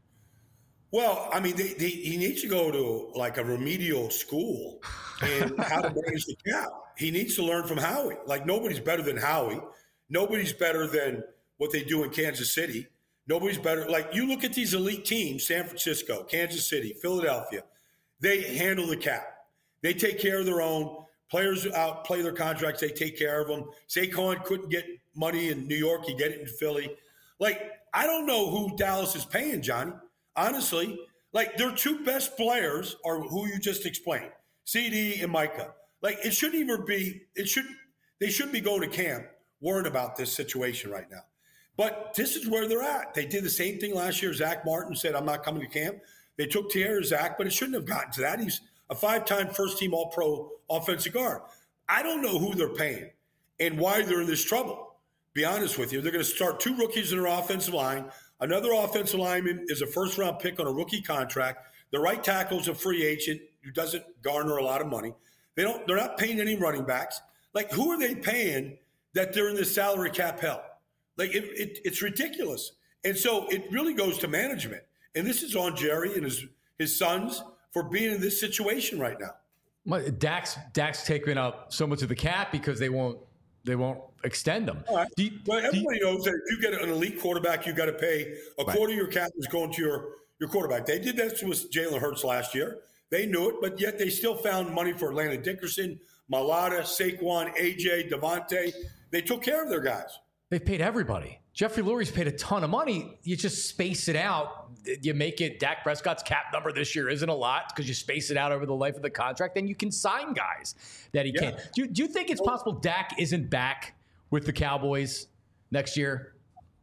[SPEAKER 8] Well, I mean, they, they, he needs to go to like a remedial school and how to manage the cap. He needs to learn from Howie. Like nobody's better than Howie. Nobody's better than what they do in Kansas City. Nobody's better. Like you look at these elite teams, San Francisco, Kansas City, Philadelphia, they handle the cap. They take care of their own. Players outplay their contracts. They take care of them. Saquon couldn't get money in New York. He get it in Philly. Like, I don't know who Dallas is paying, Johnny. Honestly, like their two best players are who you just explained, C D and Micah. Like it shouldn't even be, it should, they should be going to camp worrying about this situation right now. But this is where they're at. They did the same thing last year. Zach Martin said, I'm not coming to camp. They took care of Zach, but it shouldn't have gotten to that. He's a five-time first-team All-Pro offensive guard. I don't know who they're paying and why they're in this trouble. Be honest with you. They're going to start two rookies in their offensive line. Another offensive lineman is a first-round pick on a rookie contract. The right tackle is a free agent who doesn't garner a lot of money. They don't. They're not paying any running backs. Like, who are they paying that they're in this salary cap hell? Like, it, it, it's ridiculous. And so it really goes to management. And this is on Jerry and his his sons for being in this situation right now.
[SPEAKER 2] Dak's Dak's taking up so much of the cap because they won't they won't extend them.
[SPEAKER 8] All right.
[SPEAKER 2] Do you,
[SPEAKER 8] well, everybody
[SPEAKER 2] do you,
[SPEAKER 8] knows that if you get an elite quarterback, you got to pay a right. quarter of your cap is going to your, your quarterback. They did that with Jalen Hurts last year. They knew it, but yet they still found money for Landon Dickerson, Mailata, Saquon, A J, Devontae. They took care of their guys.
[SPEAKER 2] They've paid everybody. Jeffrey Lurie's paid a ton of money. You just space it out. You make it, Dak Prescott's cap number this year isn't a lot because you space it out over the life of the contract, and you can sign guys that he yeah. can. Do you, do you think it's possible Dak isn't back with the Cowboys next year?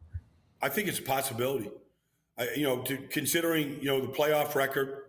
[SPEAKER 8] I think it's a possibility. I, you know, to, considering, you know, the playoff record,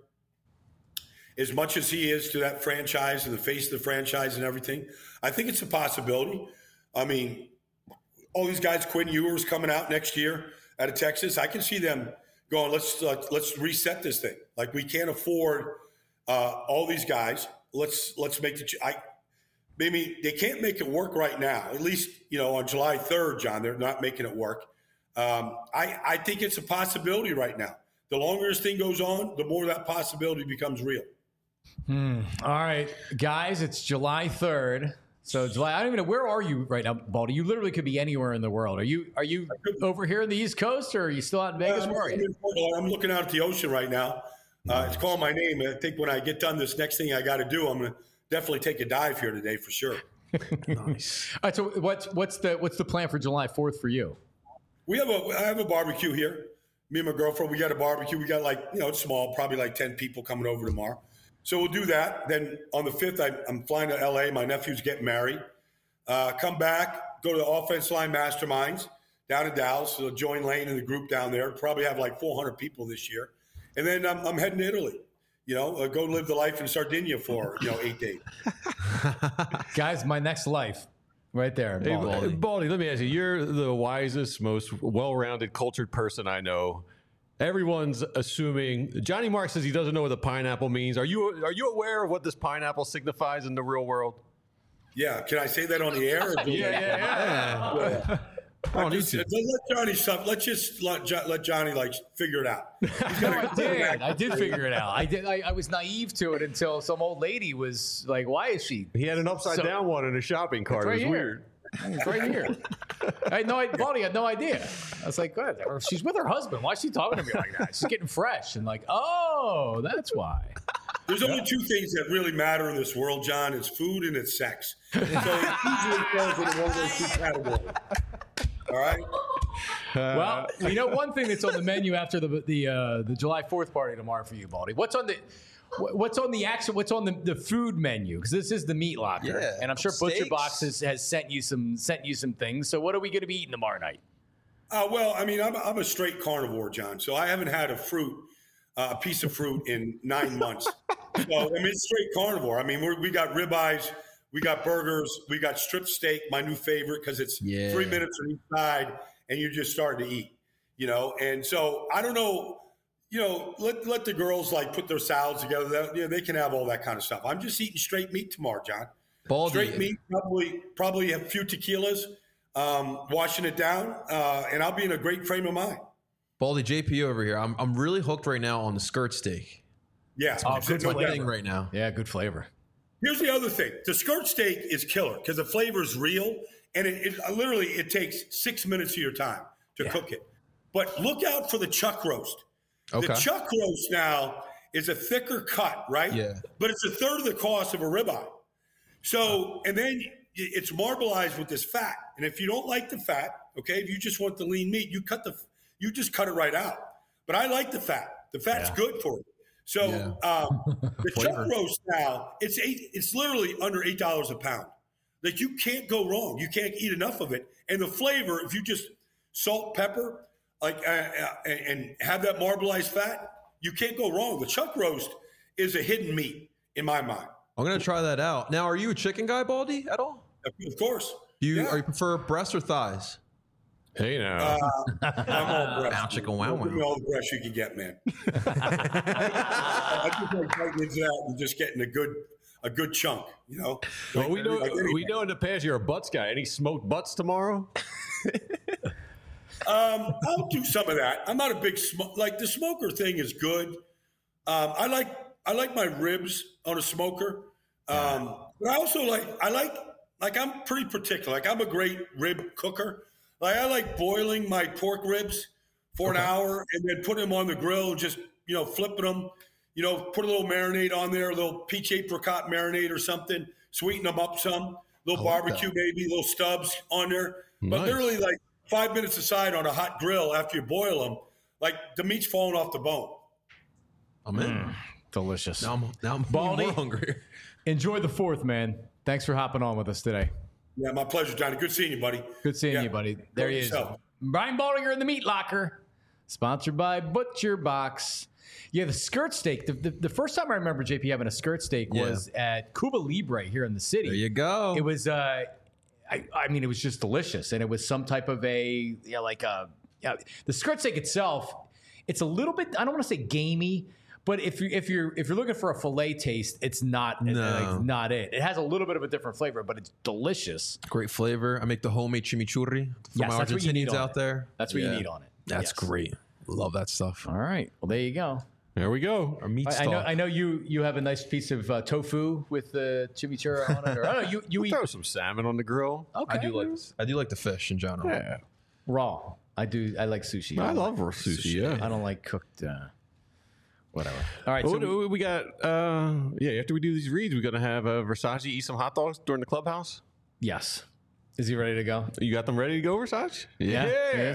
[SPEAKER 8] as much as he is to that franchise and the face of the franchise and everything, I think it's a possibility. I mean, all these guys, Quinn Ewers coming out next year out of Texas, I can see them going, let's uh, let's reset this thing. Like, we can't afford uh, all these guys. Let's let's make the ch- – I maybe they can't make it work right now. At least, you know, on July third, John, they're not making it work. Um, I, I think it's a possibility right now. The longer this thing goes on, the more that possibility becomes real.
[SPEAKER 2] Hmm. All right, guys, it's July third. So July, I don't even know, where are you right now, Baldy? You literally could be anywhere in the world. Are you are you over here in the East Coast, or are you still out in Vegas?
[SPEAKER 8] Uh,
[SPEAKER 2] Where are you?
[SPEAKER 8] I'm looking out at the ocean right now. Uh, it's calling my name. I think when I get done, this next thing I got to do, I'm going to definitely take a dive here today for sure.
[SPEAKER 2] Nice. All right. So what's what's the what's the plan for July fourth for you?
[SPEAKER 8] we have a I have a barbecue here. Me and my girlfriend, we got a barbecue. We got like, you know, it's small, probably like ten people coming over tomorrow. So we'll do that. Then on the fifth, I, I'm flying to L A. My nephew's getting married. Uh, come back, go to the offense line masterminds down in Dallas. So join Lane and the group down there. Probably have like four hundred people this year. And then I'm, I'm heading to Italy. You know, uh, go live the life in Sardinia for, you know, eight days.
[SPEAKER 2] Guys, my next life. Right there.
[SPEAKER 3] Hey,
[SPEAKER 2] Baldy.
[SPEAKER 3] Baldy, let me ask you. You're the wisest, most well-rounded, cultured person I know. Everyone's assuming Johnny Marks says he doesn't know what the pineapple means. Are you are you aware of what this pineapple signifies in the real world?
[SPEAKER 8] Yeah. Can I say that on the air? Or do
[SPEAKER 3] Yeah, yeah, yeah.
[SPEAKER 8] yeah. I just, let Johnny stuff. Let's just let, Jo- let Johnny like figure it out. He's
[SPEAKER 2] No,
[SPEAKER 8] gonna-
[SPEAKER 2] I did. I did figure it out. I did. I, I was naive to it until some old lady was like, "Why is she?"
[SPEAKER 3] He had an upside
[SPEAKER 2] So-
[SPEAKER 3] down one in a shopping cart.
[SPEAKER 2] right
[SPEAKER 3] It was
[SPEAKER 2] here.
[SPEAKER 3] weird.
[SPEAKER 2] It's right here. I had no idea. Baldy had no idea. I was like, "Good." Or she's with her husband. Why is she talking to me like that? She's getting fresh and like, "Oh, that's why."
[SPEAKER 8] There's only two things that really matter in this world, John. It's food and it's sex. So it usually falls into one of those two categories. All right.
[SPEAKER 2] Well, you know one thing that's on the menu after the the uh, the July fourth party tomorrow for you, Baldy. What's on the wh- What's on the actual? What's on the, the food menu? Because this is the meat locker,
[SPEAKER 4] Yeah.
[SPEAKER 2] and I'm sure Butcher
[SPEAKER 4] Steaks.
[SPEAKER 2] Box has, has sent you some sent you some things. So what are we going to be eating tomorrow night?
[SPEAKER 8] Uh, well, I mean, I'm, I'm a straight carnivore, John. So I haven't had a fruit, uh, a piece of fruit in nine months. So I mean, it's straight carnivore. I mean, we're, we got ribeyes, we got burgers, we got strip steak, my new favorite because it's
[SPEAKER 4] Yeah.
[SPEAKER 8] three minutes on each side, and you're just starting to eat. You know, and so I don't know. You know, let let the girls like put their salads together. That, you know, they can have all that kind of stuff. I'm just eating straight meat tomorrow, John.
[SPEAKER 4] Baldy.
[SPEAKER 8] Straight meat, probably probably a few tequilas, um, washing it down, uh, and I'll be in a great frame of mind.
[SPEAKER 4] Baldy, J P over here. I'm I'm really hooked right now on the skirt steak.
[SPEAKER 8] Yeah,
[SPEAKER 2] Oh,
[SPEAKER 8] it's
[SPEAKER 2] good
[SPEAKER 8] no
[SPEAKER 4] My
[SPEAKER 8] doubt.
[SPEAKER 4] thing right now.
[SPEAKER 2] Yeah, good flavor.
[SPEAKER 8] Here's the other thing: the skirt steak is killer because the flavor is real, and it, it literally it takes six minutes of your time to
[SPEAKER 2] Yeah.
[SPEAKER 8] cook it. But look out for the chuck roast.
[SPEAKER 4] Okay.
[SPEAKER 8] The chuck roast now is a thicker cut, right?
[SPEAKER 4] Yeah.
[SPEAKER 8] But it's a third of the cost of a ribeye. So, and then it's marbleized with this fat. And if you don't like the fat, okay, if you just want the lean meat, you cut the, you just cut it right out. But I like the fat. The fat's
[SPEAKER 2] Yeah.
[SPEAKER 8] good for it. So
[SPEAKER 4] Yeah.
[SPEAKER 8] um, the chuck
[SPEAKER 4] Flavor.
[SPEAKER 8] roast now, it's eight. It's literally under eight dollars a pound. Like you can't go wrong. You can't eat enough of it. And the flavor, if you just salt, pepper, like uh, uh, and, and have that marbleized fat, you can't go wrong. The chuck roast is a hidden meat in my mind.
[SPEAKER 4] I'm gonna try that out. Now, are you a chicken guy, Baldy, at all?
[SPEAKER 8] Of course.
[SPEAKER 4] Do you
[SPEAKER 8] Yeah.
[SPEAKER 4] are you prefer breast or thighs?
[SPEAKER 3] Hey now.
[SPEAKER 8] Uh, I'm all breast.
[SPEAKER 4] Bow chicka wow
[SPEAKER 8] Give me
[SPEAKER 4] wow.
[SPEAKER 8] all the breast you can get, man. I just like biting into that and just getting a good a good chunk, you know.
[SPEAKER 3] well, we know
[SPEAKER 8] Like anything.
[SPEAKER 3] we know in the past you're a butts guy. Any smoked butts tomorrow?
[SPEAKER 8] Um, I'll do some of that. I'm not a big smoke. Like the smoker thing is good. Um, I like I like my ribs on a smoker. Um, but I also like I like like I'm pretty particular. Like I'm a great rib cooker. Like I like boiling my pork ribs for an hour and then putting them on the grill and just you know flipping them. You know, put a little marinade on there, a little peach apricot marinade or something. Sweeten them up some. Little
[SPEAKER 4] like
[SPEAKER 8] barbecue,
[SPEAKER 4] that.
[SPEAKER 8] maybe little stubs on there. But
[SPEAKER 3] Nice.
[SPEAKER 8] literally like five minutes aside on a hot grill after you boil them, like the meat's falling off the bone.
[SPEAKER 4] I'm in.
[SPEAKER 2] Delicious.
[SPEAKER 4] Now I'm now I'm
[SPEAKER 2] Baldy.
[SPEAKER 4] more hungry.
[SPEAKER 2] Enjoy the fourth, man. Thanks for hopping on with us today.
[SPEAKER 8] Yeah, my pleasure, Johnny. Good seeing you, buddy.
[SPEAKER 2] Good seeing
[SPEAKER 8] Yeah.
[SPEAKER 2] you, buddy. There he is.
[SPEAKER 8] Yourself.
[SPEAKER 2] Brian Baldinger in the Meat Locker, sponsored by Butcher Box. Yeah, the skirt steak. The, the, the first time I remember J P having a skirt steak
[SPEAKER 4] Yeah.
[SPEAKER 2] was at Cuba Libre here in the city.
[SPEAKER 4] There you go.
[SPEAKER 2] It was, uh, I, I mean, it was just delicious, and it was some type of a, you know, like a, yeah, the skirt steak itself. It's a little bit. I don't want to say gamey, but if you if you're if you're looking for a fillet taste, it's not.
[SPEAKER 4] No.
[SPEAKER 2] It's not it. It has a little bit of a different flavor, but it's delicious.
[SPEAKER 4] Great flavor. I make the homemade chimichurri for
[SPEAKER 2] Yes,
[SPEAKER 4] my
[SPEAKER 2] that's what you need
[SPEAKER 4] Argentinians
[SPEAKER 2] on
[SPEAKER 4] out
[SPEAKER 2] it.
[SPEAKER 4] there.
[SPEAKER 2] That's what
[SPEAKER 4] Yeah.
[SPEAKER 2] you need on it.
[SPEAKER 4] That's
[SPEAKER 2] Yes.
[SPEAKER 4] great. Love that stuff.
[SPEAKER 2] All right. Well, there you go.
[SPEAKER 3] There we go.
[SPEAKER 4] Our meat
[SPEAKER 2] I, I
[SPEAKER 4] stock.
[SPEAKER 2] know. I know you. You have a nice piece of uh, tofu with the chimichurri on it. Or, I don't know. You you
[SPEAKER 3] We'll
[SPEAKER 2] eat
[SPEAKER 3] throw some salmon on the grill.
[SPEAKER 2] okay.
[SPEAKER 4] I do like this. I do like the fish in general.
[SPEAKER 3] Yeah.
[SPEAKER 2] raw. I do. I like sushi.
[SPEAKER 3] I
[SPEAKER 2] don't
[SPEAKER 3] love
[SPEAKER 2] like-
[SPEAKER 3] sushi. Yeah.
[SPEAKER 2] I don't like cooked. Uh, whatever. All right.
[SPEAKER 3] Oh,
[SPEAKER 2] So
[SPEAKER 3] we, we got, uh, yeah, after we do these reads, we're going to have uh, Versace eat some hot dogs during the clubhouse.
[SPEAKER 2] yes. Is he ready to go?
[SPEAKER 3] You got them ready to go, Versace?
[SPEAKER 2] Yes.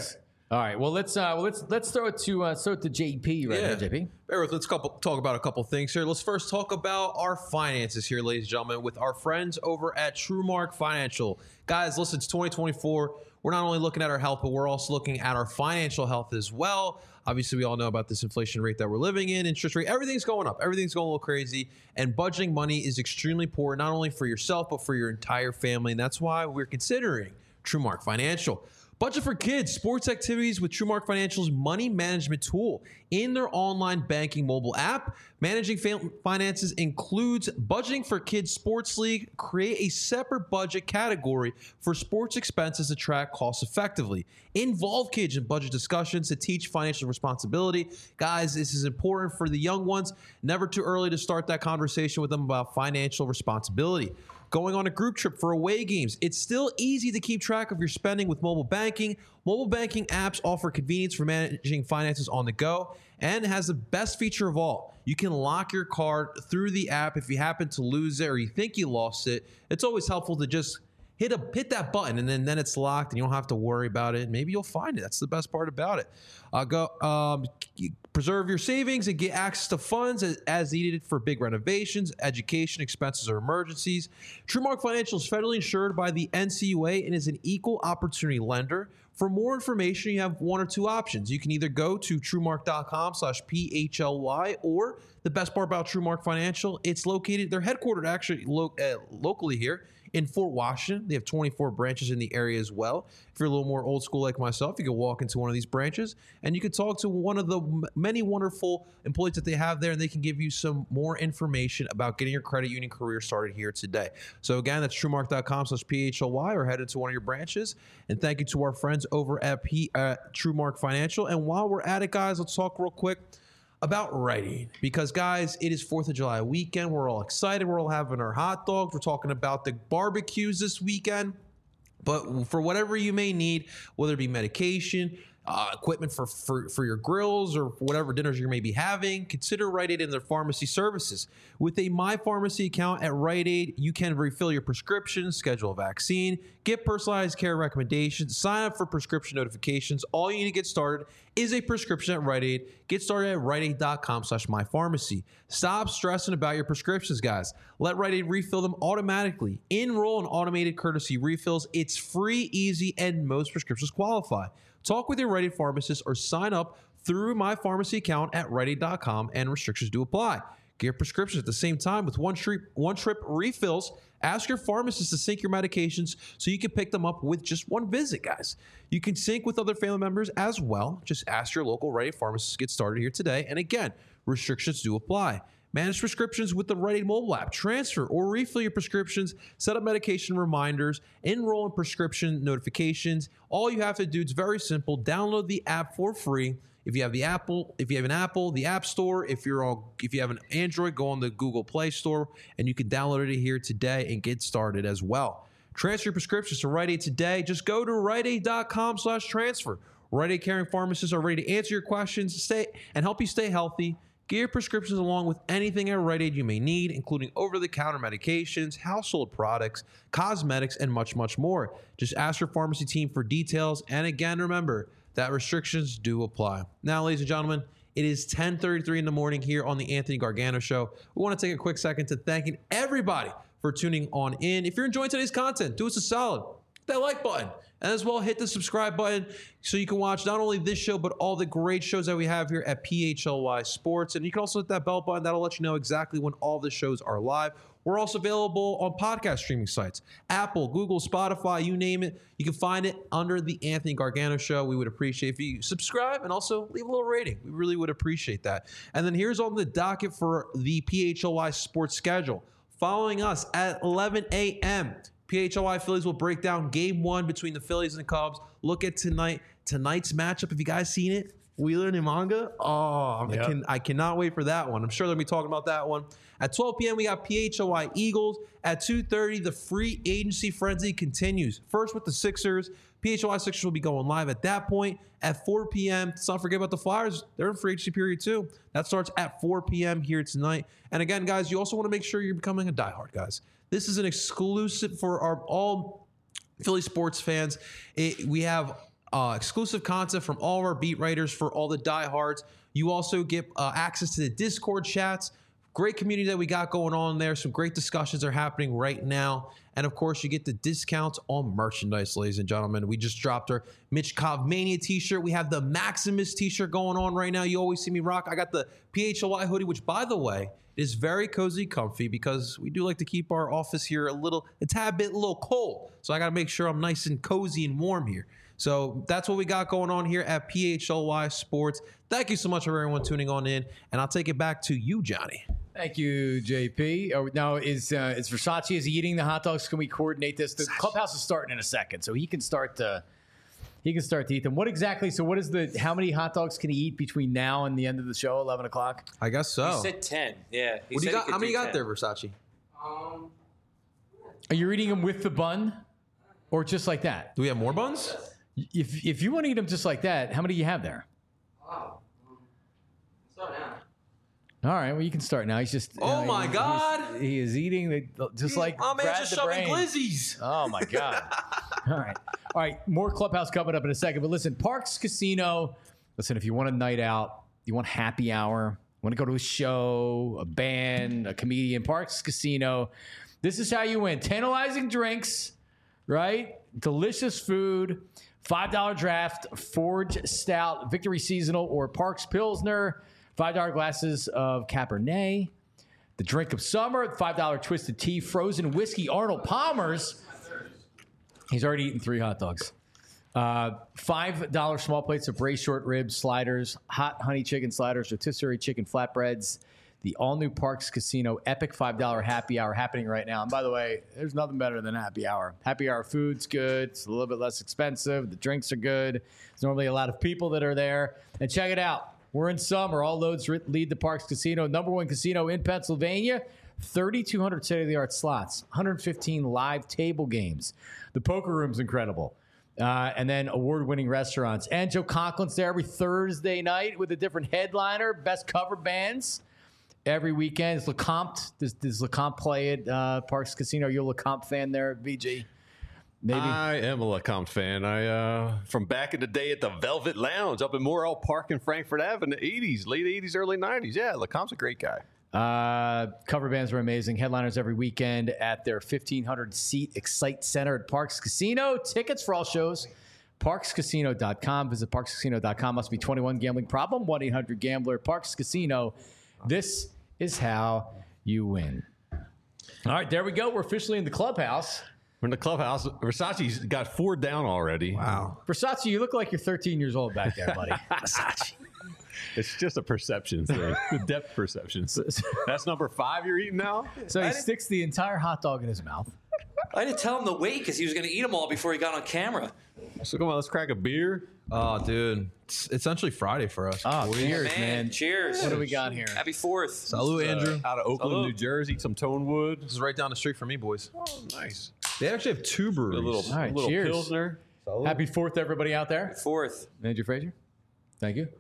[SPEAKER 2] All right. Well, let's uh, well, let's let's throw it to uh, throw it to J P right now, J P.
[SPEAKER 4] Bear with, let's couple, talk about a couple things here. Let's first talk about our finances here, ladies and gentlemen, with our friends over at TrueMark Financial. Guys, listen, it's twenty twenty-four. We're not only looking at our health, but we're also looking at our financial health as well. Obviously, we all know about this inflation rate that we're living in, interest rate, everything's going up. Everything's going a little crazy. And budgeting money is extremely important, not only for yourself, but for your entire family. And that's why we're considering TrueMark Financial. Budget for kids, sports activities with TrueMark Financial's money management tool. In their online banking mobile app, managing finances includes budgeting for kids' sports league. Create a separate budget category for sports expenses to track costs effectively. Involve kids in budget discussions to teach financial responsibility. Guys, this is important for the young ones. Never too early to start that conversation with them about financial responsibility. Going on a group trip for away games. It's still easy to keep track of your spending with mobile banking. Mobile banking apps offer convenience for managing finances on the go and has the best feature of all. You can lock your card through the app if you happen to lose it or you think you lost it. It's always helpful to just hit a hit that button and then, then it's locked and you don't have to worry about it. Maybe you'll find it. That's the best part about it. Uh, go um, preserve your savings and get access to funds as, as needed for big renovations, education, expenses, or emergencies. TrueMark Financial is federally insured by the N C U A and is an equal opportunity lender. For more information, you have one or two options. You can either go to truemark.com slash PHLY, or the best part about TrueMark Financial, it's located, they're headquartered actually lo- uh, locally here in Fort Washington. They have twenty-four branches in the area as well. If you're a little more old school like myself, you can walk into one of these branches and you can talk to one of the m- many wonderful employees that they have there, and they can give you some more information about getting your credit union career started here today. So again, that's truemark.com slash PHLY, or head into one of your branches. And thank you to our friends over at P- uh, TrueMark Financial. And while we're at it, guys, let's talk real quick about Rite Aid, because guys, it is fourth of July weekend. We're all excited. We're all having our hot dogs. We're talking about the barbecues this weekend. But for whatever you may need, whether it be medication, uh, equipment for, for, for your grills, or whatever dinners you may be having, consider Rite Aid and their pharmacy services. With a My Pharmacy account at Rite Aid, you can refill your prescriptions, schedule a vaccine, get personalized care recommendations, sign up for prescription notifications. All you need to get started is a prescription at Rite Aid. Get started at riteaid.com slash mypharmacy. Stop stressing about your prescriptions, guys. Let Rite Aid refill them automatically. Enroll in automated courtesy refills. It's free, easy, and most prescriptions qualify. Talk with your Rite Aid pharmacist or sign up through my pharmacy account at rite aid dot com, and restrictions do apply. Get your prescriptions at the same time with one trip, one trip refills. Ask your pharmacist to sync your medications so you can pick them up with just one visit, guys. You can sync with other family members as well. Just ask your local Rite Aid pharmacist to get started here today. And again, restrictions do apply. Manage prescriptions with the Rite Aid mobile app. Transfer or refill your prescriptions. Set up medication reminders. Enroll in prescription notifications. All you have to do, it's very simple. Download the app for free. If you have the Apple, if you have an Apple, the App Store. If you're on, if you have an Android, go on the Google Play Store, and you can download it here today and get started as well. Transfer your prescriptions to Rite Aid today. Just go to riteaid.com slash transfer. Rite Aid caring pharmacists are ready to answer your questions, stay and help you stay healthy. Get your prescriptions along with anything at Rite Aid you may need, including over-the-counter medications, household products, cosmetics, and much, much more. Just ask your pharmacy team for details. And again, remember that restrictions do apply. Now, ladies and gentlemen, it is ten thirty-three in the morning here on the Anthony Gargano Show. We want to take a quick second to thanking everybody for tuning on in. If you're enjoying today's content, do us a solid. Hit that like button. And as well, hit the subscribe button so you can watch not only this show, but all the great shows that we have here at P H L Y Sports. And you can also hit that bell button. That'll let you know exactly when all the shows are live. We're also available on podcast streaming sites, Apple, Google, Spotify, you name it. You can find it under the Anthony Gargano Show. We would appreciate if you subscribe and also leave a little rating. We really would appreciate that. And then here's on the docket for the P H L Y Sports schedule. Following us at eleven a.m., P H L Y Phillies will break down game one between the Phillies and the Cubs. Look at tonight, tonight's matchup. Have you guys seen it? Wheeler and Imanga. Oh, yep. I, can, I cannot wait for that one. I'm sure they'll be talking about that one. At twelve p.m., we got P H L Y Eagles. At two thirty, the free agency frenzy continues. First with the Sixers. P H L Y Sixers will be going live at that point. At four p.m., let's not forget about the Flyers. They're in free agency period too. That starts at four p.m. here tonight. And again, guys, you also want to make sure you're becoming a diehard, guys. This is an exclusive for our all Philly sports fans. It, we have uh, exclusive content from all of our beat writers for all the diehards. You also get uh, access to the Discord chats. Great community that we got going on there. Some great discussions are happening right now. And of course, you get the discounts on merchandise, ladies and gentlemen. We just dropped our Mitch Cobb Mania t-shirt. We have the Maximus t-shirt going on right now. You always see me rock. I got the P H L Y hoodie, which, by the way, is very cozy, comfy, because we do like to keep our office here a little, a tad bit, a little cold. So I got to make sure I'm nice and cozy and warm here. So that's what we got going on here at P H L Y Sports. Thank you so much for everyone tuning on in. And I'll take it back to you, Johnny.
[SPEAKER 2] Thank you, J P. Oh, now, is uh, is Versace, is he eating the hot dogs? Can we coordinate this? The clubhouse is starting in a second, so he can start to he can start to eat them. What exactly? So, what is the? How many hot dogs can he eat between now and the end of the show, eleven o'clock?
[SPEAKER 4] I guess so.
[SPEAKER 5] He said ten. Yeah. He
[SPEAKER 4] What do
[SPEAKER 5] said
[SPEAKER 4] you
[SPEAKER 5] he
[SPEAKER 4] got?
[SPEAKER 5] could
[SPEAKER 4] How many
[SPEAKER 5] do
[SPEAKER 4] you got
[SPEAKER 5] ten.
[SPEAKER 4] there, Versace?
[SPEAKER 9] Um,
[SPEAKER 2] Are you eating them with the bun, or just like that?
[SPEAKER 4] Do we have more buns?
[SPEAKER 2] If if you want to eat them just like that, how many do you have there?
[SPEAKER 9] wow. Um, start now.
[SPEAKER 2] All right, well, you can start now. He's just.
[SPEAKER 4] Oh,
[SPEAKER 2] uh,
[SPEAKER 4] my
[SPEAKER 2] he's-
[SPEAKER 4] God.
[SPEAKER 2] he's- he is eating the just like
[SPEAKER 4] My man
[SPEAKER 2] Brad
[SPEAKER 4] just
[SPEAKER 2] the
[SPEAKER 4] shoving
[SPEAKER 2] Brain.
[SPEAKER 4] glizzies.
[SPEAKER 2] Oh my God! All right, all right. More Clubhouse coming up in a second. But listen, Parks Casino. Listen, if you want a night out, you want happy hour, want to go to a show, a band, a comedian, Parks Casino. This is how you win: tantalizing drinks, right? Delicious food, five dollar draft, Forge Stout, Victory Seasonal, or Parks Pilsner. five dollar glasses of Cabernet. The drink of summer, five dollar Twisted Tea, frozen whiskey, Arnold Palmer's. He's already eaten three hot dogs. Uh, five dollar small plates of braised short ribs, sliders, hot honey chicken sliders, rotisserie chicken flatbreads. The all-new Parks Casino Epic five dollar happy hour happening right now. And by the way, there's nothing better than happy hour. Happy hour food's good. It's a little bit less expensive. The drinks are good. There's normally a lot of people that are there. And check it out. We're in summer. All loads lead to Parks Casino, number one casino in Pennsylvania. thirty-two hundred state-of-the-art slots, one hundred fifteen live table games. The poker room's incredible. Uh, and then award-winning restaurants. And Joe Conklin's there every Thursday night with a different headliner, best cover bands. Every weekend. Is LeCompte. Does, does LeCompte play at uh, Parks Casino? Are you a LeCompte fan there, V G? Maybe.
[SPEAKER 3] I am a LeCompte fan. I uh, from back in the day at the Velvet Lounge up in Morrell Park in Frankfurt Avenue in the eighties, late eighties, early nineties. Yeah, LeCompte's a great guy.
[SPEAKER 2] Uh, cover bands were amazing. Headliners every weekend at their fifteen hundred seat Excite Center at Parks Casino. Tickets for all shows, parks casino dot com. Visit parks casino dot com. Must be twenty-one. Gambling problem? one eight hundred gambler. Parks Casino. This is how you win. All right, there we go. We're officially in the clubhouse.
[SPEAKER 3] We're in the clubhouse. Versace's got four down already.
[SPEAKER 4] Wow.
[SPEAKER 2] Versace, you look like you're thirteen years old back there, buddy. Versace.
[SPEAKER 3] It's just a perception thing. The depth perception. That's number five you're eating now?
[SPEAKER 2] So he sticks the entire hot dog in his mouth.
[SPEAKER 5] I didn't tell him to wait because he was going to eat them all before he got on camera.
[SPEAKER 3] So come on, let's crack a beer.
[SPEAKER 4] Oh, dude. It's essentially Friday for us.
[SPEAKER 2] Oh, cheers,
[SPEAKER 5] Man,
[SPEAKER 2] man.
[SPEAKER 5] cheers.
[SPEAKER 2] What do we got here?
[SPEAKER 5] Happy fourth.
[SPEAKER 4] Salud, Andrew.
[SPEAKER 3] Out of Oakland,
[SPEAKER 5] Salud.
[SPEAKER 3] New Jersey, some Tonewood.
[SPEAKER 4] This is right down the street from me, boys.
[SPEAKER 3] Oh, nice.
[SPEAKER 4] They actually have two
[SPEAKER 3] A
[SPEAKER 4] breweries.
[SPEAKER 3] little,
[SPEAKER 2] All right,
[SPEAKER 3] a little
[SPEAKER 2] cheers.
[SPEAKER 3] Pilsner.
[SPEAKER 2] Happy fourth, everybody out there.
[SPEAKER 5] Fourth.
[SPEAKER 2] Andrew Frazier, thank you.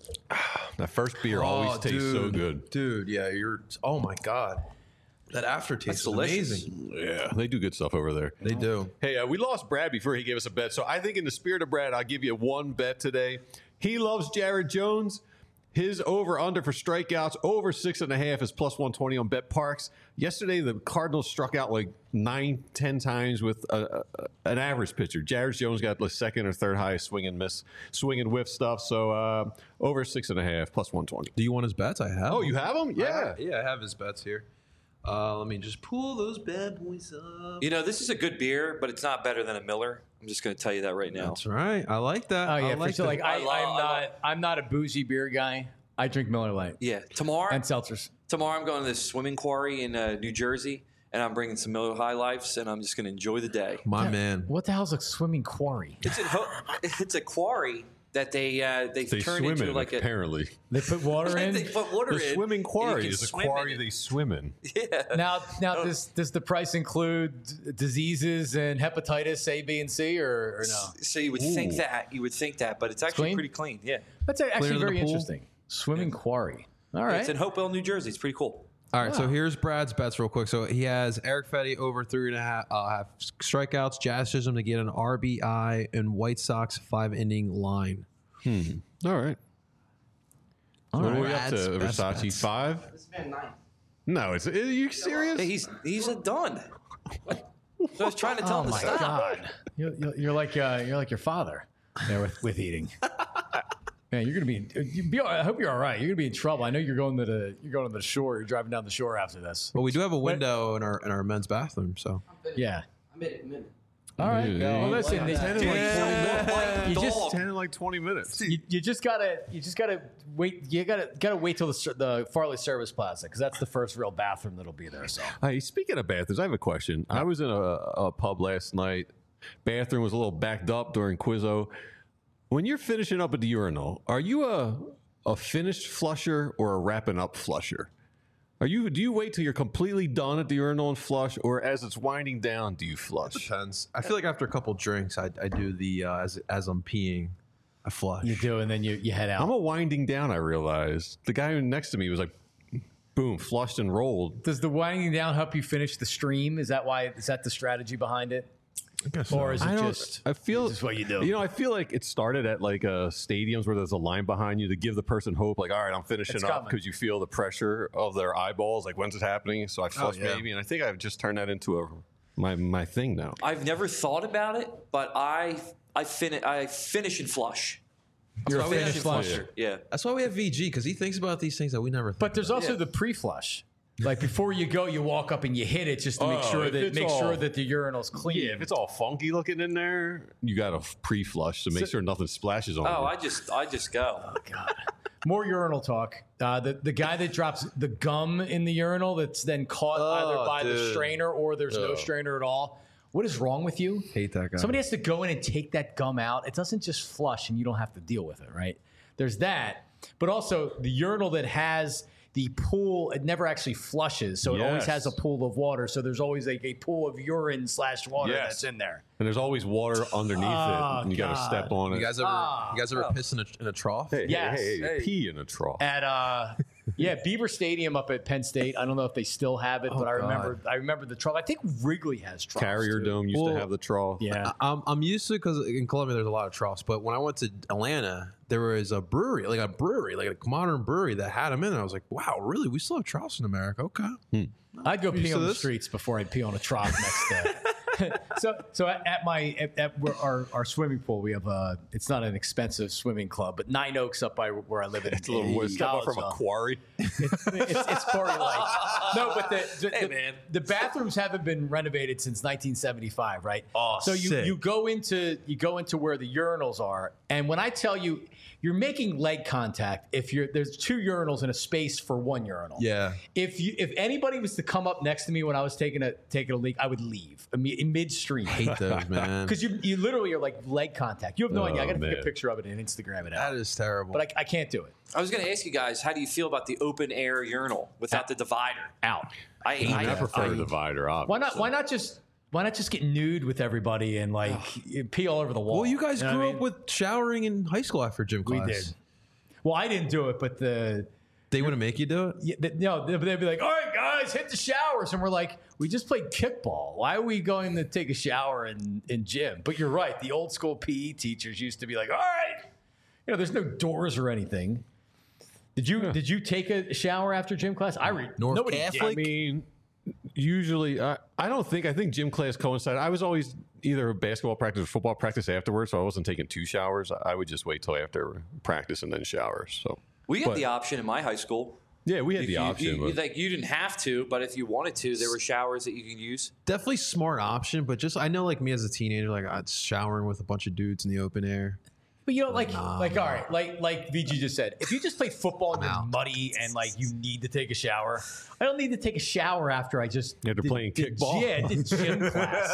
[SPEAKER 3] That first beer always
[SPEAKER 4] Oh,
[SPEAKER 3] tastes so
[SPEAKER 4] dude.
[SPEAKER 3] good.
[SPEAKER 4] Dude, yeah, you're. Oh, my God. That aftertaste
[SPEAKER 5] That's
[SPEAKER 4] is
[SPEAKER 5] delicious.
[SPEAKER 4] amazing.
[SPEAKER 3] Yeah, they do good stuff over there.
[SPEAKER 4] They do.
[SPEAKER 3] Hey, uh, we lost Brad before he gave us a bet. So I think in the spirit of Brad, I'll give you one bet today. He loves Jared Jones. His over-under for strikeouts, over six and a half, is plus one twenty on Bet Parks. Yesterday, the Cardinals struck out like nine, ten times with a, a, an average pitcher. Jared Jones got the second or third highest swing and miss, swing and whiff stuff. So uh, over six and a half, plus one twenty.
[SPEAKER 4] Do you want his bets? I have.
[SPEAKER 3] Oh,
[SPEAKER 4] them.
[SPEAKER 3] you have them?
[SPEAKER 4] I
[SPEAKER 3] Yeah.
[SPEAKER 4] have- yeah, I have his bets here. Uh, let me just pull those bad boys up.
[SPEAKER 5] You know, this is a good beer, but it's not better than a Miller. I'm just going to tell you that right now.
[SPEAKER 4] That's right. I like that.
[SPEAKER 2] Oh yeah,
[SPEAKER 4] I
[SPEAKER 2] for
[SPEAKER 4] like
[SPEAKER 2] sure.
[SPEAKER 4] that.
[SPEAKER 2] Like I,
[SPEAKER 5] I love-
[SPEAKER 2] I'm
[SPEAKER 5] I
[SPEAKER 2] not,
[SPEAKER 5] love-
[SPEAKER 2] I'm not a bougie beer guy. I drink Miller Lite
[SPEAKER 5] Yeah. Tomorrow,
[SPEAKER 2] and seltzers.
[SPEAKER 5] tomorrow I'm going to this swimming quarry in uh, New Jersey, and I'm bringing some Miller High Lifes, and I'm just going to enjoy the day.
[SPEAKER 4] My man.
[SPEAKER 2] What the hell's a swimming quarry?
[SPEAKER 5] It's a, ho- it's a quarry that they uh, they,
[SPEAKER 3] They
[SPEAKER 5] turn
[SPEAKER 3] swim
[SPEAKER 5] into
[SPEAKER 3] in,
[SPEAKER 5] like a.
[SPEAKER 3] apparently.
[SPEAKER 2] They put water in.
[SPEAKER 5] They put water
[SPEAKER 3] The
[SPEAKER 5] in.
[SPEAKER 3] swimming
[SPEAKER 5] and you
[SPEAKER 3] quarry
[SPEAKER 5] can
[SPEAKER 3] is a
[SPEAKER 5] swim in
[SPEAKER 3] quarry
[SPEAKER 5] it.
[SPEAKER 3] they swim in.
[SPEAKER 5] Yeah.
[SPEAKER 2] Now, now, does does the price include diseases and hepatitis A, B, and C, or, or no?
[SPEAKER 5] So you would think that you would think that, but it's actually
[SPEAKER 2] clean?
[SPEAKER 5] pretty clean. Yeah.
[SPEAKER 2] That's actually
[SPEAKER 4] than the
[SPEAKER 2] very
[SPEAKER 4] pool?
[SPEAKER 2] interesting. Swimming quarry. All right.
[SPEAKER 5] It's in Hopewell, New Jersey. It's pretty cool.
[SPEAKER 4] All right, so here's Brad's bets real quick. So he has Eric Fetty over three and a half, uh, half strikeouts, Jazz Chisholm to get an R B I, and White Sox five inning line.
[SPEAKER 3] Hmm. All right.
[SPEAKER 2] All
[SPEAKER 3] What
[SPEAKER 2] right.
[SPEAKER 3] are we up to,
[SPEAKER 4] Brad's
[SPEAKER 3] Versace?
[SPEAKER 4] bets.
[SPEAKER 3] Five?
[SPEAKER 9] This man nine.
[SPEAKER 3] No, it's. Are you serious?
[SPEAKER 5] Hey, he's he's a done. So I was trying to tell
[SPEAKER 2] Oh
[SPEAKER 5] him to
[SPEAKER 2] my
[SPEAKER 5] stop.
[SPEAKER 2] God! You're, you're, you're like uh, you're like your father there with, with eating. Man, you're gonna be. You be I hope you're all right. You're gonna be in trouble. I know you're going to the you're going to the shore. You're driving down the shore after this.
[SPEAKER 4] But we do have a window in our in our men's bathroom. So
[SPEAKER 2] Yeah.
[SPEAKER 9] I made a commitment.
[SPEAKER 2] All right.
[SPEAKER 3] Yeah.
[SPEAKER 2] Well, listen.
[SPEAKER 9] Like
[SPEAKER 2] they-
[SPEAKER 9] that.
[SPEAKER 3] Ten in like twenty minutes.
[SPEAKER 5] Like
[SPEAKER 2] You
[SPEAKER 5] dog.
[SPEAKER 2] just-
[SPEAKER 3] Ten in like twenty minutes.
[SPEAKER 2] You, you just gotta you just gotta wait. You gotta gotta wait till the ser- the Farley Service Plaza because that's the first real bathroom that'll be there. So
[SPEAKER 3] Hey, speaking of bathrooms, I have a question. I was in a, a pub last night. Bathroom was a little backed up during Quizzo. When you're finishing up at the urinal, are you a a finished flusher or a wrapping up flusher? Are you? Do you wait till you're completely done at the urinal and flush, or as it's winding down, do you flush?
[SPEAKER 4] depends. I feel like after a couple drinks, I, I do the uh, as as I'm peeing, I flush.
[SPEAKER 2] you do, and then you, you head out.
[SPEAKER 3] I'm a winding down. I realized the guy next to me was like, boom, flushed and rolled.
[SPEAKER 2] Does the winding down help you finish the stream? Is that why? Is that the strategy behind it?
[SPEAKER 4] I guess
[SPEAKER 2] Or
[SPEAKER 4] so.
[SPEAKER 2] is it
[SPEAKER 3] I don't.
[SPEAKER 2] just?
[SPEAKER 3] I feel
[SPEAKER 2] just what you do?
[SPEAKER 3] You know, I feel like it started at like uh, stadiums where there's a line behind you to give the person hope. Like, all right, I'm finishing
[SPEAKER 2] It's
[SPEAKER 3] up
[SPEAKER 2] coming.
[SPEAKER 3] because you feel the pressure of their eyeballs. Like, when's it happening? So I flush
[SPEAKER 4] yeah.
[SPEAKER 3] maybe, and I think I've just turned that into a my my thing now.
[SPEAKER 5] I've never thought about it, but I I fin- I finish and flush.
[SPEAKER 2] You're a
[SPEAKER 4] why we have
[SPEAKER 2] finished
[SPEAKER 4] to
[SPEAKER 2] flusher.
[SPEAKER 5] Yeah.
[SPEAKER 4] That's why we have V G because he thinks about these things that we never. Think
[SPEAKER 2] But there's
[SPEAKER 4] about.
[SPEAKER 2] also
[SPEAKER 5] Yeah.
[SPEAKER 2] the pre-flush. Like before you go, you walk up and you hit it just to make
[SPEAKER 3] Oh,
[SPEAKER 2] sure
[SPEAKER 3] if
[SPEAKER 2] that
[SPEAKER 3] it's
[SPEAKER 2] make
[SPEAKER 3] all-
[SPEAKER 2] sure that the urinal's clean.
[SPEAKER 3] Yeah, if it's all funky looking in there, you got to pre-flush to make sure nothing splashes on
[SPEAKER 5] Oh,
[SPEAKER 3] you.
[SPEAKER 5] I just I just go.
[SPEAKER 2] God. More urinal talk. Uh, the the guy that drops the gum in the urinal that's then caught either
[SPEAKER 4] Oh,
[SPEAKER 2] by the
[SPEAKER 4] dude.
[SPEAKER 2] strainer or there's no strainer at all. What is wrong with you?
[SPEAKER 4] Hate that guy.
[SPEAKER 2] Somebody has to go in and take that gum out. It doesn't just flush and you don't have to deal with it, right? There's that. But also the urinal that has the pool, it never actually flushes. So it always
[SPEAKER 3] Yes.
[SPEAKER 2] has a pool of water. So there's always like a pool of urine slash water
[SPEAKER 3] Yes.
[SPEAKER 2] that's in there.
[SPEAKER 3] and there's always water underneath
[SPEAKER 2] Oh,
[SPEAKER 3] it, and you got to
[SPEAKER 2] God.
[SPEAKER 3] step on it.
[SPEAKER 4] You guys ever
[SPEAKER 2] Ah.
[SPEAKER 4] you guys ever piss in a, in a trough?
[SPEAKER 3] hey,
[SPEAKER 2] Yes.
[SPEAKER 3] hey, hey,
[SPEAKER 5] Hey.
[SPEAKER 3] pee in a trough.
[SPEAKER 2] At uh yeah, Beaver Stadium up at Penn State. I don't know if they still have it, but I
[SPEAKER 4] God.
[SPEAKER 2] remember I remember the trough. I think Wrigley has troughs.
[SPEAKER 3] Carrier
[SPEAKER 2] too.
[SPEAKER 3] Dome used
[SPEAKER 4] Well,
[SPEAKER 3] to have the trough.
[SPEAKER 2] Yeah.
[SPEAKER 4] I- I'm I'm used to it because in Columbia there's a lot of troughs. But when I went to Atlanta, there was a brewery, like a brewery, like a modern brewery that had them in. And I was like, wow, really? We still have troughs in America? Okay.
[SPEAKER 2] I'd go pee
[SPEAKER 4] to
[SPEAKER 2] on the
[SPEAKER 4] this?
[SPEAKER 2] streets before I'd pee on a trough next day. so, so at, at my at, at where our, our swimming pool, we have a. It's not an expensive swimming club, but Nine Oaks up by where I live in.
[SPEAKER 3] It's a little
[SPEAKER 2] in
[SPEAKER 3] step up from a
[SPEAKER 2] Collegeville.
[SPEAKER 3] quarry.
[SPEAKER 2] It's, it's Corey Lake. No, but the the,
[SPEAKER 5] Hey,
[SPEAKER 2] the,
[SPEAKER 5] man.
[SPEAKER 2] the bathrooms haven't been renovated since nineteen seventy-five, right?
[SPEAKER 4] Oh,
[SPEAKER 2] so you
[SPEAKER 4] sick.
[SPEAKER 2] you go into you go into where the urinals are, and when I tell you you're making leg contact, if you're there's two urinals in a space for one urinal.
[SPEAKER 4] Yeah.
[SPEAKER 2] If you if anybody was to come up next to me when I was taking a taking a leak, I would leave imme- in midstream.
[SPEAKER 4] Hate those, man.
[SPEAKER 2] Because you you literally are like leg contact. You have no
[SPEAKER 3] Oh,
[SPEAKER 2] idea. I got to take a
[SPEAKER 3] man.
[SPEAKER 2] picture of it and Instagram it
[SPEAKER 4] That
[SPEAKER 2] out.
[SPEAKER 4] is terrible.
[SPEAKER 2] But I, I can't do it.
[SPEAKER 5] I was going to ask you guys, how do you feel about the open air urinal without the divider?
[SPEAKER 2] Out.
[SPEAKER 5] I, I,
[SPEAKER 3] I prefer
[SPEAKER 2] I-
[SPEAKER 3] the divider. Obviously.
[SPEAKER 2] Why not? Why not just? Why not just get nude with everybody and like pee all over the wall?
[SPEAKER 4] well, you guys
[SPEAKER 2] know what
[SPEAKER 4] grew
[SPEAKER 2] I
[SPEAKER 4] up
[SPEAKER 2] mean?
[SPEAKER 4] with showering in high school after gym
[SPEAKER 2] We
[SPEAKER 4] class.
[SPEAKER 2] did. Well, I didn't do it, but the
[SPEAKER 4] They wouldn't make you do it?
[SPEAKER 2] yeah, the, no, they'd they'd be like, "All right, guys, hit the showers," and we're like, "We just played kickball. Why are we going to take a shower in in gym?" But you're right. The old school P E teachers used to be like, "All right, you know, there's no doors or anything." Did you did you take a shower after gym class? I read
[SPEAKER 4] North
[SPEAKER 2] nobody
[SPEAKER 4] Catholic?
[SPEAKER 2] did.
[SPEAKER 3] I mean, usually, uh, I don't think, I think gym class coincided. I was always either basketball practice or football practice afterwards, so I wasn't taking two showers. I would just wait till after practice and then shower. So,
[SPEAKER 5] we had
[SPEAKER 3] but-
[SPEAKER 5] the option in my high school.
[SPEAKER 3] yeah, we had
[SPEAKER 5] If
[SPEAKER 3] the
[SPEAKER 5] you,
[SPEAKER 3] option.
[SPEAKER 5] you-
[SPEAKER 3] but-
[SPEAKER 5] like you didn't have to, but if you wanted to, there were showers that you could use.
[SPEAKER 4] Definitely smart option, but just I know like me as a teenager, like I was showering with a bunch of dudes in the open air.
[SPEAKER 2] But you know, like, like, all right, like, like V G just said, if you just play football and you're
[SPEAKER 4] out.
[SPEAKER 2] muddy and like you need to take a shower, I don't need to take a shower after I just
[SPEAKER 3] After
[SPEAKER 2] did-
[SPEAKER 3] playing
[SPEAKER 2] did-
[SPEAKER 3] kickball?
[SPEAKER 2] Yeah, did gym class.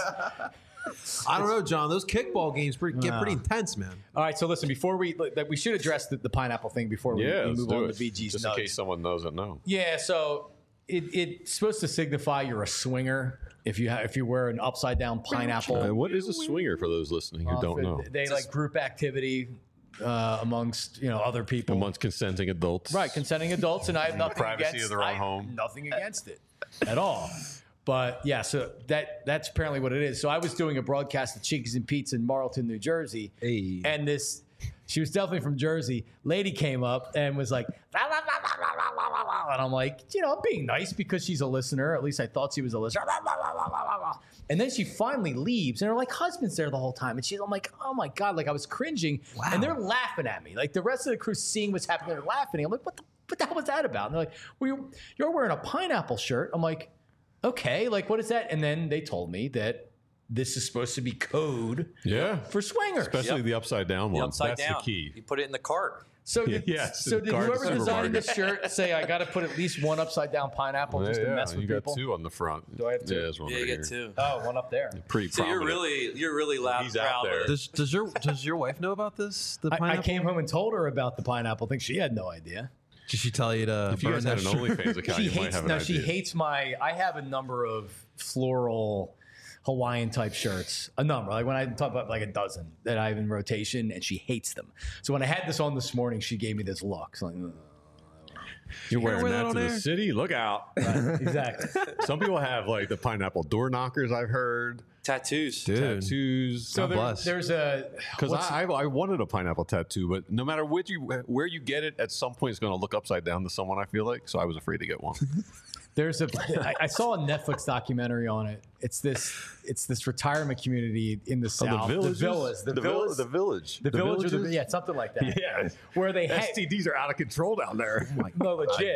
[SPEAKER 4] I don't know, John. Those kickball games pretty, get pretty intense, man.
[SPEAKER 2] All right, so listen, before we like, we should address the, the pineapple thing before we,
[SPEAKER 3] yeah,
[SPEAKER 2] we
[SPEAKER 3] let's
[SPEAKER 2] move
[SPEAKER 3] do
[SPEAKER 2] on
[SPEAKER 3] it.
[SPEAKER 2] to V G's
[SPEAKER 3] Just
[SPEAKER 2] nugs.
[SPEAKER 3] in case someone doesn't know.
[SPEAKER 2] Yeah, so it, it's supposed to signify you're a swinger if you ha- if you wear an upside down pineapple.
[SPEAKER 3] Uh, what is a swinger for those listening who
[SPEAKER 2] Uh,
[SPEAKER 3] don't
[SPEAKER 2] if
[SPEAKER 3] know?
[SPEAKER 2] They like group activity. uh, amongst you know other people,
[SPEAKER 3] Amongst consenting adults.
[SPEAKER 2] right? Consenting adults, and I have nothing
[SPEAKER 3] privacy
[SPEAKER 2] against
[SPEAKER 3] of their own
[SPEAKER 2] I have
[SPEAKER 3] home.
[SPEAKER 2] Nothing against it at all. But yeah, so that that's apparently what it is. So I was doing a broadcast at Cheekies and Pete's in Marlton, New Jersey,
[SPEAKER 4] Hey.
[SPEAKER 2] and this. She was definitely from Jersey. Lady came up and was like, "La, la, la, la, la, la, la, la." And I'm like, you know, I'm being nice because she's a listener. At least I thought she was a listener. La, la, la, la, la, la. And then she finally leaves, and her like husband's there the whole time. And she's, I'm like, oh my god, like I was cringing, and they're laughing at me. Like the rest of the crew seeing what's happening, they're laughing. I'm like, what the, what the hell was that about? And they're like, well, you're, you're wearing a pineapple shirt. I'm like, okay, like what is that? And then they told me that this is supposed to be code
[SPEAKER 3] Yeah.
[SPEAKER 2] for swingers.
[SPEAKER 3] Especially
[SPEAKER 5] Yep.
[SPEAKER 3] the upside down
[SPEAKER 5] The
[SPEAKER 3] one.
[SPEAKER 5] upside
[SPEAKER 3] That's
[SPEAKER 5] down.
[SPEAKER 3] the key.
[SPEAKER 5] You put it in the cart.
[SPEAKER 2] So did,
[SPEAKER 3] Yes,
[SPEAKER 2] so did
[SPEAKER 3] card
[SPEAKER 2] whoever designed the
[SPEAKER 3] supermarket.
[SPEAKER 2] shirt say I got to put at least one upside down pineapple just
[SPEAKER 3] yeah,
[SPEAKER 2] to mess with
[SPEAKER 3] you
[SPEAKER 2] people?
[SPEAKER 3] got two on the front.
[SPEAKER 2] Do I have two?
[SPEAKER 3] Yeah, there's one
[SPEAKER 5] Yeah,
[SPEAKER 3] right
[SPEAKER 5] you
[SPEAKER 3] here.
[SPEAKER 5] get two.
[SPEAKER 2] Oh, one up there.
[SPEAKER 3] Pretty
[SPEAKER 5] So you're
[SPEAKER 3] prominent.
[SPEAKER 5] really you're really loud
[SPEAKER 3] He's
[SPEAKER 5] and
[SPEAKER 3] out
[SPEAKER 5] proud
[SPEAKER 3] there.
[SPEAKER 5] of it.
[SPEAKER 4] Does does your does your wife know about this? The
[SPEAKER 2] I, I
[SPEAKER 4] pineapple?
[SPEAKER 2] came home and told her about the pineapple thing. She had no idea.
[SPEAKER 4] Did she tell you to
[SPEAKER 3] If you
[SPEAKER 4] burn
[SPEAKER 3] guys had
[SPEAKER 4] that
[SPEAKER 3] an
[SPEAKER 4] shirt?
[SPEAKER 3] OnlyFans account,
[SPEAKER 2] She
[SPEAKER 3] you might
[SPEAKER 2] hates
[SPEAKER 3] have an
[SPEAKER 2] no.
[SPEAKER 3] idea.
[SPEAKER 2] She hates my. I have a number of floral Hawaiian type shirts. A number. Like when I talk about like a dozen that I have in rotation, and she hates them. So when I had this on this morning, she gave me this look. So like, ugh.
[SPEAKER 3] You're wearing
[SPEAKER 4] wear that
[SPEAKER 3] that
[SPEAKER 4] on
[SPEAKER 3] to the
[SPEAKER 4] air?
[SPEAKER 3] city? Look out.
[SPEAKER 2] exactly.
[SPEAKER 3] Some people have like the pineapple door knockers, I've heard.
[SPEAKER 5] Tattoos.
[SPEAKER 4] Dude.
[SPEAKER 3] Tattoos.
[SPEAKER 2] So
[SPEAKER 4] God
[SPEAKER 2] there,
[SPEAKER 4] bless.
[SPEAKER 2] there's a
[SPEAKER 3] Because
[SPEAKER 2] what's-
[SPEAKER 3] I, I I wanted a pineapple tattoo, but no matter what you where you get it, at some point it's going to look upside down to someone. I feel like, so I was afraid to get one.
[SPEAKER 2] There's a. I, I saw a Netflix documentary on it. It's this. It's this retirement community in the south.
[SPEAKER 3] villages?
[SPEAKER 2] The villas. The,
[SPEAKER 3] the, vil-
[SPEAKER 2] villas.
[SPEAKER 3] the village,
[SPEAKER 2] the, village. Or the,
[SPEAKER 3] villages?
[SPEAKER 2] yeah, something like that.
[SPEAKER 3] Yeah.
[SPEAKER 2] Where they
[SPEAKER 3] S
[SPEAKER 2] hang.
[SPEAKER 3] T Ds are out of control down there.
[SPEAKER 2] No, legit.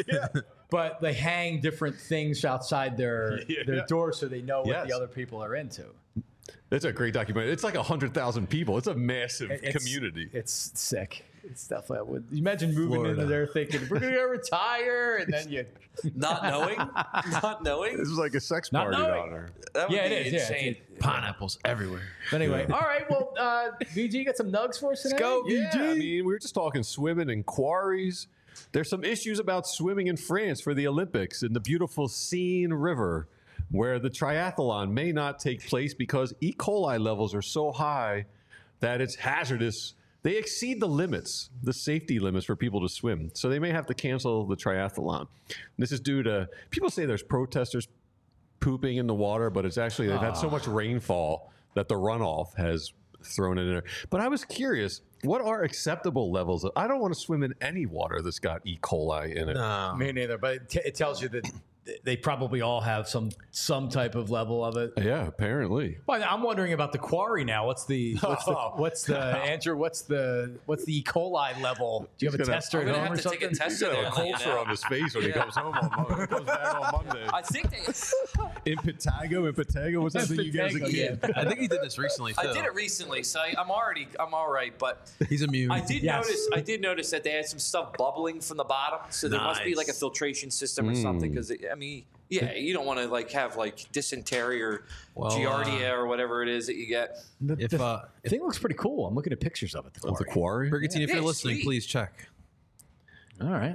[SPEAKER 2] But they hang different things outside their
[SPEAKER 3] Yeah.
[SPEAKER 2] their door so they know what
[SPEAKER 3] Yes.
[SPEAKER 2] the other people are into.
[SPEAKER 3] It's a great documentary. It's like a hundred thousand people. It's a massive
[SPEAKER 2] It's-
[SPEAKER 3] community.
[SPEAKER 2] It's sick. It's definitely. I would imagine moving
[SPEAKER 4] Florida.
[SPEAKER 2] into there thinking we're gonna go retire, and then you.
[SPEAKER 5] Not knowing, not knowing.
[SPEAKER 3] This is like a sex
[SPEAKER 2] Not
[SPEAKER 3] party
[SPEAKER 2] knowing.
[SPEAKER 3] down there.
[SPEAKER 5] That would
[SPEAKER 2] Yeah,
[SPEAKER 5] be
[SPEAKER 2] it is. Yeah,
[SPEAKER 5] insane.
[SPEAKER 2] it's-
[SPEAKER 4] Pineapples everywhere.
[SPEAKER 2] But anyway, all right. Well, uh, V G, you got some nugs for us today?
[SPEAKER 3] Go, yeah, I mean, we were just talking swimming and quarries. There's some issues about swimming in France for the Olympics in the beautiful Seine River, where the triathlon may not take place because E. coli levels are so high that it's hazardous. They exceed the limits, the safety limits for people to swim. So they may have to cancel the triathlon. This is due to, people say there's protesters pooping in the water, but it's actually, they've had so much rainfall that the runoff has thrown it in there. But I was curious, what are acceptable levels of, I don't want to swim in any water that's got E. coli in it.
[SPEAKER 4] No.
[SPEAKER 2] Me neither. But it, t- it tells you that they probably all have some some type of level of it.
[SPEAKER 3] Yeah, apparently.
[SPEAKER 2] Well, I'm wondering about the quarry now. What's the what's the what's the Andrew? What's the what's the E. coli level? Do you have a
[SPEAKER 3] He's gonna-
[SPEAKER 2] tester
[SPEAKER 5] I'm
[SPEAKER 2] at
[SPEAKER 5] gonna
[SPEAKER 2] home
[SPEAKER 5] have
[SPEAKER 2] or
[SPEAKER 5] to take
[SPEAKER 2] something?
[SPEAKER 5] a test
[SPEAKER 3] He's
[SPEAKER 5] of
[SPEAKER 3] got
[SPEAKER 5] it
[SPEAKER 3] a
[SPEAKER 5] and let you
[SPEAKER 3] culture
[SPEAKER 5] know.
[SPEAKER 3] on his face when he
[SPEAKER 5] Yeah.
[SPEAKER 3] comes home on Monday. Comes back on Monday.
[SPEAKER 5] I think they.
[SPEAKER 3] In Patago, in Patago, what's that thing you guys a
[SPEAKER 2] Patago,
[SPEAKER 3] kid?
[SPEAKER 2] yeah.
[SPEAKER 4] I think he did this recently too.
[SPEAKER 5] I did it recently, so I, I'm already I'm all right. But
[SPEAKER 4] He's immune.
[SPEAKER 5] I did
[SPEAKER 2] Yes.
[SPEAKER 5] notice I did notice that they had some stuff bubbling from the bottom, so there must be
[SPEAKER 4] Nice.
[SPEAKER 5] like a filtration system or something. Because I mean, yeah, you don't want to like have like dysentery or
[SPEAKER 4] Well,
[SPEAKER 5] giardia
[SPEAKER 4] uh,
[SPEAKER 5] or whatever it is that you get.
[SPEAKER 2] The,
[SPEAKER 4] If,
[SPEAKER 2] the
[SPEAKER 4] uh,
[SPEAKER 2] thing looks pretty cool. I'm looking at pictures of it. The
[SPEAKER 3] Of the
[SPEAKER 2] quarry.
[SPEAKER 3] quarry?
[SPEAKER 4] Brigantine, if
[SPEAKER 5] Yeah,
[SPEAKER 4] you're
[SPEAKER 5] it's
[SPEAKER 4] listening,
[SPEAKER 5] sweet.
[SPEAKER 4] please check.
[SPEAKER 2] All right.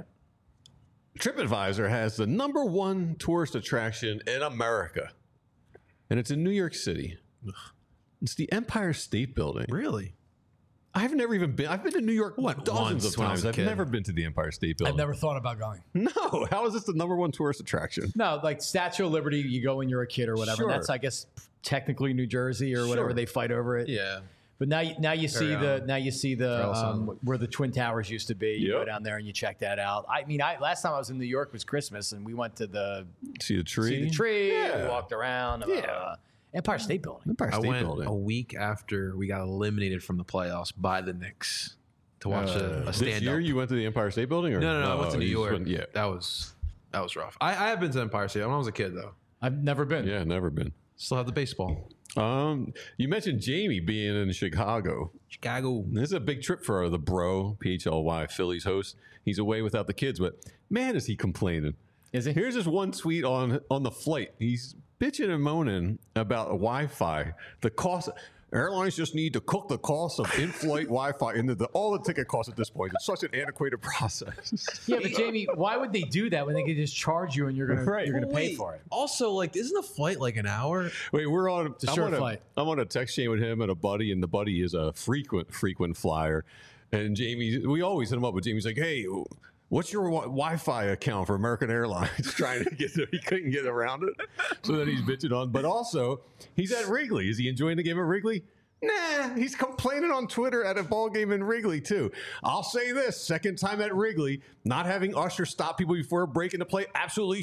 [SPEAKER 3] TripAdvisor has the number one tourist attraction in America, and it's in New York City. It's the Empire State Building.
[SPEAKER 4] Really?
[SPEAKER 3] I've never even been. I've been to New York
[SPEAKER 4] Went
[SPEAKER 3] dozens
[SPEAKER 4] once
[SPEAKER 3] of
[SPEAKER 4] when I
[SPEAKER 3] times.
[SPEAKER 4] was a
[SPEAKER 3] I've
[SPEAKER 4] kid.
[SPEAKER 3] never been to the Empire State Building.
[SPEAKER 2] I've never thought about going.
[SPEAKER 3] No, how is this the number one tourist attraction?
[SPEAKER 2] No, like Statue of Liberty, you go when you're a kid or whatever.
[SPEAKER 3] Sure.
[SPEAKER 2] That's, I guess, technically New Jersey or whatever
[SPEAKER 3] Sure.
[SPEAKER 2] they fight over it.
[SPEAKER 4] Yeah.
[SPEAKER 2] But now, you- now you see
[SPEAKER 4] Very,
[SPEAKER 2] the
[SPEAKER 4] um,
[SPEAKER 2] now you see the
[SPEAKER 4] Trail
[SPEAKER 2] um,
[SPEAKER 4] Sun.
[SPEAKER 2] where the Twin Towers used to be. You go
[SPEAKER 3] Yep.
[SPEAKER 2] down there and you check that out. I mean, I last time I was in New York was Christmas, and we went to the
[SPEAKER 3] See the tree?
[SPEAKER 2] see the tree.
[SPEAKER 3] Yeah.
[SPEAKER 2] We walked around. Uh,
[SPEAKER 3] Yeah.
[SPEAKER 2] Empire State Building.
[SPEAKER 3] Empire
[SPEAKER 4] I
[SPEAKER 3] State
[SPEAKER 4] went
[SPEAKER 3] Building.
[SPEAKER 4] a week after we got eliminated from the playoffs by the Knicks to watch a, a
[SPEAKER 3] this
[SPEAKER 4] stand
[SPEAKER 3] year
[SPEAKER 4] up.
[SPEAKER 3] you went to the Empire State Building? Or?
[SPEAKER 4] No, no, no. I went to
[SPEAKER 3] Oh,
[SPEAKER 4] New
[SPEAKER 3] you just
[SPEAKER 4] York.
[SPEAKER 3] went- yeah.
[SPEAKER 4] That was that was rough. I, I have been to Empire State when I was a kid though.
[SPEAKER 2] I've never been.
[SPEAKER 3] Yeah, never been.
[SPEAKER 4] Still have the baseball.
[SPEAKER 3] Um, you mentioned Jamie being in Chicago.
[SPEAKER 4] Chicago.
[SPEAKER 3] This is a big trip for the bro, P H L Y, Phillies host. He's away without the kids, but man, is he complaining.
[SPEAKER 2] Is he?
[SPEAKER 3] Here's this one tweet on on the flight. He's bitching and moaning about Wi-Fi. The cost. Airlines just need to cook the cost of in-flight Wi-Fi into the, all the ticket costs at this point. It's such an antiquated process.
[SPEAKER 2] Yeah, but Jamie, why would they do that when they could just charge you and you're gonna
[SPEAKER 3] Right.
[SPEAKER 2] you're gonna
[SPEAKER 4] Well,
[SPEAKER 2] pay
[SPEAKER 4] wait,
[SPEAKER 2] for it?
[SPEAKER 4] Also, like, isn't the flight like an hour?
[SPEAKER 3] Wait, we're on.
[SPEAKER 2] a
[SPEAKER 3] I'm
[SPEAKER 2] short
[SPEAKER 3] on a,
[SPEAKER 2] flight.
[SPEAKER 3] I'm on a text chain with him and a buddy, and the buddy is a frequent frequent flyer. And Jamie, we always hit him up, but Jamie's like, "Hey, what's your wi- Wi-Fi account for American Airlines?" Trying to get there, he couldn't get around it, so then he's bitching on. But also, he's at Wrigley. Is he enjoying the game at Wrigley? Nah, he's complaining on Twitter at a ball game in Wrigley too. I'll say this: second time at Wrigley, not having Usher stop people before a break into play absolutely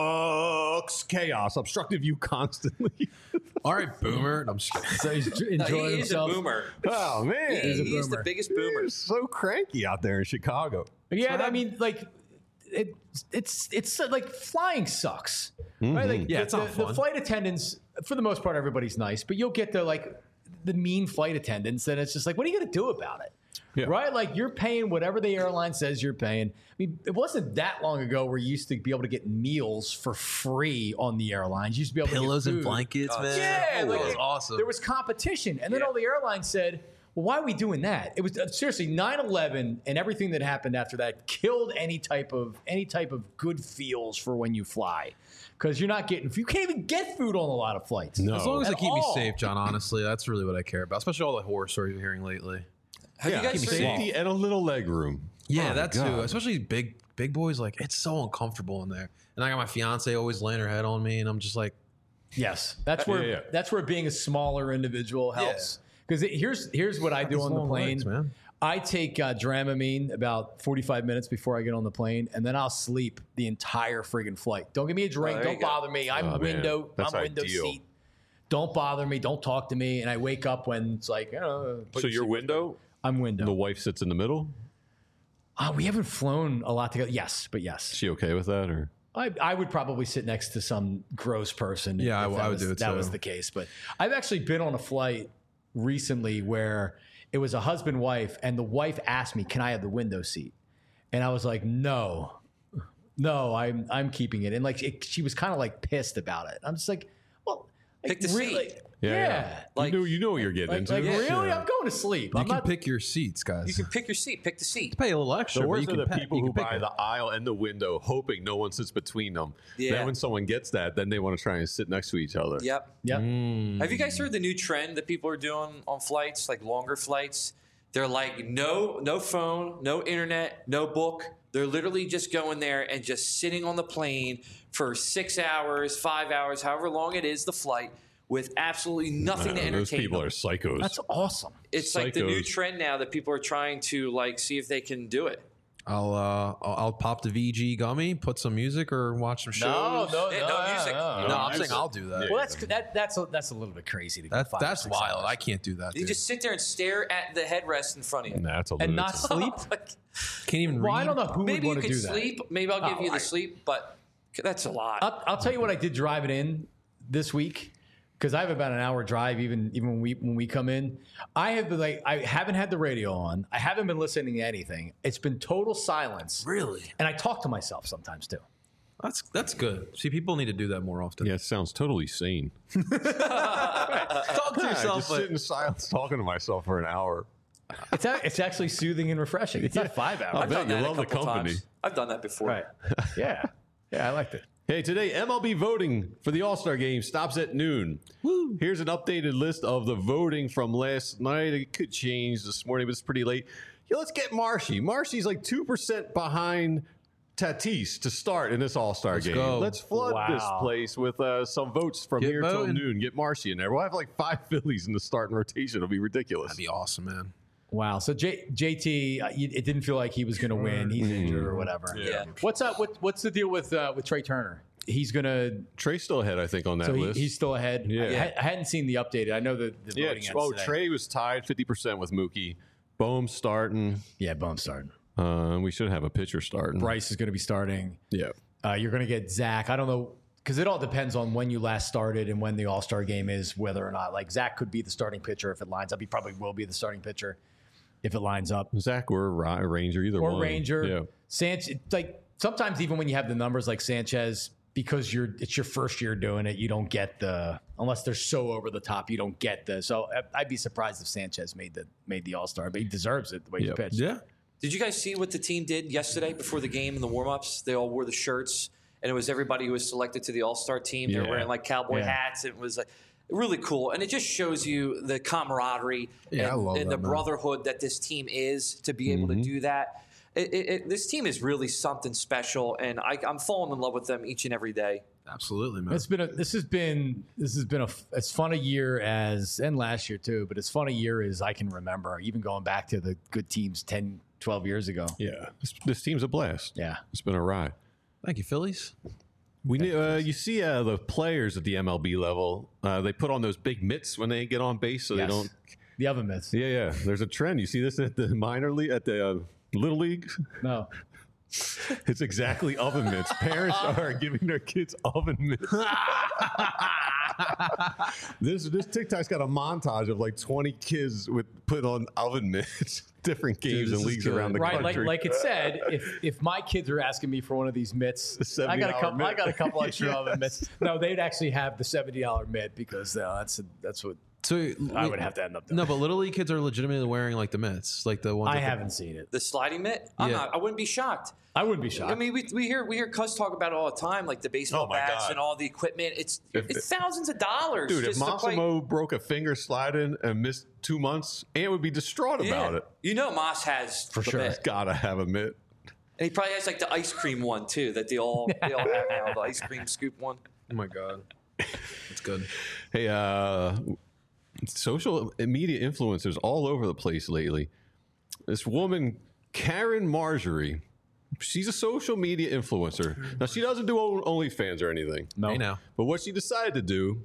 [SPEAKER 3] sucks. Chaos, obstructive view constantly.
[SPEAKER 4] All right, boomer. I'm just kidding.
[SPEAKER 2] So he's
[SPEAKER 5] No,
[SPEAKER 2] enjoying
[SPEAKER 5] he is
[SPEAKER 2] himself.
[SPEAKER 5] a boomer.
[SPEAKER 3] Oh man,
[SPEAKER 5] He,
[SPEAKER 2] He's a
[SPEAKER 5] he's the
[SPEAKER 2] boomer.
[SPEAKER 5] biggest boomer.
[SPEAKER 3] He's so cranky out there in Chicago.
[SPEAKER 2] Yeah, I mean, like, it, it's it's uh, like flying sucks, right? Like,
[SPEAKER 4] Yeah,
[SPEAKER 2] the,
[SPEAKER 4] it's not
[SPEAKER 2] the, the
[SPEAKER 4] fun.
[SPEAKER 2] flight attendants, for the most part, everybody's nice, but you'll get the like the mean flight attendants, and it's just like, what are you going to do about it?
[SPEAKER 3] Yeah.
[SPEAKER 2] Right? Like, you're paying whatever the airline says you're paying. I mean, it wasn't that long ago where you used to be able to get meals for free on the airlines. You used to be able
[SPEAKER 4] Pillows
[SPEAKER 2] to get
[SPEAKER 4] and
[SPEAKER 2] food.
[SPEAKER 4] blankets, man.
[SPEAKER 2] Yeah,
[SPEAKER 4] that
[SPEAKER 2] like,
[SPEAKER 4] was
[SPEAKER 2] it-
[SPEAKER 4] awesome.
[SPEAKER 2] There was competition, and then all the airlines said, "Well, why are we doing that?" It was uh, seriously nine eleven and everything that happened after that killed any type of any type of good feels for when you fly, because you're not getting you can't even get food on a lot of flights.
[SPEAKER 3] No.
[SPEAKER 4] As long as
[SPEAKER 2] At
[SPEAKER 4] they keep
[SPEAKER 2] all.
[SPEAKER 4] me safe, John, honestly, that's really what I care about, especially all the horror stories we're hearing lately.
[SPEAKER 5] Have
[SPEAKER 3] yeah,
[SPEAKER 5] you guys heard?
[SPEAKER 3] safety and a little leg room.
[SPEAKER 4] Yeah,
[SPEAKER 3] Oh,
[SPEAKER 4] that
[SPEAKER 3] God.
[SPEAKER 4] too. Especially big big boys, like, it's so uncomfortable in there. And I got my fiance always laying her head on me, and I'm just like,
[SPEAKER 2] Yes, that's where
[SPEAKER 3] Yeah, yeah.
[SPEAKER 2] that's where being a smaller individual helps. Because here's here's what I do
[SPEAKER 4] these
[SPEAKER 2] on the
[SPEAKER 4] long
[SPEAKER 2] plane.
[SPEAKER 4] legs, man.
[SPEAKER 2] I take uh, Dramamine about forty-five minutes before I get on the plane, and then I'll sleep the entire friggin' flight. Don't give me a drink.
[SPEAKER 5] there you
[SPEAKER 2] Don't
[SPEAKER 5] go.
[SPEAKER 2] bother me. I'm
[SPEAKER 3] Oh, man.
[SPEAKER 2] window.
[SPEAKER 3] That's
[SPEAKER 2] I'm window
[SPEAKER 3] ideal.
[SPEAKER 2] seat. Don't bother me. Don't talk to me. And I wake up when it's like, oh, put
[SPEAKER 3] So
[SPEAKER 2] your
[SPEAKER 3] your window,
[SPEAKER 2] I'm window.
[SPEAKER 3] the wife sits in the middle.
[SPEAKER 2] Uh, we haven't flown a lot together. Yes, but
[SPEAKER 3] Is
[SPEAKER 2] yes.
[SPEAKER 3] she okay with that, or?
[SPEAKER 2] I, I would probably sit next to some gross person.
[SPEAKER 4] Yeah, I
[SPEAKER 2] if
[SPEAKER 4] w-
[SPEAKER 2] that
[SPEAKER 4] I would
[SPEAKER 2] was,
[SPEAKER 4] do it
[SPEAKER 2] That
[SPEAKER 4] too.
[SPEAKER 2] was the case. But I've actually been on a flight recently where it was a husband wife, and the wife asked me, "Can I have the window seat?" And I was like, "No, no, I'm I'm keeping it." And like it, she was kind of like pissed about it. I'm just like, "Well, like,
[SPEAKER 5] Pick the
[SPEAKER 2] really,
[SPEAKER 5] seat.
[SPEAKER 2] yeah,
[SPEAKER 3] Yeah, yeah.
[SPEAKER 5] Like-
[SPEAKER 3] you know, you know what you're getting
[SPEAKER 2] like,
[SPEAKER 3] into.
[SPEAKER 2] like
[SPEAKER 5] Yeah.
[SPEAKER 2] really, I'm going to sleep.
[SPEAKER 4] you
[SPEAKER 2] I'm
[SPEAKER 4] can
[SPEAKER 2] not."
[SPEAKER 4] pick your seats, guys.
[SPEAKER 5] You can pick your seat. Pick the seat.
[SPEAKER 4] pay a little extra,
[SPEAKER 3] The
[SPEAKER 4] but
[SPEAKER 3] worst
[SPEAKER 4] you
[SPEAKER 3] are
[SPEAKER 4] can
[SPEAKER 3] the
[SPEAKER 4] pick-
[SPEAKER 3] people
[SPEAKER 4] you
[SPEAKER 3] who
[SPEAKER 4] can pick
[SPEAKER 3] buy
[SPEAKER 4] it.
[SPEAKER 3] the aisle and the window, hoping no one sits between them.
[SPEAKER 5] Yeah.
[SPEAKER 3] Then when someone gets that, then they want to try and sit next to each other.
[SPEAKER 5] Yep.
[SPEAKER 2] Yep.
[SPEAKER 4] Mm.
[SPEAKER 5] Have you guys heard the new trend that people are doing on flights, like longer flights? They're like no, no phone, no internet, no book. They're literally just going there and just sitting on the plane for six hours, five hours, however long it is, the flight, with absolutely nothing to
[SPEAKER 3] Man,
[SPEAKER 5] entertain
[SPEAKER 3] those people
[SPEAKER 5] them.
[SPEAKER 3] are psychos.
[SPEAKER 2] That's awesome.
[SPEAKER 5] It's like the new
[SPEAKER 3] psychos.
[SPEAKER 5] trend now that people are trying to like see if they can do it.
[SPEAKER 4] I'll uh, I'll, I'll pop the V G gummy, put some music, or watch some shows.
[SPEAKER 2] No, no,
[SPEAKER 5] Yeah,
[SPEAKER 2] no,
[SPEAKER 5] no
[SPEAKER 2] yeah,
[SPEAKER 5] music.
[SPEAKER 2] no.
[SPEAKER 4] No, I'm
[SPEAKER 3] music.
[SPEAKER 4] saying I'll do that.
[SPEAKER 2] Well, that's that, that's a, that's a little bit crazy to go
[SPEAKER 4] That,
[SPEAKER 2] five or
[SPEAKER 4] that's
[SPEAKER 2] six
[SPEAKER 4] wild.
[SPEAKER 2] hours.
[SPEAKER 4] I can't do that.
[SPEAKER 5] You
[SPEAKER 4] Dude.
[SPEAKER 5] just sit there and stare at the headrest in front of you.
[SPEAKER 3] Nah, that's a
[SPEAKER 2] and not
[SPEAKER 3] lunatic.
[SPEAKER 2] sleep.
[SPEAKER 5] Like,
[SPEAKER 4] Can't even
[SPEAKER 2] Well,
[SPEAKER 4] read.
[SPEAKER 2] I don't know who
[SPEAKER 5] maybe
[SPEAKER 2] would
[SPEAKER 5] you
[SPEAKER 2] want to
[SPEAKER 5] could
[SPEAKER 2] do that.
[SPEAKER 5] sleep. Maybe I'll give
[SPEAKER 2] Oh,
[SPEAKER 5] you the
[SPEAKER 2] I-
[SPEAKER 5] sleep, but that's a lot.
[SPEAKER 2] I'll, I'll tell you what I did driving in this week, because I have about an hour drive even even when we when we come in. I have been like I haven't had the radio on. I haven't been listening to anything. It's been total silence.
[SPEAKER 4] Really?
[SPEAKER 2] And I talk to myself sometimes too.
[SPEAKER 4] That's that's good. See, people need to do that more often.
[SPEAKER 3] Yeah, it sounds totally sane.
[SPEAKER 4] Talk to
[SPEAKER 3] I
[SPEAKER 4] yourself.
[SPEAKER 3] just
[SPEAKER 4] but-
[SPEAKER 3] sit in silence talking to myself for an hour.
[SPEAKER 2] It's a, it's actually soothing and refreshing. It's not five hours.
[SPEAKER 3] I
[SPEAKER 5] I've
[SPEAKER 3] bet
[SPEAKER 5] done
[SPEAKER 3] you
[SPEAKER 5] that a
[SPEAKER 3] love the
[SPEAKER 5] couple
[SPEAKER 3] company.
[SPEAKER 5] times. I've done that before.
[SPEAKER 2] Right. Yeah. Yeah, I liked it.
[SPEAKER 3] Hey, today M L B voting for the All-Star Game stops at noon. Woo. Here's an updated list of the voting from last night. It could change this morning, but it's pretty late. Yeah, let's get Marshy. Marshy's like two percent behind Tatis to start in this All-Star
[SPEAKER 4] Let's
[SPEAKER 3] game.
[SPEAKER 4] go.
[SPEAKER 3] Let's flood
[SPEAKER 2] Wow.
[SPEAKER 3] this place with uh, some votes from
[SPEAKER 4] Get
[SPEAKER 3] here
[SPEAKER 4] voting.
[SPEAKER 3] till noon. Get Marshy in there. We'll have like five Phillies in the starting rotation. It'll be ridiculous.
[SPEAKER 4] That'd be awesome, man.
[SPEAKER 2] Wow. So J, JT, uh, you- it didn't feel like he was going to win. He's injured or whatever.
[SPEAKER 5] Yeah.
[SPEAKER 2] What's up? What, what's the deal with uh, with Trey Turner? He's going to.
[SPEAKER 3] Trey's still ahead, I think, on that
[SPEAKER 2] So he,
[SPEAKER 3] list.
[SPEAKER 2] he's still ahead.
[SPEAKER 3] Yeah.
[SPEAKER 2] I, I hadn't seen the updated. I know the, the
[SPEAKER 3] yeah,
[SPEAKER 2] voting. ends
[SPEAKER 3] oh,
[SPEAKER 2] today.
[SPEAKER 3] Trey was tied fifty percent with Mookie. Bohm starting.
[SPEAKER 2] Yeah, Bone's starting.
[SPEAKER 3] Uh, we should have a pitcher starting.
[SPEAKER 2] Bryce is going to be starting.
[SPEAKER 3] Yeah.
[SPEAKER 2] Uh, you're going to get Zach. I don't know, because it all depends on when you last started and when the All Star game is, whether or not. Like Zach could be the starting pitcher if it lines up. He probably will be the starting pitcher if it lines up.
[SPEAKER 3] Zach or Ra- Ranger, either
[SPEAKER 2] Or
[SPEAKER 3] one.
[SPEAKER 2] Ranger.
[SPEAKER 3] Yeah.
[SPEAKER 2] Sanchez. Like sometimes even when you have the numbers like Sanchez, because you're it's your first year doing it, you don't get the unless they're so over the top you don't get the. So I'd be surprised if Sanchez made the made the All Star, but he deserves it the way
[SPEAKER 3] Yep.
[SPEAKER 2] he pitched.
[SPEAKER 4] Yeah.
[SPEAKER 5] Did you guys see what the team did yesterday before the game in the warm-ups? They all wore the shirts, and it was everybody who was selected to the All-Star team. They were
[SPEAKER 3] Yeah.
[SPEAKER 5] wearing like cowboy
[SPEAKER 2] Yeah.
[SPEAKER 5] hats. It was like really cool, and it just shows you the camaraderie
[SPEAKER 4] Yeah, I
[SPEAKER 5] and,
[SPEAKER 4] love
[SPEAKER 5] and
[SPEAKER 4] that,
[SPEAKER 5] the
[SPEAKER 4] man.
[SPEAKER 5] brotherhood that this team is to be able to do that. It, it, it, this team is really something special, and I, I'm falling in love with them each and every day.
[SPEAKER 4] Absolutely, man.
[SPEAKER 2] It's been a, this has been this has been a as fun a year as and last year too, but as fun a year as I can remember, even going back to the good teams ten, twelve years ago.
[SPEAKER 3] Yeah, this, this team's a blast.
[SPEAKER 2] Yeah.
[SPEAKER 3] It's been a ride.
[SPEAKER 4] Thank you, Phillies.
[SPEAKER 3] We need, uh, you see uh, the players at the M L B level. Uh, they put on those big mitts when they get on base, so
[SPEAKER 2] Yes.
[SPEAKER 3] they don't.
[SPEAKER 2] The oven mitts.
[SPEAKER 3] Yeah, yeah. There's a trend. You see this at the minor league, at the uh, little league.
[SPEAKER 2] No.
[SPEAKER 3] It's exactly oven mitts. Parents are giving their kids oven mitts. this this TikTok's got a montage of like twenty kids with put on oven mitts, different games
[SPEAKER 4] this
[SPEAKER 3] and
[SPEAKER 4] is
[SPEAKER 3] leagues
[SPEAKER 4] good.
[SPEAKER 3] around the
[SPEAKER 2] Right, like
[SPEAKER 3] country.
[SPEAKER 2] like it said, if if my kids are asking me for one of these mitts, I got a
[SPEAKER 3] seventy dollar
[SPEAKER 2] couple. I
[SPEAKER 3] mitt.
[SPEAKER 2] got a couple extra oven mitts. No, they'd actually have the seventy dollar mitt because uh, that's that's what
[SPEAKER 4] So
[SPEAKER 2] I would have to end up doing.
[SPEAKER 4] No, but little league kids are legitimately wearing like the mitts, like the ones.
[SPEAKER 2] I
[SPEAKER 4] that the-
[SPEAKER 2] haven't seen it.
[SPEAKER 5] The sliding mitt, I'm
[SPEAKER 4] Yeah.
[SPEAKER 5] not, I wouldn't be shocked.
[SPEAKER 2] I wouldn't be shocked.
[SPEAKER 5] I mean, we, we hear we hear Cuz talk about it all the time, like the baseball
[SPEAKER 3] Oh my
[SPEAKER 5] bats
[SPEAKER 3] God.
[SPEAKER 5] and all the equipment. It's
[SPEAKER 3] If-
[SPEAKER 5] it's thousands of dollars.
[SPEAKER 3] Dude, if
[SPEAKER 5] just to play.
[SPEAKER 3] Massimo broke a finger sliding and missed two months, Ant would be distraught about
[SPEAKER 5] Yeah.
[SPEAKER 3] it.
[SPEAKER 5] You know, Moss has
[SPEAKER 2] For
[SPEAKER 5] the
[SPEAKER 2] sure.
[SPEAKER 5] mitt.
[SPEAKER 3] Gotta have a mitt.
[SPEAKER 5] And he probably has like the ice cream one too that they all they all have now, the ice cream scoop one.
[SPEAKER 4] Oh my god, it's good.
[SPEAKER 3] Hey, uh, social media influencers all over the place lately. This woman, Karen Marjorie, she's a social media influencer. Now, she doesn't do o- OnlyFans or anything.
[SPEAKER 2] no.
[SPEAKER 4] Hey now,
[SPEAKER 3] But what she decided to do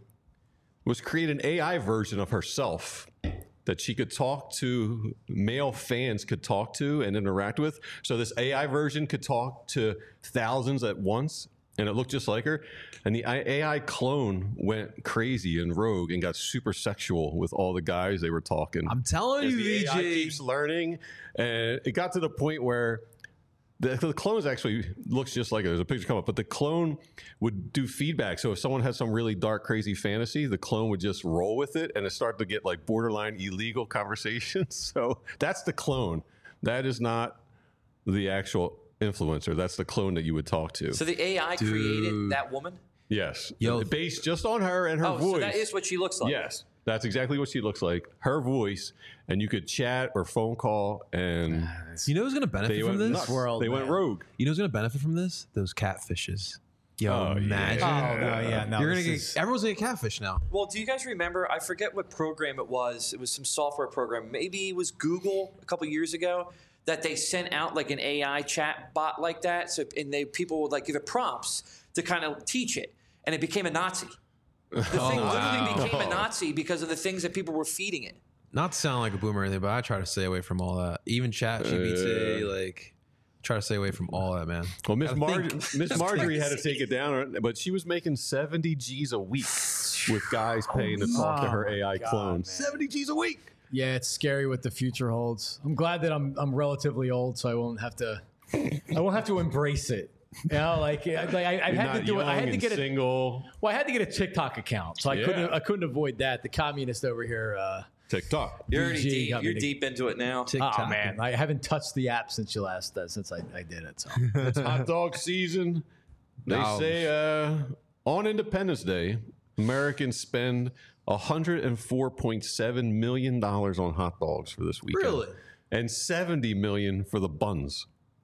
[SPEAKER 3] was create an A I version of herself that she could talk to, male fans could talk to and interact with. So this A I version could talk to thousands at once, and it looked just like her. And the A I clone went crazy and rogue and got super sexual with all the guys they were talking.
[SPEAKER 4] I'm telling
[SPEAKER 3] As
[SPEAKER 4] you,
[SPEAKER 3] the A I
[SPEAKER 4] V J.
[SPEAKER 3] keeps learning, and it got to the point where the, the clone actually looks just like it. There's a picture come up, but the clone would do feedback. So if someone had some really dark, crazy fantasy, the clone would just roll with it, and it started to get like borderline illegal conversations. So that's the clone. That is not the actual influencer. That's the clone that you would talk to.
[SPEAKER 5] So the A I created that woman.
[SPEAKER 3] yes,
[SPEAKER 4] Yo.
[SPEAKER 3] based just on her and her
[SPEAKER 5] Oh,
[SPEAKER 3] voice.
[SPEAKER 5] so that is what she looks like.
[SPEAKER 3] Yes, that's exactly what she looks like. Her voice, and you could chat or phone call, and
[SPEAKER 4] You know who's gonna benefit
[SPEAKER 3] they
[SPEAKER 4] from
[SPEAKER 3] went
[SPEAKER 4] this?
[SPEAKER 3] nuts.
[SPEAKER 2] world,
[SPEAKER 3] they went
[SPEAKER 2] man.
[SPEAKER 3] rogue.
[SPEAKER 4] You know who's gonna benefit from this? Those catfishes. Yo,
[SPEAKER 3] Oh, yeah.
[SPEAKER 4] imagine.
[SPEAKER 2] Oh no, yeah, no.
[SPEAKER 4] You're gonna
[SPEAKER 2] this
[SPEAKER 4] get
[SPEAKER 2] is-
[SPEAKER 4] everyone's gonna get catfish now.
[SPEAKER 5] Well, do you guys remember? I forget what program it was. It was some software program. Maybe it was Google a couple years ago that they sent out like an A I chat bot like that. So and they people would like give it prompts to kind of teach it, and it became a Nazi. The thing
[SPEAKER 4] wow.
[SPEAKER 5] literally became a Nazi because of the things that people were feeding it.
[SPEAKER 4] Not to sound like a boomer or anything, but I try to stay away from all that. Even chat G P T, like try to stay away from all that, man.
[SPEAKER 3] Well, Miss
[SPEAKER 4] Gotta
[SPEAKER 3] Mar-
[SPEAKER 4] think.
[SPEAKER 3] Miss Marjorie had to take it down, but she was making seventy G's a week with guys paying to talk to her A I clone. seventy G's a week.
[SPEAKER 2] Yeah, it's scary what the future holds. I'm glad that I'm I'm relatively old, so I won't have to I won't have to embrace it. You know, like, I- like I, I
[SPEAKER 3] You're
[SPEAKER 2] had
[SPEAKER 3] not
[SPEAKER 2] to do it. I
[SPEAKER 3] young
[SPEAKER 2] had to
[SPEAKER 3] and
[SPEAKER 2] get a
[SPEAKER 3] single.
[SPEAKER 2] well, I had to get a TikTok account, so I
[SPEAKER 3] Yeah.
[SPEAKER 2] couldn't I couldn't avoid that. The communist over here. Uh,
[SPEAKER 3] TikTok.
[SPEAKER 5] You're already
[SPEAKER 2] B G
[SPEAKER 5] deep.
[SPEAKER 2] got me
[SPEAKER 5] You're
[SPEAKER 2] to-
[SPEAKER 5] deep into it now.
[SPEAKER 2] oh man, I haven't touched the app since you last uh, since I, I did it. So
[SPEAKER 3] It's hot dog season. They
[SPEAKER 4] No.
[SPEAKER 3] say uh, on Independence Day, Americans spend one hundred four point seven million dollars on hot dogs for this weekend.
[SPEAKER 4] Really?
[SPEAKER 3] And seventy million dollars for the buns.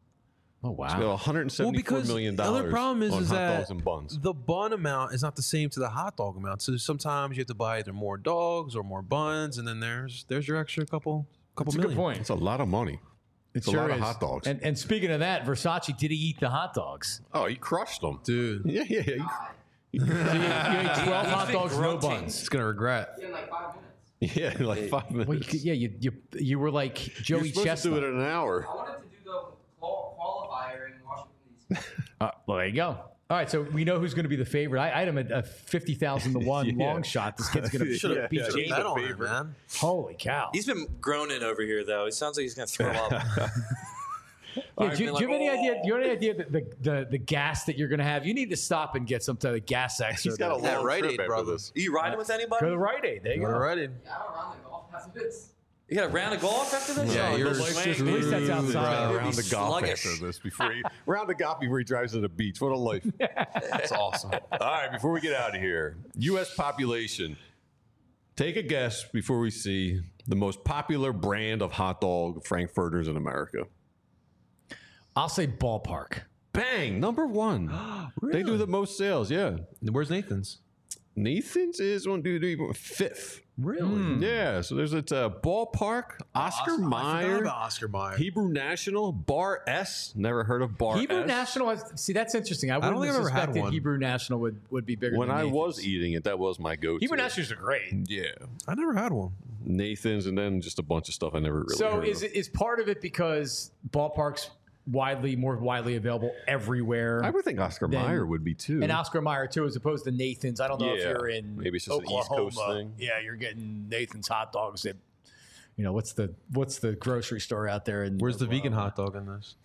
[SPEAKER 2] oh
[SPEAKER 3] It's
[SPEAKER 2] wow,
[SPEAKER 3] one hundred seventy-four million
[SPEAKER 4] the
[SPEAKER 3] dollars
[SPEAKER 4] other problem is,
[SPEAKER 3] on
[SPEAKER 4] is
[SPEAKER 3] hot
[SPEAKER 4] that
[SPEAKER 3] dogs and buns.
[SPEAKER 4] the bun amount is not the same to the hot dog amount. So sometimes you have to buy either more dogs or more buns, and then there's there's your extra couple couple
[SPEAKER 2] that's a
[SPEAKER 4] million.
[SPEAKER 2] good point.
[SPEAKER 3] It's a lot of money. It's a
[SPEAKER 2] sure
[SPEAKER 3] lot of
[SPEAKER 2] is.
[SPEAKER 3] hot dogs.
[SPEAKER 2] And and speaking of that, Versace, did he eat the hot dogs?
[SPEAKER 3] oh, he crushed them.
[SPEAKER 4] Dude,
[SPEAKER 3] Yeah, yeah, yeah.
[SPEAKER 2] So you, you ate twelve hot
[SPEAKER 5] been
[SPEAKER 2] dogs, no
[SPEAKER 5] grunting.
[SPEAKER 2] buns.
[SPEAKER 4] it's gonna regret.
[SPEAKER 9] In like five minutes.
[SPEAKER 3] Yeah, like five minutes.
[SPEAKER 2] Well, you could, yeah, you, you you were like
[SPEAKER 3] You're
[SPEAKER 2] Joey
[SPEAKER 3] supposed to do
[SPEAKER 2] Chestnut.
[SPEAKER 3] it in an hour.
[SPEAKER 9] I wanted to do the qual- qualifier in Washington, D C
[SPEAKER 2] Uh, well, there you go. All right, so we know who's going to be the favorite. I, I had him at a fifty thousand to one
[SPEAKER 3] Yeah.
[SPEAKER 2] long shot. This kid's going to
[SPEAKER 3] Should've
[SPEAKER 2] yeah, beat
[SPEAKER 3] yeah,
[SPEAKER 2] Jamie.
[SPEAKER 3] yeah.
[SPEAKER 4] Bet on it,
[SPEAKER 3] favorite.
[SPEAKER 4] man.
[SPEAKER 2] Holy cow!
[SPEAKER 5] He's been groaning over here though. It sounds like he's gonna throw up.
[SPEAKER 2] Yeah, do, you- do you have any idea? Do you have any idea that the, the, the gas that you're going to have? You need to stop and get some type of gas extra.
[SPEAKER 3] He's got a
[SPEAKER 4] That
[SPEAKER 3] long
[SPEAKER 4] Rite
[SPEAKER 3] trip
[SPEAKER 4] Aid,
[SPEAKER 3] after
[SPEAKER 4] brother.
[SPEAKER 3] this.
[SPEAKER 5] Are you riding with anybody?
[SPEAKER 2] Go to the Rite Aid. There you go.
[SPEAKER 4] All righty.
[SPEAKER 9] Yeah, I don't run the golf after this.
[SPEAKER 5] You got a round of golf after this?
[SPEAKER 4] Yeah,
[SPEAKER 5] Oh,
[SPEAKER 4] you're
[SPEAKER 5] the
[SPEAKER 3] Life
[SPEAKER 5] swing.
[SPEAKER 3] just
[SPEAKER 2] At least that's
[SPEAKER 3] moves
[SPEAKER 2] outside.
[SPEAKER 3] around
[SPEAKER 5] You'll be
[SPEAKER 3] the golf
[SPEAKER 5] sluggish.
[SPEAKER 3] after this before he round the golf before he drives to the beach. What a life!
[SPEAKER 4] That's awesome.
[SPEAKER 3] All right, before we get out of here, U S population. Take a guess before we see the most popular brand of hot dog frankfurters in America.
[SPEAKER 2] I'll say ballpark.
[SPEAKER 3] Bang, number one. They do the most sales. Yeah,
[SPEAKER 4] Where's Nathan's?
[SPEAKER 3] Nathan's is one, two, three, four, fifth.
[SPEAKER 4] Really?
[SPEAKER 3] Yeah, so there's it's a ballpark, Oscar
[SPEAKER 4] I forgot
[SPEAKER 3] Mayer,
[SPEAKER 4] about Oscar Mayer.
[SPEAKER 3] Hebrew National, Bar S. Never heard of Bar
[SPEAKER 2] Hebrew
[SPEAKER 3] S.
[SPEAKER 2] National has, see, that's interesting. I wouldn't
[SPEAKER 4] don't think
[SPEAKER 2] have
[SPEAKER 4] I've ever had
[SPEAKER 2] suspected
[SPEAKER 4] one.
[SPEAKER 2] Hebrew National would, would be bigger
[SPEAKER 3] When
[SPEAKER 2] than
[SPEAKER 3] I
[SPEAKER 2] Nathan's.
[SPEAKER 3] was eating it, that was my go-to.
[SPEAKER 2] Hebrew Nationals are great.
[SPEAKER 3] Yeah,
[SPEAKER 4] I never had one.
[SPEAKER 3] Nathan's, and then just a bunch of stuff I never really
[SPEAKER 2] So
[SPEAKER 3] heard
[SPEAKER 2] is
[SPEAKER 3] of.
[SPEAKER 2] it is part of it because ballparks widely more widely available everywhere?
[SPEAKER 3] I would think Oscar
[SPEAKER 2] Then-
[SPEAKER 3] Mayer would be too.
[SPEAKER 2] and Oscar Mayer too, as opposed to Nathan's. I don't know if
[SPEAKER 3] Yeah.
[SPEAKER 2] you're in
[SPEAKER 3] Maybe it's just an East
[SPEAKER 2] Oklahoma.
[SPEAKER 3] Coast thing.
[SPEAKER 2] Yeah, you're getting Nathan's hot dogs at, you know, what's the what's the grocery store out there? In
[SPEAKER 4] Where's the vegan
[SPEAKER 2] Oklahoma?
[SPEAKER 4] hot dog in this?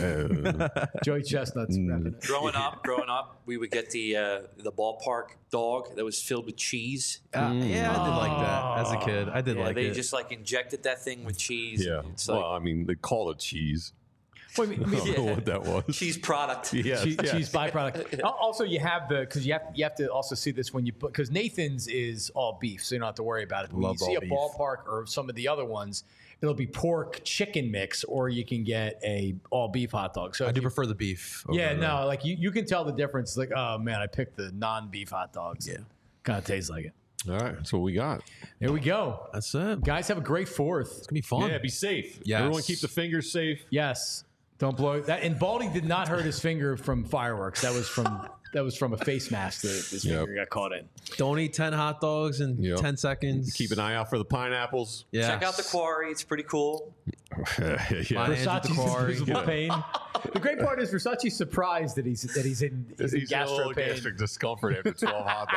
[SPEAKER 2] Joey Chestnut's
[SPEAKER 3] Mm.
[SPEAKER 2] repping it.
[SPEAKER 5] Growing up, growing up, we would get the uh, the ballpark dog that was filled with cheese.
[SPEAKER 4] Uh, yeah, I did like that as a kid. I did
[SPEAKER 5] Yeah,
[SPEAKER 4] like
[SPEAKER 5] they
[SPEAKER 4] it.
[SPEAKER 5] just like injected that thing with cheese.
[SPEAKER 3] yeah.
[SPEAKER 5] It's like
[SPEAKER 3] Well, I mean, they call it cheese.
[SPEAKER 2] Well, I mean, I mean,
[SPEAKER 3] I don't know what that was.
[SPEAKER 5] cheese product.
[SPEAKER 3] Yes,
[SPEAKER 2] cheese,
[SPEAKER 3] yes.
[SPEAKER 2] cheese byproduct. Al- Also, you have the because you have you have to also see this when you put because Nathan's is all beef, so you don't have to worry about it. When
[SPEAKER 4] Love
[SPEAKER 2] you see
[SPEAKER 4] all
[SPEAKER 2] a
[SPEAKER 4] beef.
[SPEAKER 2] ballpark or some of the other ones, it'll be pork chicken mix, or you can get a all beef hot dog. So
[SPEAKER 4] I
[SPEAKER 2] if
[SPEAKER 4] do
[SPEAKER 2] you-
[SPEAKER 4] prefer the beef. over
[SPEAKER 2] yeah,
[SPEAKER 4] the-
[SPEAKER 2] no, like you, you can tell the difference. Like, oh man, I picked the non beef hot dogs. Yeah, kind of tastes like it.
[SPEAKER 3] All right, that's what we got.
[SPEAKER 2] There we go,
[SPEAKER 4] That's it.
[SPEAKER 2] guys. Have a great fourth.
[SPEAKER 4] It's gonna be fun.
[SPEAKER 3] Yeah, be safe.
[SPEAKER 4] Yes.
[SPEAKER 3] Everyone keep the fingers safe.
[SPEAKER 2] Yes, don't blow that. And Baldy did not hurt his finger from fireworks. That was from that was from a face mask that his
[SPEAKER 3] Yep.
[SPEAKER 2] finger got caught in.
[SPEAKER 4] Don't eat ten hot dogs in
[SPEAKER 3] Yep.
[SPEAKER 4] ten seconds.
[SPEAKER 3] Keep an eye out for the pineapples.
[SPEAKER 4] Yeah.
[SPEAKER 5] Check out the quarry; it's pretty cool.
[SPEAKER 3] yeah.
[SPEAKER 4] Mine and
[SPEAKER 2] Versace's
[SPEAKER 4] the quarry.
[SPEAKER 2] invisible pain. The great part is Versace's surprised that he's that he's in, he's in
[SPEAKER 3] He's a
[SPEAKER 2] gastro
[SPEAKER 3] little
[SPEAKER 2] pain.
[SPEAKER 3] gastric discomfort after twelve hot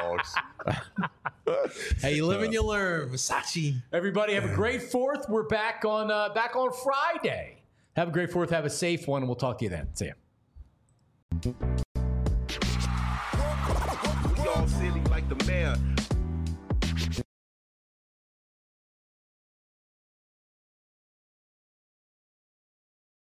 [SPEAKER 3] dogs.
[SPEAKER 4] Hey, you live and you learn. Versace.
[SPEAKER 2] Everybody have a great fourth. We're back on uh, back on Friday. Have a great fourth. Have a safe one, and we'll talk to you then. See ya.
[SPEAKER 10] Dog city like the mayor.